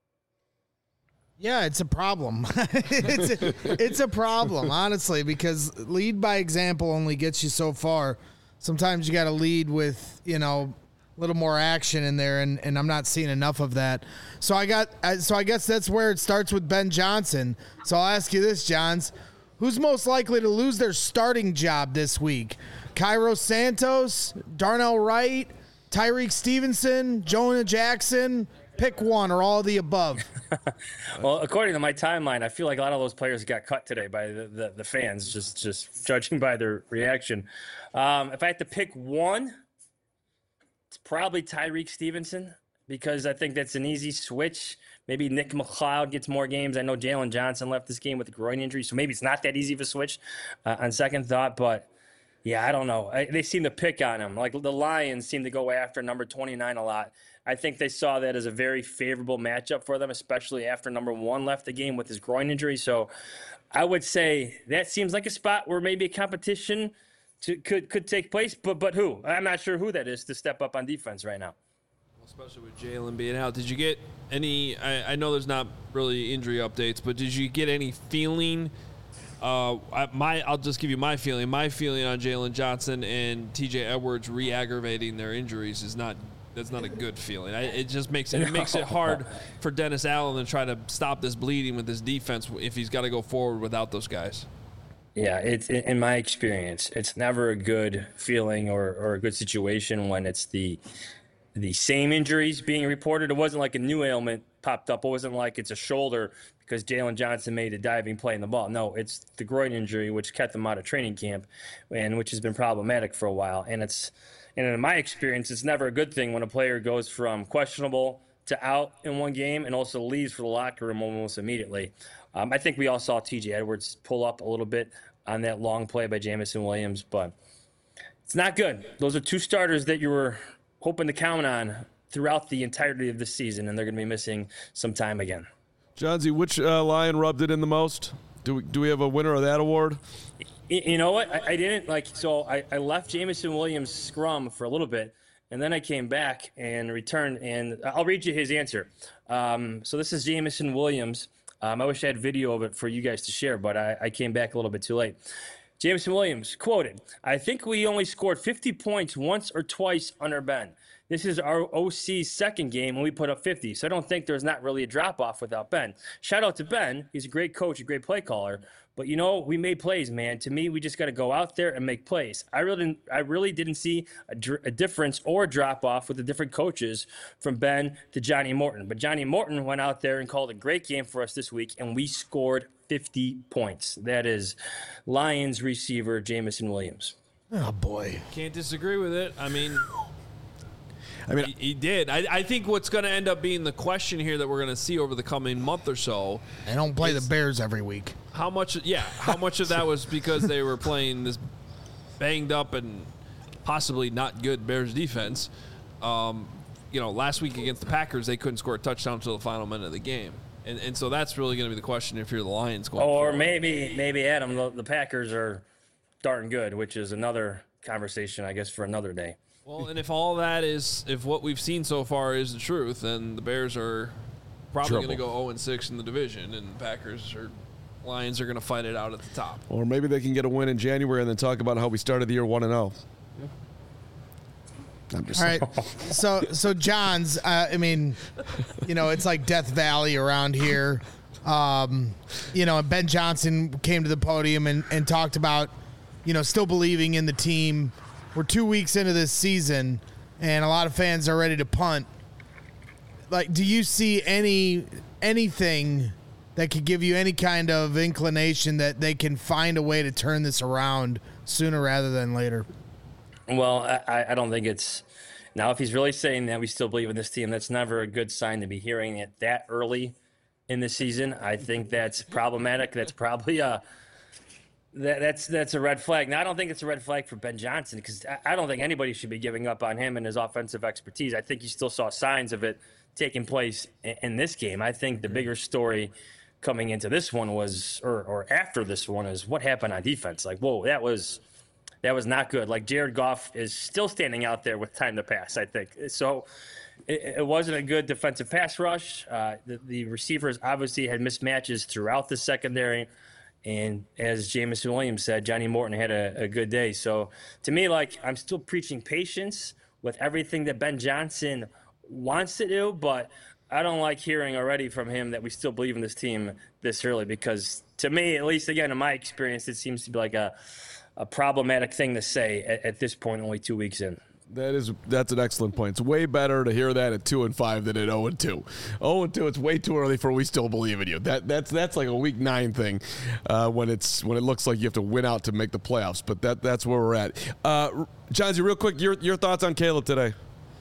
Yeah, it's a problem. it's a problem, honestly, because lead by example only gets you so far. Sometimes you got to lead with, a little more action in there, and I'm not seeing enough of that. So I guess that's where it starts with Ben Johnson. So I'll ask you this, Johns. Who's most likely to lose their starting job this week? Cairo Santos, Darnell Wright, Tyreek Stevenson, Jonah Jackson? Pick one or all of the above. Well, according to my timeline, I feel like a lot of those players got cut today by the fans, just judging by their reaction. If I had to pick one, it's probably Tyreek Stevenson, because I think that's an easy switch. Maybe Nick McLeod gets more games. I know Jalen Johnson left this game with a groin injury, so maybe it's not that easy of a switch on second thought. But, yeah, I don't know. They seem to pick on him. Like the Lions seem to go after number 29 a lot. I think they saw that as a very favorable matchup for them, especially after number 1 left the game with his groin injury. So I would say that seems like a spot where maybe a competition could take place. But who? I'm not sure who that is to step up on defense right now. Especially with Jalen being out. Did you get any I know there's not really injury updates, but did you get any feeling I'll just give you my feeling. My feeling on Jalen Johnson and TJ Edwards re-aggravating their injuries that's not a good feeling. It just makes it hard for Dennis Allen to try to stop this bleeding with his defense if he's got to go forward without those guys. Yeah, it's in my experience, it's never a good feeling or a good situation when it's the same injuries being reported. It wasn't like a new ailment popped up. It wasn't like it's a shoulder because Jalen Johnson made a diving play in the ball. No, it's the groin injury, which kept him out of training camp and which has been problematic for a while. And in my experience, it's never a good thing when a player goes from questionable to out in one game and also leaves for the locker room almost immediately. I think we all saw TJ Edwards pull up a little bit on that long play by Jameson Williams, but it's not good. Those are two starters that you were hoping to count on throughout the entirety of the season, and they're going to be missing some time again. Johnsy, which Lion rubbed it in the most? Do we have a winner of that award? You know what? I didn't so I left Jameson Williams' scrum for a little bit, and then I came back and returned, and I'll read you his answer. So this is Jameson Williams. I wish I had video of it for you guys to share, but I came back a little bit too late. Jameson Williams, quoted, "I think we only scored 50 points once or twice under Ben. This is our OC's second game, and we put up 50. So I don't think there's not really a drop-off without Ben. Shout out to Ben. He's a great coach, a great play caller. But, we made plays, man. To me, we just got to go out there and make plays. I really didn't see a difference or a drop-off with the different coaches from Ben to Johnny Morton. But Johnny Morton went out there and called a great game for us this week, and we scored 50 points. That is Lions receiver Jameson Williams." Oh, boy. Can't disagree with it. I mean, he did. I think what's going to end up being the question here that we're going to see over the coming month or so. They don't play the Bears every week. How much of that was because they were playing this banged up and possibly not good Bears defense? Last week against the Packers, they couldn't score a touchdown until the final minute of the game. And so that's really going to be the question if you're the Lions going Or forward. maybe Adam, the Packers are darn good, which is another conversation, I guess, for another day. Well, and if all that is, if what we've seen so far is the truth, then the Bears are probably going to go 0-6 in the division, and the Lions are going to fight it out at the top. Or maybe they can get a win in January and then talk about how we started the year 1-0. I'm just all right. So Johns, it's like Death Valley around here. Ben Johnson came to the podium and talked about, still believing in the team. We're 2 weeks into this season, and a lot of fans are ready to punt. Like, do you see anything that could give you any kind of inclination that they can find a way to turn this around sooner rather than later? Well, I don't think it's – now, if he's really saying that we still believe in this team, that's never a good sign to be hearing it that early in the season. I think that's problematic. That's probably that's a red flag. Now, I don't think it's a red flag for Ben Johnson because I don't think anybody should be giving up on him and his offensive expertise. I think you still saw signs of it taking place in this game. I think the bigger story coming into this one was – or after this one is what happened on defense. Like, whoa, that was That was not good. Like, Jared Goff is still standing out there with time to pass, I think. So it wasn't a good defensive pass rush. The receivers obviously had mismatches throughout the secondary. And as Jameson Williams said, Johnny Morton had a good day. So to me, like, I'm still preaching patience with everything that Ben Johnson wants to do, but I don't like hearing already from him that we still believe in this team this early, because to me, at least again, in my experience, it seems to be like a problematic thing to say at this point, only 2 weeks in. That's an excellent point. It's way better to hear that at 2-5 than at 0-2. 0-2, it's way too early for we still believe in you. That's like a week 9 thing when it looks like you have to win out to make the playoffs. But that's where we're at. Johnsy, real quick, your thoughts on Caleb today?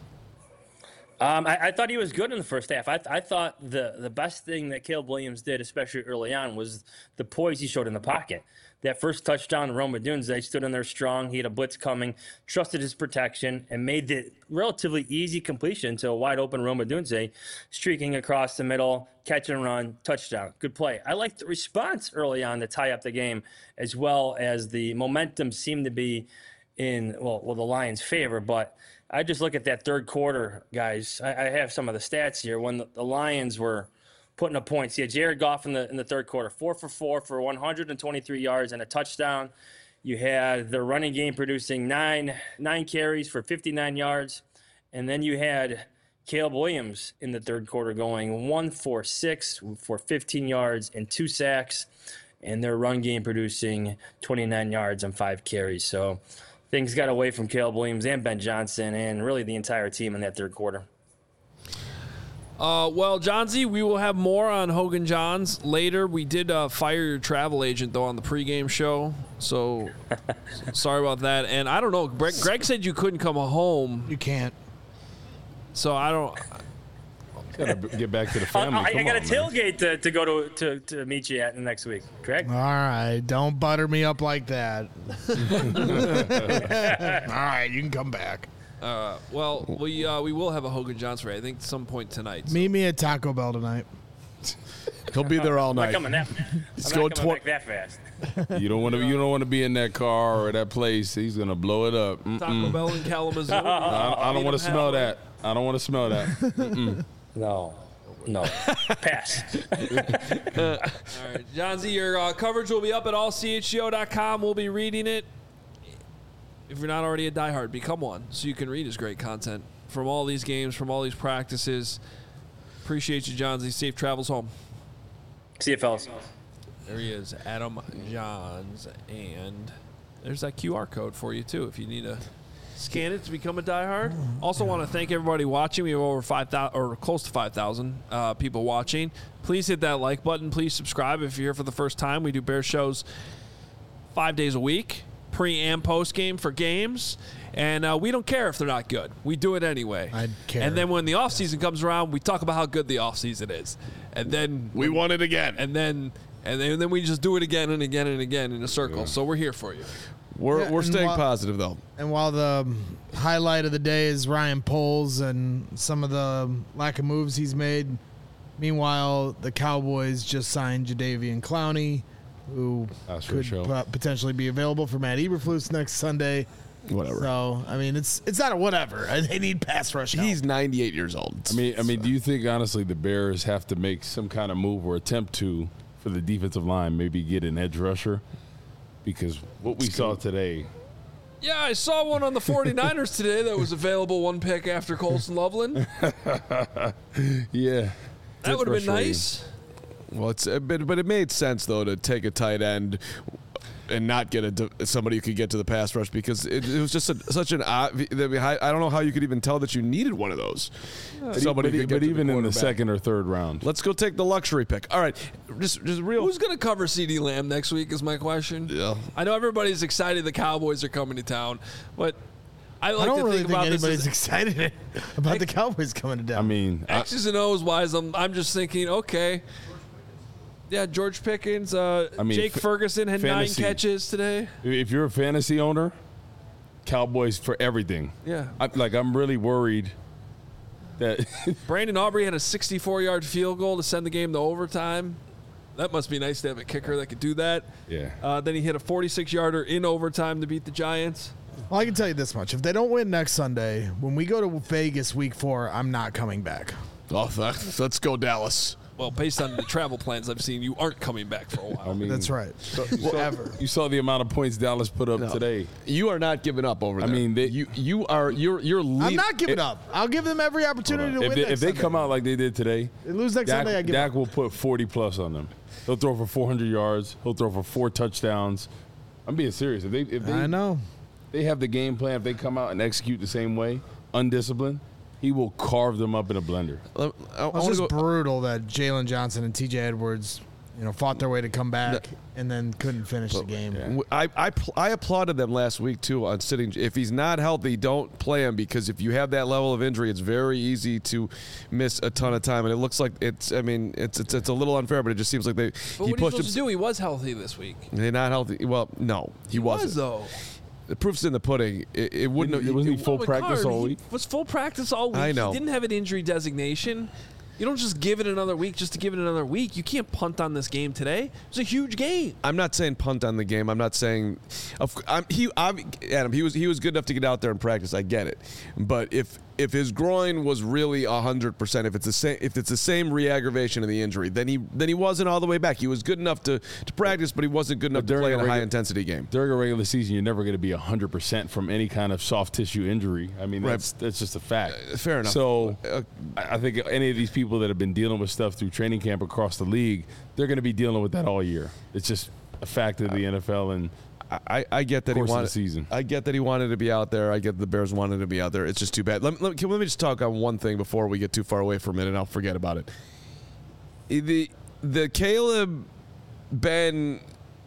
I thought he was good in the first half. I thought the best thing that Caleb Williams did, especially early on, was the poise he showed in the pocket. That first touchdown, Rome Odunze stood in there strong. He had a blitz coming, trusted his protection, and made the relatively easy completion to a wide-open Rome Odunze, streaking across the middle, catch and run, touchdown. Good play. I liked the response early on to tie up the game, as well as the momentum seemed to be in, the Lions' favor. But I just look at that third quarter, guys. I have some of the stats here. When the Lions were putting up points, you had Jared Goff in the third quarter, 4 for 4 for 123 yards and a touchdown. You had the running game producing nine carries for 59 yards. And then you had Caleb Williams in the third quarter going 1 for 6 for 15 yards and 2 sacks. And their run game producing 29 yards and 5 carries. So things got away from Caleb Williams and Ben Johnson and really the entire team in that third quarter. Well, Johnsy, we will have more on Hogan Johns later. We did fire your travel agent, though, on the pregame show. So sorry about that. And I don't know. Greg said you couldn't come home. You can't. So I don't. Got to get back to the family. I got a tailgate to go to meet you at next week, correct? All right. Don't butter me up like that. All right. You can come back. Well, we will have a Hogan Johns for I think some point tonight. So. Meet me at Taco Bell tonight. He'll be there all night. I'm not coming back that fast. You don't want to be in that car or that place. He's gonna blow it up. Taco Bell in Kalamazoo. I don't want to smell that. I don't want to smell that. No. Pass. All right, Johnsy, your coverage will be up at allchgo.com. We'll be reading it. If you're not already a diehard, become one so you can read his great content from all these games, from all these practices. Appreciate you, Johnsy. Safe travels home. See you, fellas. There he is, Adam Johns. And there's that QR code for you, too, if you need to scan it to become a diehard. Also want to thank everybody watching. We have over 5,000 or close to 5,000 people watching. Please hit that like button. Please subscribe if you're here for the first time. We do Bears shows 5 days a week. Pre and post game for games, and we don't care if they're not good. We do it anyway. I care. And then when the off season comes around, we talk about how good the off season is, and then we want it again. And then we just do it again and again and again in a circle. Yeah. So we're here for you. We're staying positive though. And while the highlight of the day is Ryan Poles and some of the lack of moves he's made, meanwhile the Cowboys just signed Jadeveon Clowney, who could potentially be available for Matt Eberflus next Sunday. Whatever. So, I mean, it's not a whatever. They need pass rush help. He's 98 years old. I mean, do you think, honestly, the Bears have to make some kind of move or attempt to, for the defensive line, maybe get an edge rusher? Because what we saw today. Yeah, I saw one on the 49ers today that was available 1 pick after Colson Loveland. Yeah. That would have been nice. Well, but it made sense though to take a tight end and not get somebody who could get to the pass rush, because it was just such an odd. I don't know how you could even tell that you needed one of those. Somebody but even in the second or third round. Let's go take the luxury pick. All right, just real. Who's going to cover CeeDee Lamb next week is my question. Yeah, I know everybody's excited the Cowboys are coming to town, but I don't really think about anybody's excited about the Cowboys coming to town. I mean, X's and O's wise, I'm just thinking, okay. Yeah, George Pickens. Jake Ferguson had fantasy, 9 catches today. If you're a fantasy owner, Cowboys for everything. Yeah. I'm really worried that Brandon Aubrey had a 64-yard field goal to send the game to overtime. That must be nice to have a kicker that could do that. Yeah. Then he hit a 46-yarder in overtime to beat the Giants. Well, I can tell you this much. If they don't win next Sunday, when we go to Vegas week 4, I'm not coming back. Oh, let's go Dallas. Well, based on the travel plans I've seen, you aren't coming back for a while. I mean, That's right. You saw the amount of points Dallas put up today. You are not giving up over there. I mean, you're I'm not giving up. I'll give them every opportunity to win next If they Sunday. come out like they did today, They lose next Sunday, I give Dak up. will put 40+ on them. He'll throw for 400 yards. He'll throw for 4 touchdowns. I'm being serious. If they I know. They have the game plan. If they come out and execute the same way, undisciplined, he will carve them up in a blender. It was just brutal that Jalen Johnson and T.J. Edwards, fought their way to come back and then couldn't finish the game. I applauded them last week too on sitting. If he's not healthy, don't play him, because if you have that level of injury, it's very easy to miss a ton of time. And it looks like it's a little unfair, but it just seems like But he what are you pushed supposed to do? He was healthy this week. They're not healthy. Well, no, he wasn't. Was, though. The proof's in the pudding. It wouldn't. Wasn't he full practice all He week? was full practice all week. I know. He didn't have an injury designation. You don't just give it another week just to give it another week. You can't punt on this game today. It was a huge game. I'm not saying punt on the game. I'm not saying. Adam, he was good enough to get out there and practice. I get it, but if his groin was really 100%, if it's the same re-aggravation of the injury, then he wasn't all the way back. He was good enough to practice, but he wasn't good enough to play in a high intensity game. During a regular season, you're never going to be 100% from any kind of soft tissue injury. I mean, that's just a fact. Fair enough. So I think any of these people that have been dealing with stuff through training camp across the league, they're going to be dealing with that all year. It's just a fact of the NFL and. I get that he wanted the season. I get that he wanted to be out there. I get the Bears wanted to be out there. It's just too bad. Let me just talk on one thing before we get too far away from it, and I'll forget about it. The Caleb Ben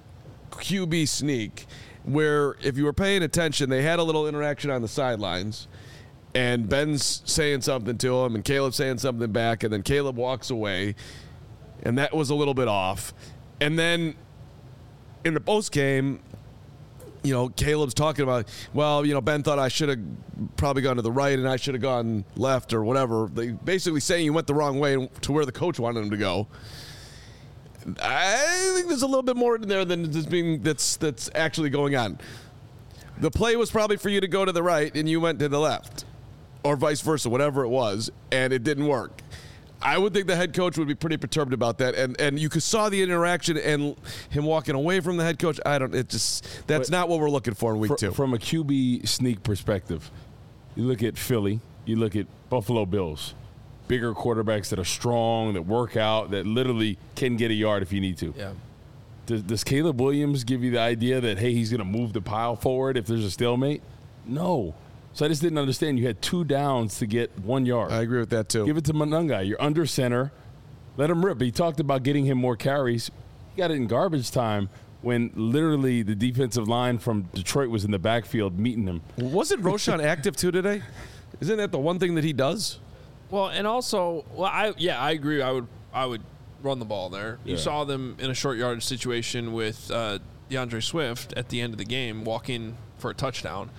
QB sneak, where if you were paying attention, they had a little interaction on the sidelines, and Ben's saying something to him, and Caleb's saying something back, and then Caleb walks away, and that was a little bit off. And then in the post game, Caleb's talking about, Ben thought I should have probably gone to the right and I should have gone left or whatever. They basically saying he went the wrong way to where the coach wanted him to go. I think there's a little bit more in there than that's actually going on. The play was probably for you to go to the right and you went to the left, or vice versa, whatever it was, and it didn't work. I would think the head coach would be pretty perturbed about that, and you saw the interaction and him walking away from the head coach. That's not what we're looking for in week 2. From a QB sneak perspective, you look at Philly, you look at Buffalo Bills, bigger quarterbacks that are strong, that work out, that literally can get a yard if you need to. Yeah. Does Caleb Williams give you the idea that, hey, he's going to move the pile forward if there's a stalemate? No. So I just didn't understand. You had 2 downs to get 1 yard. I agree with that, too. Give it to Monungai. You're under center. Let him rip. He talked about getting him more carries. He got it in garbage time when literally the defensive line from Detroit was in the backfield meeting him. Wasn't Roschon active, too, today? Isn't that the one thing that he does? Well, and also, I agree. I would run the ball there. You saw them in a short yardage situation with DeAndre Swift at the end of the game, walking for a touchdown.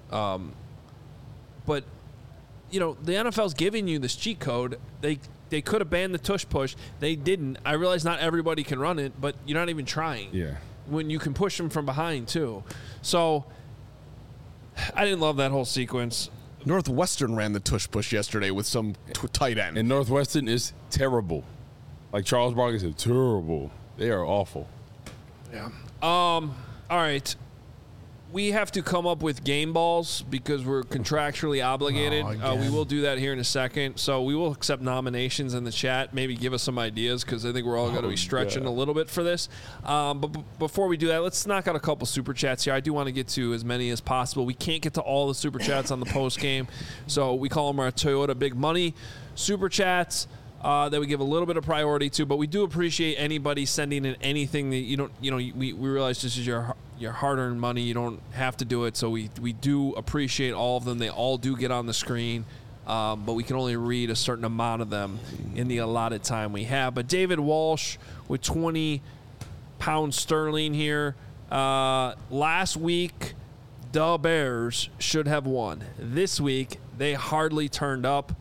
But, the NFL's giving you this cheat code. They could have banned the tush push. They didn't. I realize not everybody can run it, but you're not even trying. Yeah. When you can push them from behind, too. So, I didn't love that whole sequence. Northwestern ran the tush push yesterday with some tight end. And Northwestern is terrible. Like Charles Barkley said, terrible. They are awful. Yeah. All right. We have to come up with game balls because we're contractually obligated. We will do that here in a second. So we will accept nominations in the chat. Maybe give us some ideas because I think we're all going to be stretching a little bit for this. But before we do that, let's knock out a couple super chats here. I do want to get to as many as possible. We can't get to all the super chats on the post game, so we call them our Toyota Big Money super chats. That we give a little bit of priority to, but we do appreciate anybody sending in anything that we realize this is your hard-earned money. You don't have to do it, so we do appreciate all of them. They all do get on the screen, but we can only read a certain amount of them in the allotted time we have. But David Walsh with 20 pounds sterling here. Last week, the Bears should have won. This week, they hardly turned up.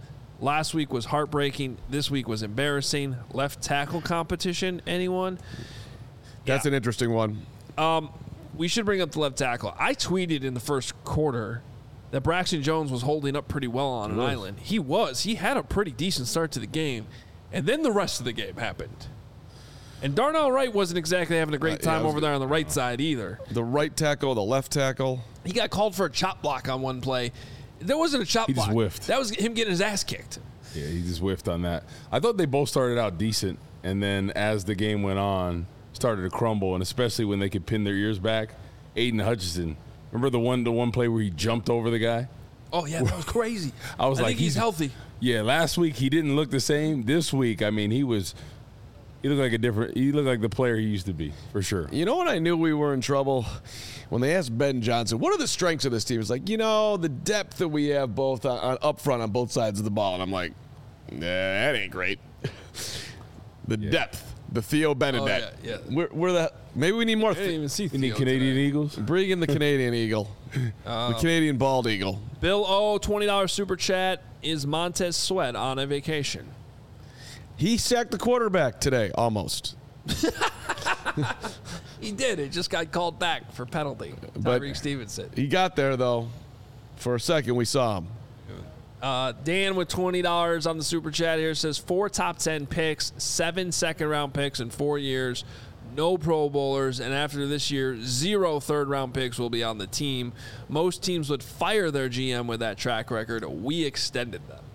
Last week was heartbreaking. This week was embarrassing. Left tackle competition, anyone? That's an interesting one. We should bring up the left tackle. I tweeted in the first quarter that Braxton Jones was holding up pretty well on an island. He was. He had a pretty decent start to the game. And then the rest of the game happened. And Darnell Wright wasn't exactly having a great time over there on the right side either. The right tackle, the left tackle. He got called for a chop block on one play. There wasn't a chop block. He just whiffed. That was him getting his ass kicked. Yeah, he just whiffed on that. I thought they both started out decent, and then as the game went on, started to crumble, and especially when they could pin their ears back. Aiden Hutchinson, remember the one play where he jumped over the guy? Oh, yeah, that was crazy. I think he's healthy. Yeah, last week he didn't look the same. This week, I mean, he looked like the player he used to be, for sure. You know when I knew we were in trouble? When they asked Ben Johnson, what are the strengths of this team? It's like, the depth that we have both up front on both sides of the ball. And I'm like, nah, that ain't great. The depth. The Theo Bernadette. Oh, yeah. We're maybe we need more. I didn't even see Theo. You need Canadian Eagles? Bring in the Canadian Eagle. The Canadian Bald Eagle. Bill O, $20 super chat. Is Montez Sweat on a vacation? He sacked the quarterback today, almost. He did. It just got called back for penalty. Tyreek Stevenson. He got there, though. For a second, we saw him. Dan with $20 on the super chat here says 4 top 10 picks, 7 second-round picks in 4 years, no Pro Bowlers, and after this year, 0 third-round picks will be on the team. Most teams would fire their GM with that track record. We extended them.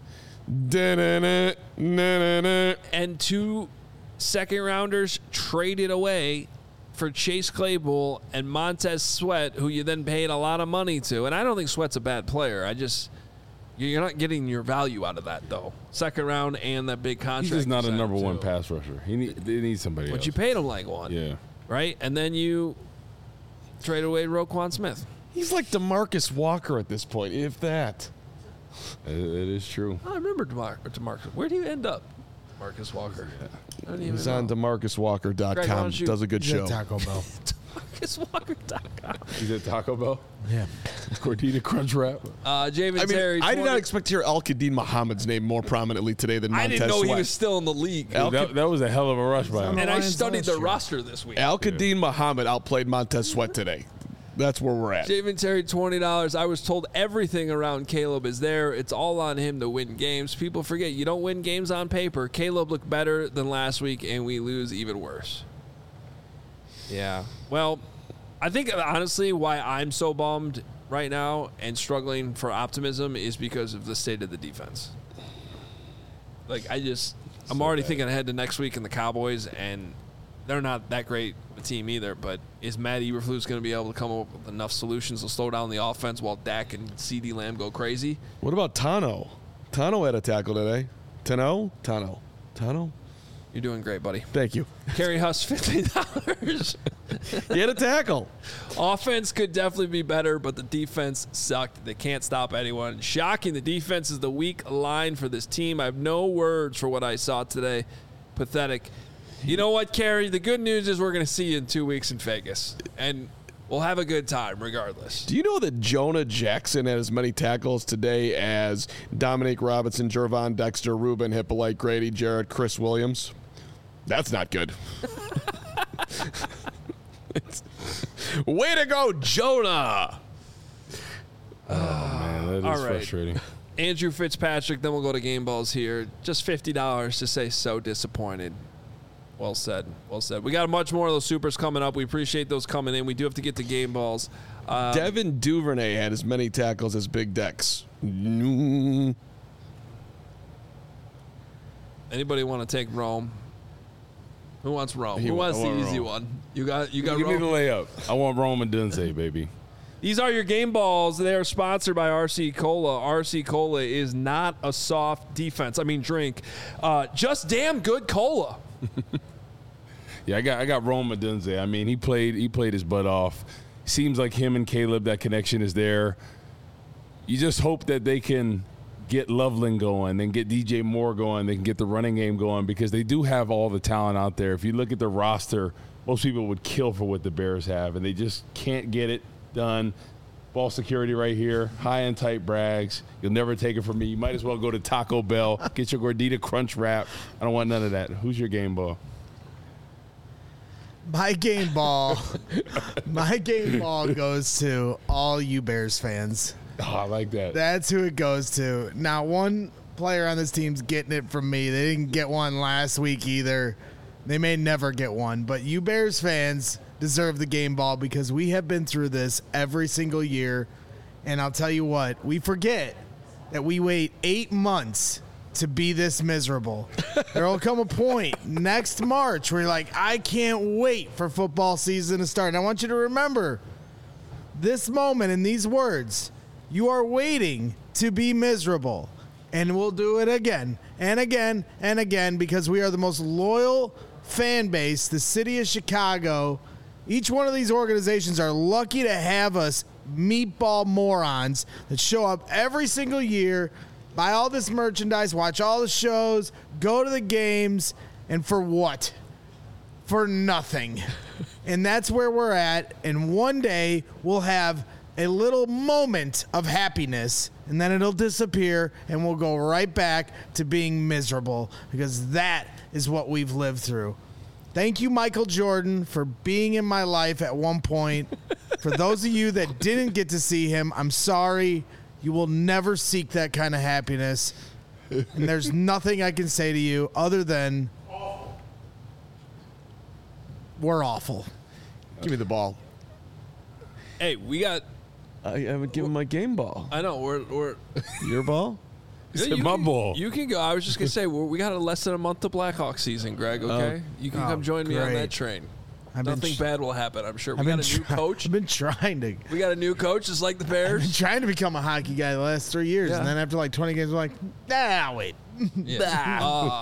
And 2 second-rounders traded away for Chase Claypool and Montez Sweat, who you then paid a lot of money to. And I don't think Sweat's a bad player. You're not getting your value out of that, though. Second round and that big contract. He's just not a number one pass rusher. They need somebody else. But you paid him like one. Yeah. Right? And then you trade away Roquan Smith. He's like DeMarcus Walker at this point, if that. It is true. I remember DeMarcus. Where do you end up, Marcus Walker? I don't even He's know. on DeMarcusWalker.com. Greg, does a good He's show. at Taco Bell. DeMarcusWalker.com. He's at Taco Bell? Yeah. Gordita Crunch Wrap. Javen Terry. I did not expect to hear Al-Qadim Muhammad's name more prominently today than Montez I didn't know Sweat. he was still in the league. That was a hell of a rush by him. And I studied the roster this week. Al-Qadim Muhammad outplayed Montez Sweat today. That's where we're at. Javen Terry, $20. I was told everything around Caleb is there. It's all on him to win games. People forget you don't win games on paper. Caleb looked better than last week, and we lose even worse. Yeah. Well, I think honestly why I'm so bummed right now and struggling for optimism is because of the state of the defense. I'm already thinking ahead to next week in the Cowboys, and they're not that great a team either, but is Matt Eberflus going to be able to come up with enough solutions to slow down the offense while Dak and CeeDee Lamb go crazy? What about Tano? Tano had a tackle today. Tano? You're doing great, buddy. Thank you. Kerry Huss, $50. He had a tackle. Offense could definitely be better, but the defense sucked. They can't stop anyone. Shocking. The defense is the weak line for this team. I have no words for what I saw today. Pathetic. You know what, Kerry? The good news is we're going to see you in 2 weeks in Vegas, and we'll have a good time regardless. Do you know that Jonah Jackson had as many tackles today as Dominique Robinson, Jervon Dexter, Ruben Hippolyte, Grady Jarrett, Chris Williams? That's not good. Way to go, Jonah! Oh, man, that is All right. frustrating. Andrew Fitzpatrick, then we'll go to Game Balls here. Just $50 to say so disappointed. Well said. Well said. We got much more of those supers coming up. We appreciate those coming in. We do have to get to Game Balls. Devin Duvernay had as many tackles as Big Dex. Anybody want to take Rome? Who wants Rome? Who wants the easy one? You got Give Rome? me the layup. I want Rome and Dunze, baby. These are your Game Balls. They are sponsored by RC Cola. RC Cola is not a soft drink. Just damn good cola. Yeah, I got Rome and Dunze. I mean, he played his butt off. Seems like him and Caleb, that connection is there. You just hope that they can get Loveland going, then get DJ Moore going, they can get the running game going, because they do have all the talent out there. If you look at the roster, most people would kill for what the Bears have, and they just can't get it done. ball security right here, high and tight brags. You'll never take it from me. You might as well go to Taco Bell, get your Gordita Crunch Wrap. I don't want none of that. Who's your game ball? My game ball goes to all you Bears fans. Oh, I like that. That's who it goes to. Now, one player on this team's getting it from me. They didn't get one last week either. They may never get one, but you Bears fans deserve the game ball because we have been through this every single year. And I'll tell you what, we forget that we wait 8 months to be this miserable. There will come a point next March where you're like, I can't wait for football season to start. And I want you to remember this moment and these words. You are waiting to be miserable. And we'll do it again and again and again because we are the most loyal fan base, the city of Chicago. Each one of these organizations are lucky to have us meatball morons that show up every single year, buy all this merchandise, watch all the shows, go to the games, and for what? For nothing. And that's where we're at. And one day we'll have a little moment of happiness, and then it'll disappear, and we'll go right back to being miserable because that is what we've lived through. Thank you, Michael Jordan, for being in my life at one point. For those of you that didn't get to see him, I'm sorry. You will never seek that kind of happiness. And there's nothing I can say to you other than we're awful. Give me the ball. Hey, we got. I haven't given my game ball. I know. We're your ball. Yeah, my ball. You can go. I was just gonna say we got less than a month to Blackhawks season, Greg. Okay, you can come join me on that train. Nothing bad will happen, I'm sure. We got a new coach. I've been trying to. We got a new coach, just like the Bears. I've been trying to become a hockey guy the last 3 years, and then after like 20 games, I'm like, nah, wait. Yeah.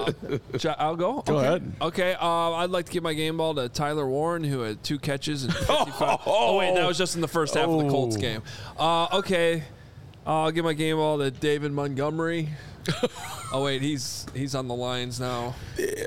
I'll go. Go ahead. Okay. I'd like to give my game ball to Tyler Warren, who had 2 catches and 55. Oh wait, that was just in the first half of the Colts game. Okay. I'll give my game ball to David Montgomery. Oh wait, he's on the Lions now.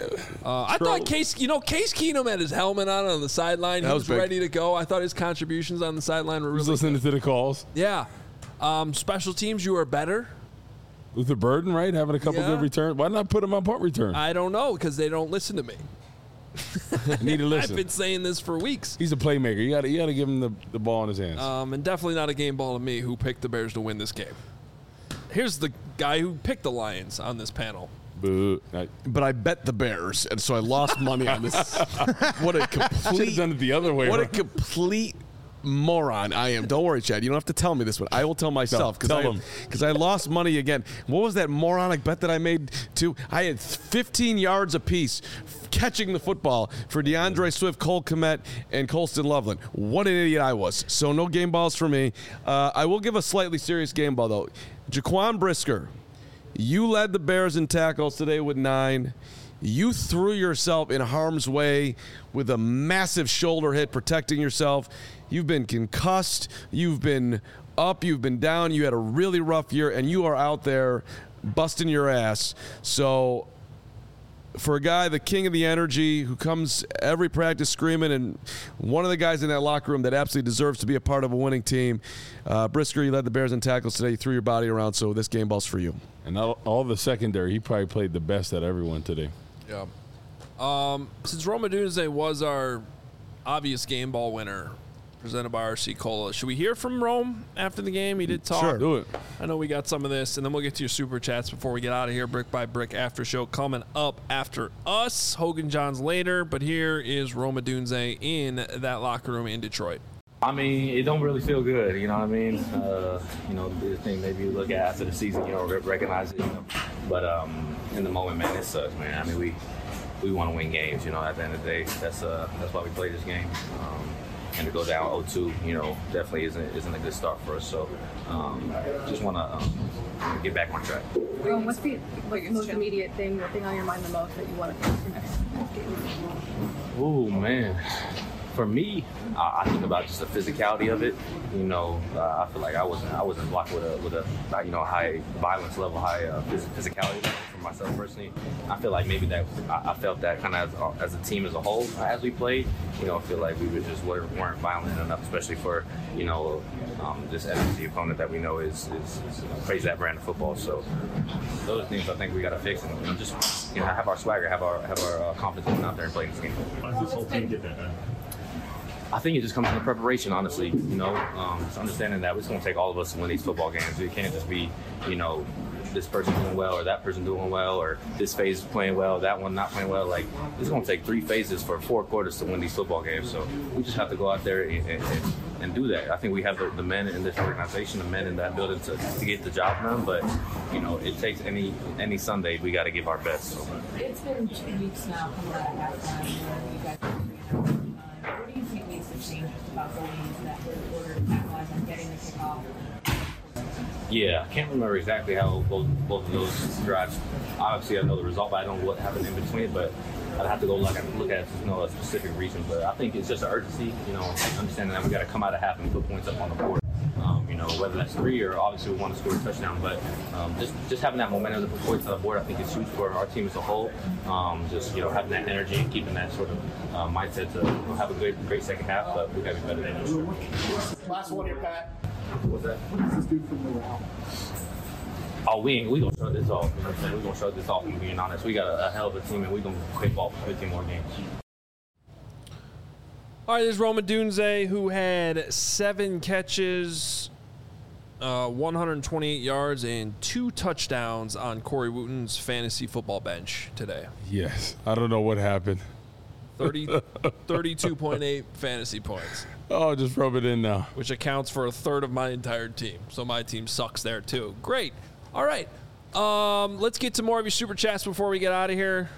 I thought Case Keenum had his helmet on the sideline. He was ready to go. I thought his contributions on the sideline were really He was listening to the calls. Yeah. Special teams, you are better. Luther Burden, right? Having a couple good returns. Why not put him on punt return? I don't know, because they don't listen to me. Need to listen. I've been saying this for weeks. He's a playmaker. You got to give him the ball in his hands. And definitely not a game ball to me, who picked the Bears to win this game. Here's the guy who picked the Lions on this panel. Boo. But I bet the Bears, and so I lost money on this. What a complete. Should have done it the other way. What a complete moron I am. Don't worry, Chad. You don't have to tell me this, but I will tell myself because I lost money again. What was that moronic bet that I made too? I had 15 yards apiece catching the football for DeAndre Swift, Cole Kmet, and Colston Loveland. What an idiot I was. So no game balls for me. I will give a slightly serious game ball, though. Jaquan Brisker, you led the Bears in tackles today with 9. You threw yourself in harm's way with a massive shoulder hit protecting yourself. You've been concussed. You've been up. You've been down. You had a really rough year, and you are out there busting your ass. So for a guy, the king of the energy, who comes every practice screaming, and one of the guys in that locker room that absolutely deserves to be a part of a winning team, Brisker, you led the Bears in tackles today. You threw your body around, so this game ball's for you. And all the secondary, he probably played the best at everyone today. Yeah. Since Rome Odunze was our obvious game ball winner, presented by RC Cola, should we hear from Rome after the game? He did talk. Sure, do it. I know we got some of this, and then we'll get to your super chats before we get out of here. Brick by Brick after show coming up after us. Hogan Johns later, but here is Rome Odunze in that locker room in Detroit. I mean, it don't really feel good, you know what I mean? The thing maybe you look at after the season, you don't recognize it, But in the moment, man, it sucks, man. I mean, we want to win games, at the end of the day. That's why we play this game. And to go down 0-2, definitely isn't a good start for us. So just want to get back on track. What's the most immediate thing, the thing on your mind the most that you want to fix for next game? Oh, man. For me, I think about just the physicality of it. You know, I feel like I wasn't blocked with a high violence level, high physicality level for myself personally. I feel like maybe that I felt that kind of as a team as a whole as we played. You know, I feel like we weren't violent enough, especially for this NFC opponent that we know is plays that brand of football. So those are things I think we got to fix and just have our swagger, have our confidence going out there and playing this game. Why does this whole team get that done? I think it just comes from the preparation, honestly. Just understanding that it's going to take all of us to win these football games. It can't just be, this person doing well or that person doing well or this phase playing well, that one not playing well. Like, it's going to take 3 phases for 4 quarters to win these football games. So we just have to go out there and do that. I think we have the men in this organization, the men in that building to get the job done. But, it takes any Sunday, we got to give our best. So. It's been 2 weeks now coming out of halftime. You guys what do you think needs to change about going into that third quarter to capitalize on getting the kickoff? Yeah, I can't remember exactly how both of those drives. Obviously, I know the result, but I don't know what happened in between. But I'd have to go look at a specific reason. But I think it's just an urgency. Understanding that we got to come out of half and put points up on the board. Whether that's 3 or obviously we want to score a touchdown. But just having that momentum to put points on the board, I think is huge for our team as a whole. Having that energy and keeping that sort of mindset to have a great second half. But we got to be better than sure. Last one here, Pat. What's that? What does this do for morale? Oh, we gonna show this off. You know what I'm saying? We're gonna show this off. And being honest, we got a hell of a team, and we're gonna play ball for 15 more games. All right, there's Rome Odunze, who had 7 catches, 128 yards, and 2 touchdowns on Corey Wooten's fantasy football bench today. Yes, I don't know what happened. 32.8 fantasy points. Oh, just rub it in now. Which accounts for a third of my entire team. So my team sucks there too. Great. All right. Let's get to more of your super chats before we get out of here.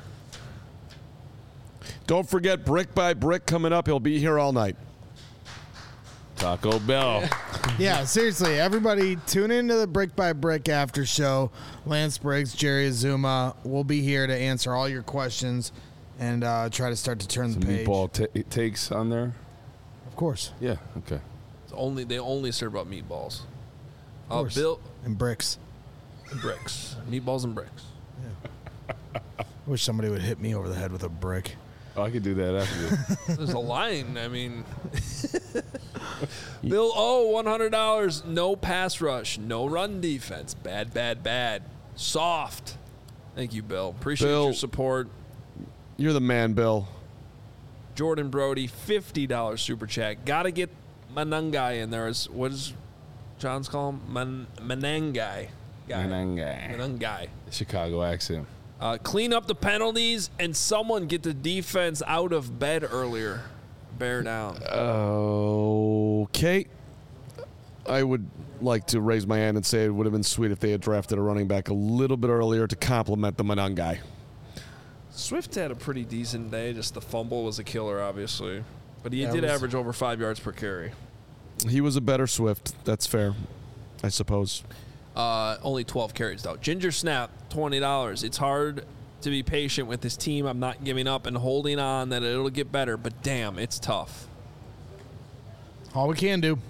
Don't forget Brick by Brick coming up. He'll be here all night. Taco Bell. Yeah, seriously, everybody tune into the Brick by Brick after show. Lance Briggs, Jerry Azuma will be here to answer all your questions and try to start to turn the page. Meatball takes on there? Of course. Yeah, okay. They only serve up meatballs. Of course. Bill and bricks. Bricks. Meatballs and bricks. Yeah. I wish somebody would hit me over the head with a brick. Oh, I could do that after this. There's a line. I mean, Bill, $100. No pass rush. No run defense. Bad. Soft. Thank you, Bill. Appreciate your support. You're the man, Bill. Jordan Brody, $50 super chat. Got to get Manangai in there. What does John's call him? Manangai. Manangai. Chicago accent. Clean up the penalties and someone get the defense out of bed earlier. Bear down. Okay. I would like to raise my hand and say it would have been sweet if they had drafted a running back a little bit earlier to complement the Manangai. Swift had a pretty decent day. Just the fumble was a killer, obviously. But he did average over 5 yards per carry. He was a better Swift. That's fair, I suppose. Only 12 carries, though. Ginger Snap, $20. It's hard to be patient with this team. I'm not giving up and holding on that it'll get better, but damn, it's tough. All we can do.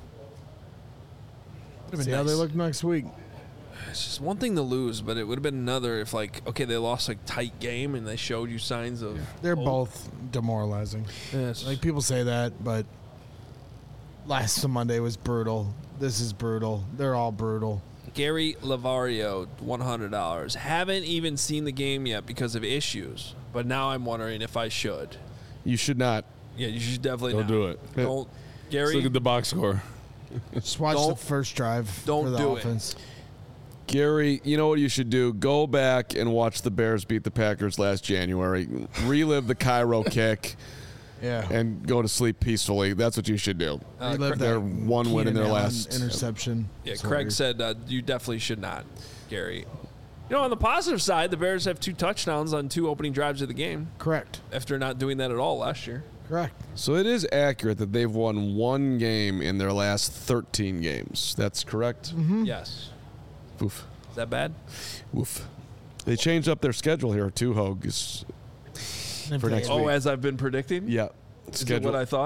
See how they look next week. It's just one thing to lose, but it would have been another if, they lost a tight game and they showed you signs of... They're both demoralizing. Yes. People say that, but last Monday was brutal. This is brutal. They're all brutal. Gary Lavario, $100. Haven't even seen the game yet because of issues, but now I'm wondering if I should. You should not. Yeah, you should definitely Don't not. do it. Don't, Gary. Let's look at the box score. Just watch the first drive for the offense. Gary, you know what you should do? Go back and watch the Bears beat the Packers last January. Relive the Cairo kick. Yeah. And go to sleep peacefully. That's what you should do. They're one win in their last interception. Yeah, Craig said you definitely should not, Gary. On the positive side, the Bears have 2 touchdowns on 2 opening drives of the game. Correct. After not doing that at all last year. Correct. So it is accurate that they've won 1 game in their last 13 games. That's correct? Mm-hmm. Yes. Oof. Is that bad? Oof. They changed up their schedule here too, Hogue. For next week. As I've been predicting? Yeah. Is it what I thought?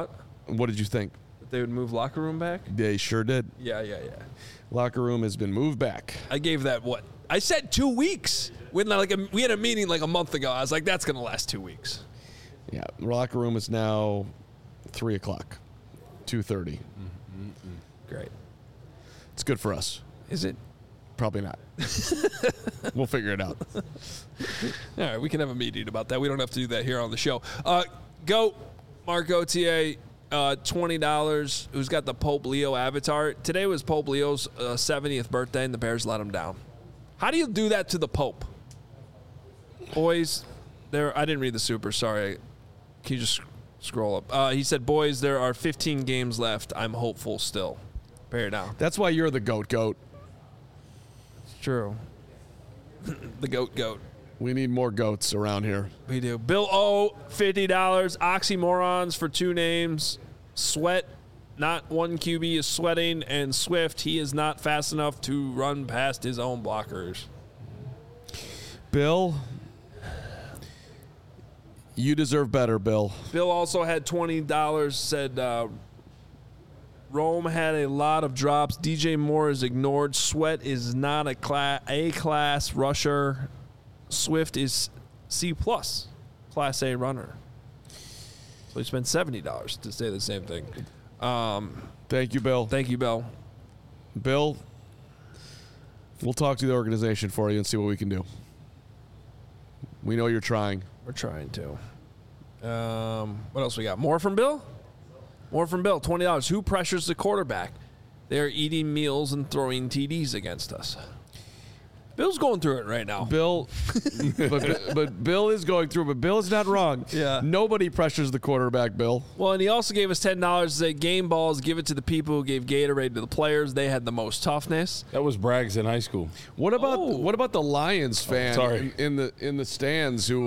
What did you think? That they would move locker room back? They sure did. Yeah. Locker room has been moved back. I gave that what? I said 2 weeks. We had a meeting like a month ago. I was like, that's going to last 2 weeks. Yeah, locker room is now 3 o'clock, 2:30. Great. It's good for us. Is it? Probably not. We'll figure it out. All right, we can have a meeting about that. We don't have to do that here on the show. Go, Mark Gauthier, $20. Who's got the Pope Leo avatar? Today was Pope Leo's 70th birthday, and the Bears let him down. How do you do that to the Pope? Boys, I didn't read the super. Sorry. Can you just scroll up? He said, boys, there are 15 games left. I'm hopeful still. Bear down. That's why you're the goat. It's true. The goat. We need more goats around here. We do. Bill O, $50. Oxymorons for 2 names. Sweat, not one QB is sweating. And Swift, he is not fast enough to run past his own blockers. Bill, you deserve better, Bill. Bill also had $20, said Rome had a lot of drops. DJ Moore is ignored. Sweat is not a A-class rusher. Swift is C+, Class A runner. So he spent $70 to say the same thing. Thank you, Bill. Thank you, Bill. Bill, we'll talk to the organization for you and see what we can do. We know you're trying. We're trying to. What else we got? More from Bill? More from Bill, $20. Who pressures the quarterback? They're eating meals and throwing TDs against us. Bill's going through it right now. Bill, but Bill is going through, but Bill is not wrong. Yeah. Nobody pressures the quarterback, Bill. Well, and he also gave us $10 to say game balls, give it to the people who gave Gatorade to the players. They had the most toughness. That was Braggs in high school. What about the Lions fan in the stands who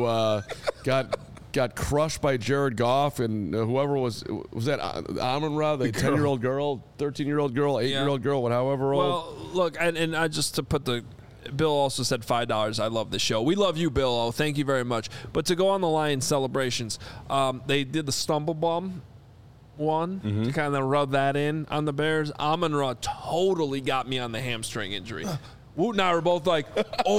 got crushed by Jared Goff and whoever was that Amon-Ra, the 10-year-old girl, 13-year-old girl, 8-year-old girl, however old. Well, look, and I just to put the Bill also said $5. I love the show. We love you, Bill. Oh, thank you very much. But to go on the Lions celebrations, they did the stumble bum one to kind of rub that in on the Bears. Amon-Ra totally got me on the hamstring injury. Woot and I were both like, oh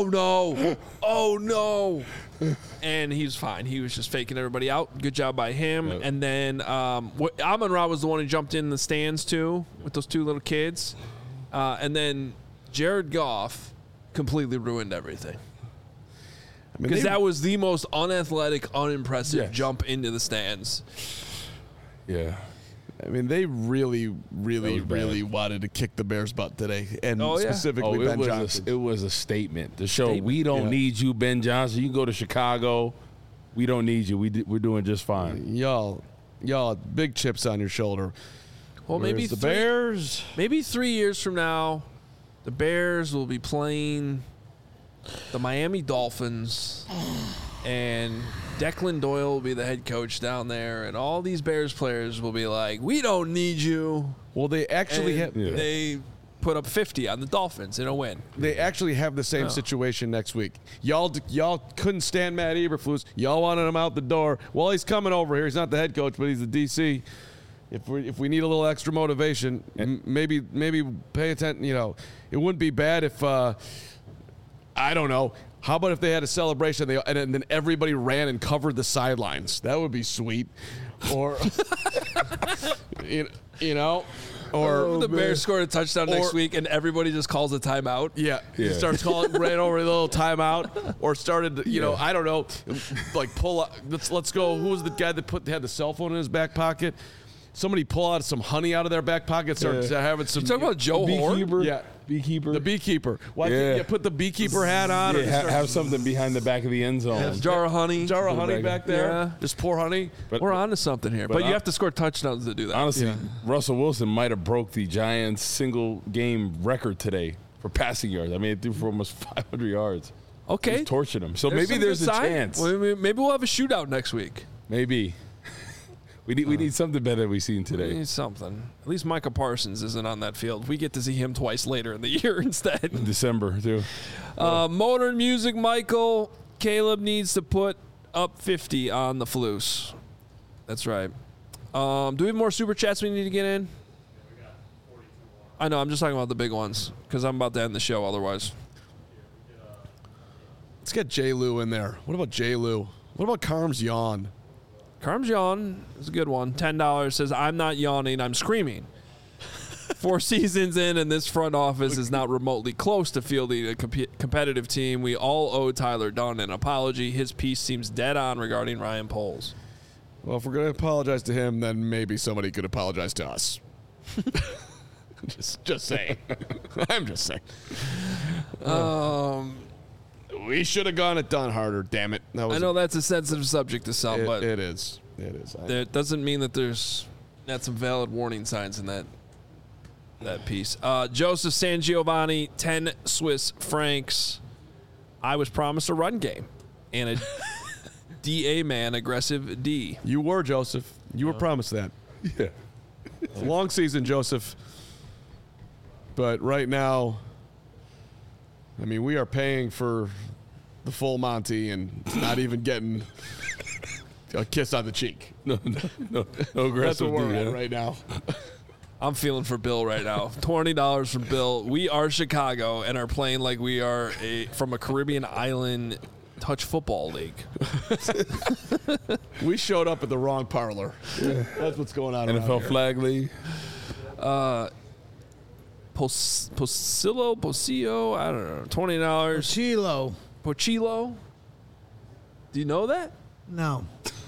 no. And he was fine. He was just faking everybody out. Good job by him. Yep. And then Amon-Ra was the one who jumped in the stands too with those 2 little kids. And then Jared Goff completely ruined everything. Because that was the most unathletic, unimpressive jump into the stands. Yeah. I mean, they really wanted to kick the Bears' butt today, and specifically Ben Johnson. It was a statement to show we don't need you, Ben Johnson. You can go to Chicago. We don't need you. We're doing just fine. Y'all, big chips on your shoulder. Well, maybe the Bears. Maybe 3 years from now, the Bears will be playing the Miami Dolphins, and Declan Doyle will be the head coach down there, and all these Bears players will be like, we don't need you. Well, they actually they put up 50 on the Dolphins in a win. They actually have the same situation next week. Y'all couldn't stand Matt Eberflus. Y'all wanted him out the door. Well, he's coming over here. He's not the head coach, but he's the DC. If we need a little extra motivation, maybe pay attention. It wouldn't be bad if I don't know. How about if they had a celebration and then everybody ran and covered the sidelines? That would be sweet. Or or the Bears scored a touchdown next week and everybody just calls a timeout. Yeah. Starts ran over a little timeout, or started. I don't know, like pull out. Let's go. Who was the guy that had the cell phone in his back pocket? Somebody pull out some honey out of their back pocket, start having some. You talking about Joe Horn? Yeah. Beekeeper. The beekeeper. Why can't you put the beekeeper hat on? Yeah, have something behind the back of the end zone. Jar of honey. Jar of honey back there. Yeah. Just pour honey. We're on to something here. But you have to score touchdowns to do that. Honestly, Russell Wilson might have broke the Giants single-game record today for passing yards. I mean, it threw for almost 500 yards. Okay. He's torching him. So maybe there's a chance. Well, maybe we'll have a shootout next week. Maybe. We need something better than we've seen today. We need something. At least Micah Parsons isn't on that field. We get to see him twice later in the year instead. In December, too. Modern music, Michael. Caleb needs to put up 50 on the Flus. That's right. Do we have more super chats we need to get in? I know. I'm just talking about the big ones because I'm about to end the show otherwise. Let's get J. Lou in there. What about J. Lou? What about Carm's yawn? Carm's yawn is a good one. $10 says, I'm not yawning, I'm screaming. 4 seasons in, and this front office is not remotely close to fielding a competitive team. We all owe Tyler Dunn an apology. His piece seems dead on regarding Ryan Poles. Well, if we're going to apologize to him, then maybe somebody could apologize to us. just saying. I'm just saying. We should have gone it done harder, damn it. I know that's a sensitive subject to some, but it is. It is. That doesn't mean that there's not some valid warning signs in that piece. Joseph San Giovanni, 10 Swiss francs. I was promised a run game and a DA man, aggressive D. You were, Joseph. You were promised that. Yeah. It's a long season, Joseph. But right now, I mean, we are paying for the full Monty and not even getting a kiss on the cheek. No aggressive. That's what we're D, at right now. I'm feeling for Bill right now. $20 from Bill. We are Chicago and are playing like we are from a Caribbean island touch football league. We showed up at the wrong parlor. Yeah. That's what's going on. NFL flag league. Posillo, I don't know. $20. Pochilo. Do you know that? No.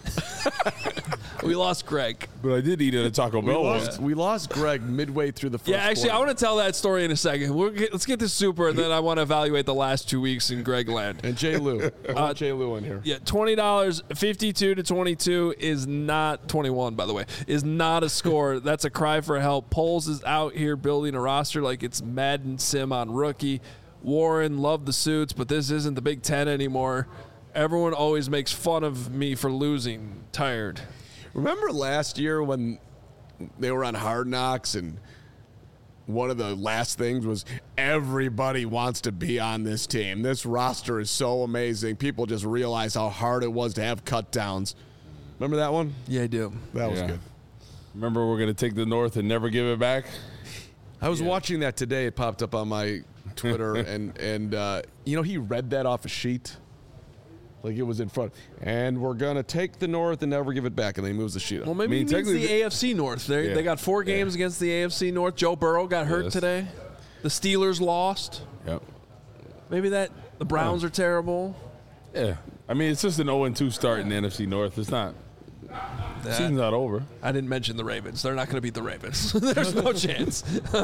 We lost Greg. But I did eat at a Taco Bell. We lost Greg midway through the first actually, quarter. I want to tell that story in a second. Let's get this super, and then I want to evaluate the last 2 weeks in Greg land. And J. Lou. I want J. Lou in here. Yeah, $20, 52 to 22 is not 21, by the way, is not a score. That's a cry for help. Poles is out here building a roster like it's Madden Sim on rookie. Warren, love the suits, but this isn't the Big Ten anymore. Everyone always makes fun of me for losing. Tired. Remember last year when they were on Hard Knocks and one of the last things was everybody wants to be on this team. This roster is so amazing. People just realize how hard it was to have cut downs. Remember that one? Yeah, I do. That was good. Remember we're going to take the North and never give it back? I was watching that today. It popped up on my Twitter, and you know, he read that off a sheet. Like it was in front. And we're going to take the North and never give it back. And then he moves the sheet up. Well, maybe he means the AFC North. They got 4 games against the AFC North. Joe Burrow got hurt today. The Steelers lost. Yep. Maybe the Browns are terrible. Yeah. I mean, it's just an 0-2 start in the NFC North. It's not. The season's not over. I didn't mention the Ravens. They're not going to beat the Ravens. There's no chance.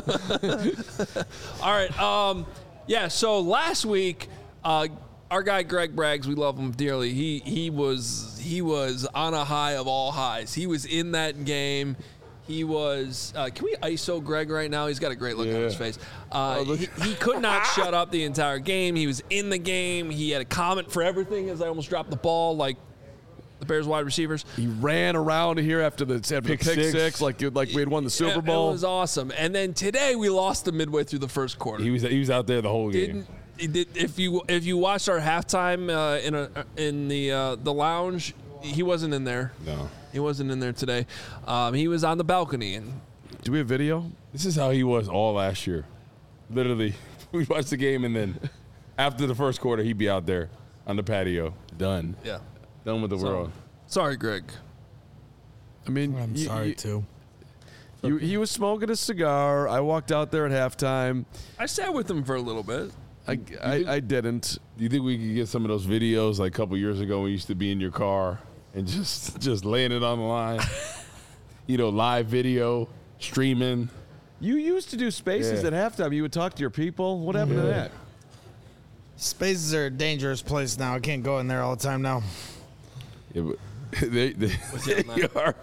All right. Yeah, so last week, our guy Greg Braggs, we love him dearly. He was on a high of all highs. He was in that game. He was. Can we ISO Greg right now? He's got a great look on his face. He could not shut up the entire game. He was in the game. He had a comment for everything as I almost dropped the ball, like the Bears wide receivers. He ran around here after the pick six, like we had won the Super Bowl. It was awesome. And then today we lost him midway through the first quarter. He was out there the whole game. If you watched our halftime in the lounge, he wasn't in there. No, he wasn't in there today. He was on the balcony. And do we have video? This is how he was all last year. Literally, we watched the game, and then after the first quarter, he'd be out there on the patio, done. Yeah, done with the world. Sorry, Greg. I mean, I'm sorry too. He was smoking a cigar. I walked out there at halftime. I sat with him for a little bit. I didn't. Do you think we could get some of those videos like a couple years ago when we used to be in your car and just laying it on the line? Live video, streaming. You used to do spaces at halftime. You would talk to your people. What happened to that? Spaces are a dangerous place now. I can't go in there all the time now. Yeah, but they are.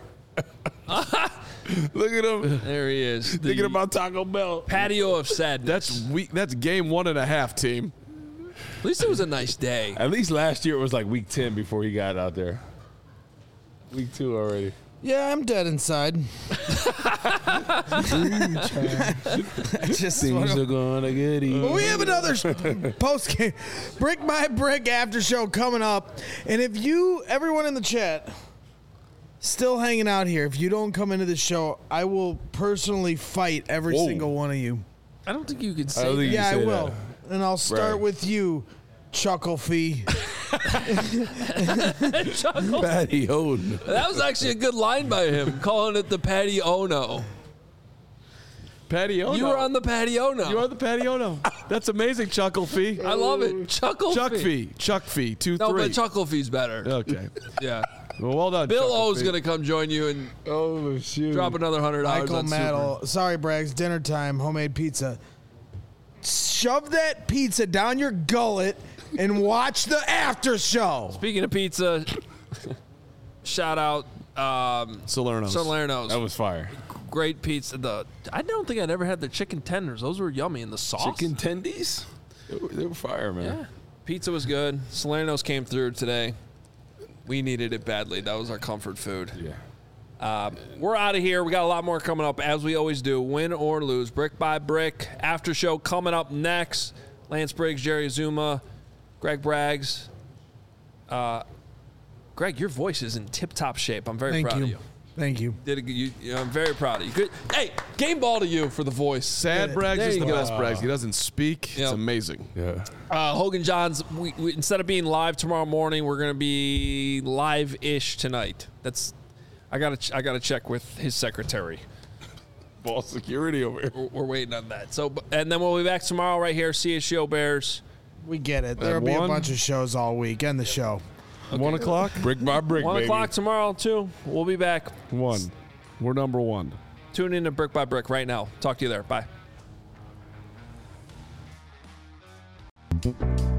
Look at him. There he is. Thinking about Taco Bell. Patio of sadness. That's game 1.5, team. At least it was a nice day. At least last year it was like week 10 before he got out there. Week 2 already. Yeah, I'm dead inside. Things are gonna get easy. Well, we have another post game brick by brick after show coming up, and if everyone in the chat, Still hanging out here. If you don't come into the show, I will personally fight every single one of you. I don't think you could say that. Yeah, I will. And I'll start with you, Chuckle Fee. Chuckle. Patty Ono. That was actually a good line by him, calling it the Patty Ono. Patty Ono. You were on the Patty Ono. You are the Patty Ono. That's amazing, Chuckle Fee. I love it. Chuckle Fee. Chuck Fee. 2-3. No, but Chuckle Fee's better. Okay. Yeah. Well done. Bill Chuckle O's Fee. going to come join you and drop another $100 Michael on Maddle. Sorry, Braggs. Dinner time. Homemade pizza. Shove that pizza down your gullet and watch the after show. Speaking of pizza, shout out Salerno's. That was fire. Great pizza. I don't think I'd ever had the chicken tenders. Those were yummy. And the sauce. Chicken tendies? They were fire, man. Yeah. Pizza was good. Salerno's came through today. We needed it badly. That was our comfort food. Yeah. We're out of here. We got a lot more coming up, as we always do. Win or lose, brick by brick. After show coming up next. Lance Briggs, Jerry Azuma, Greg Braggs. Greg, your voice is in tip-top shape. I'm very proud of you. Thank you. I'm very proud of you. Good. Hey, game ball to you for the voice. Sad Braggs There is you the go. best Braggs. He doesn't speak. Yep. It's amazing. Yeah. Hogan Johns, we instead of being live tomorrow morning, we're going to be live-ish tonight. I gotta check with his secretary. Ball security over here. We're waiting on that. And then we'll be back tomorrow right here, CSGO Bears. We get it. There'll be a bunch of shows all week. End the show. 1 o'clock? Brick by brick, 1 baby. o'clock tomorrow, too. We'll be back. 1. We're number 1. Tune in to Brick by Brick right now. Talk to you there. Bye.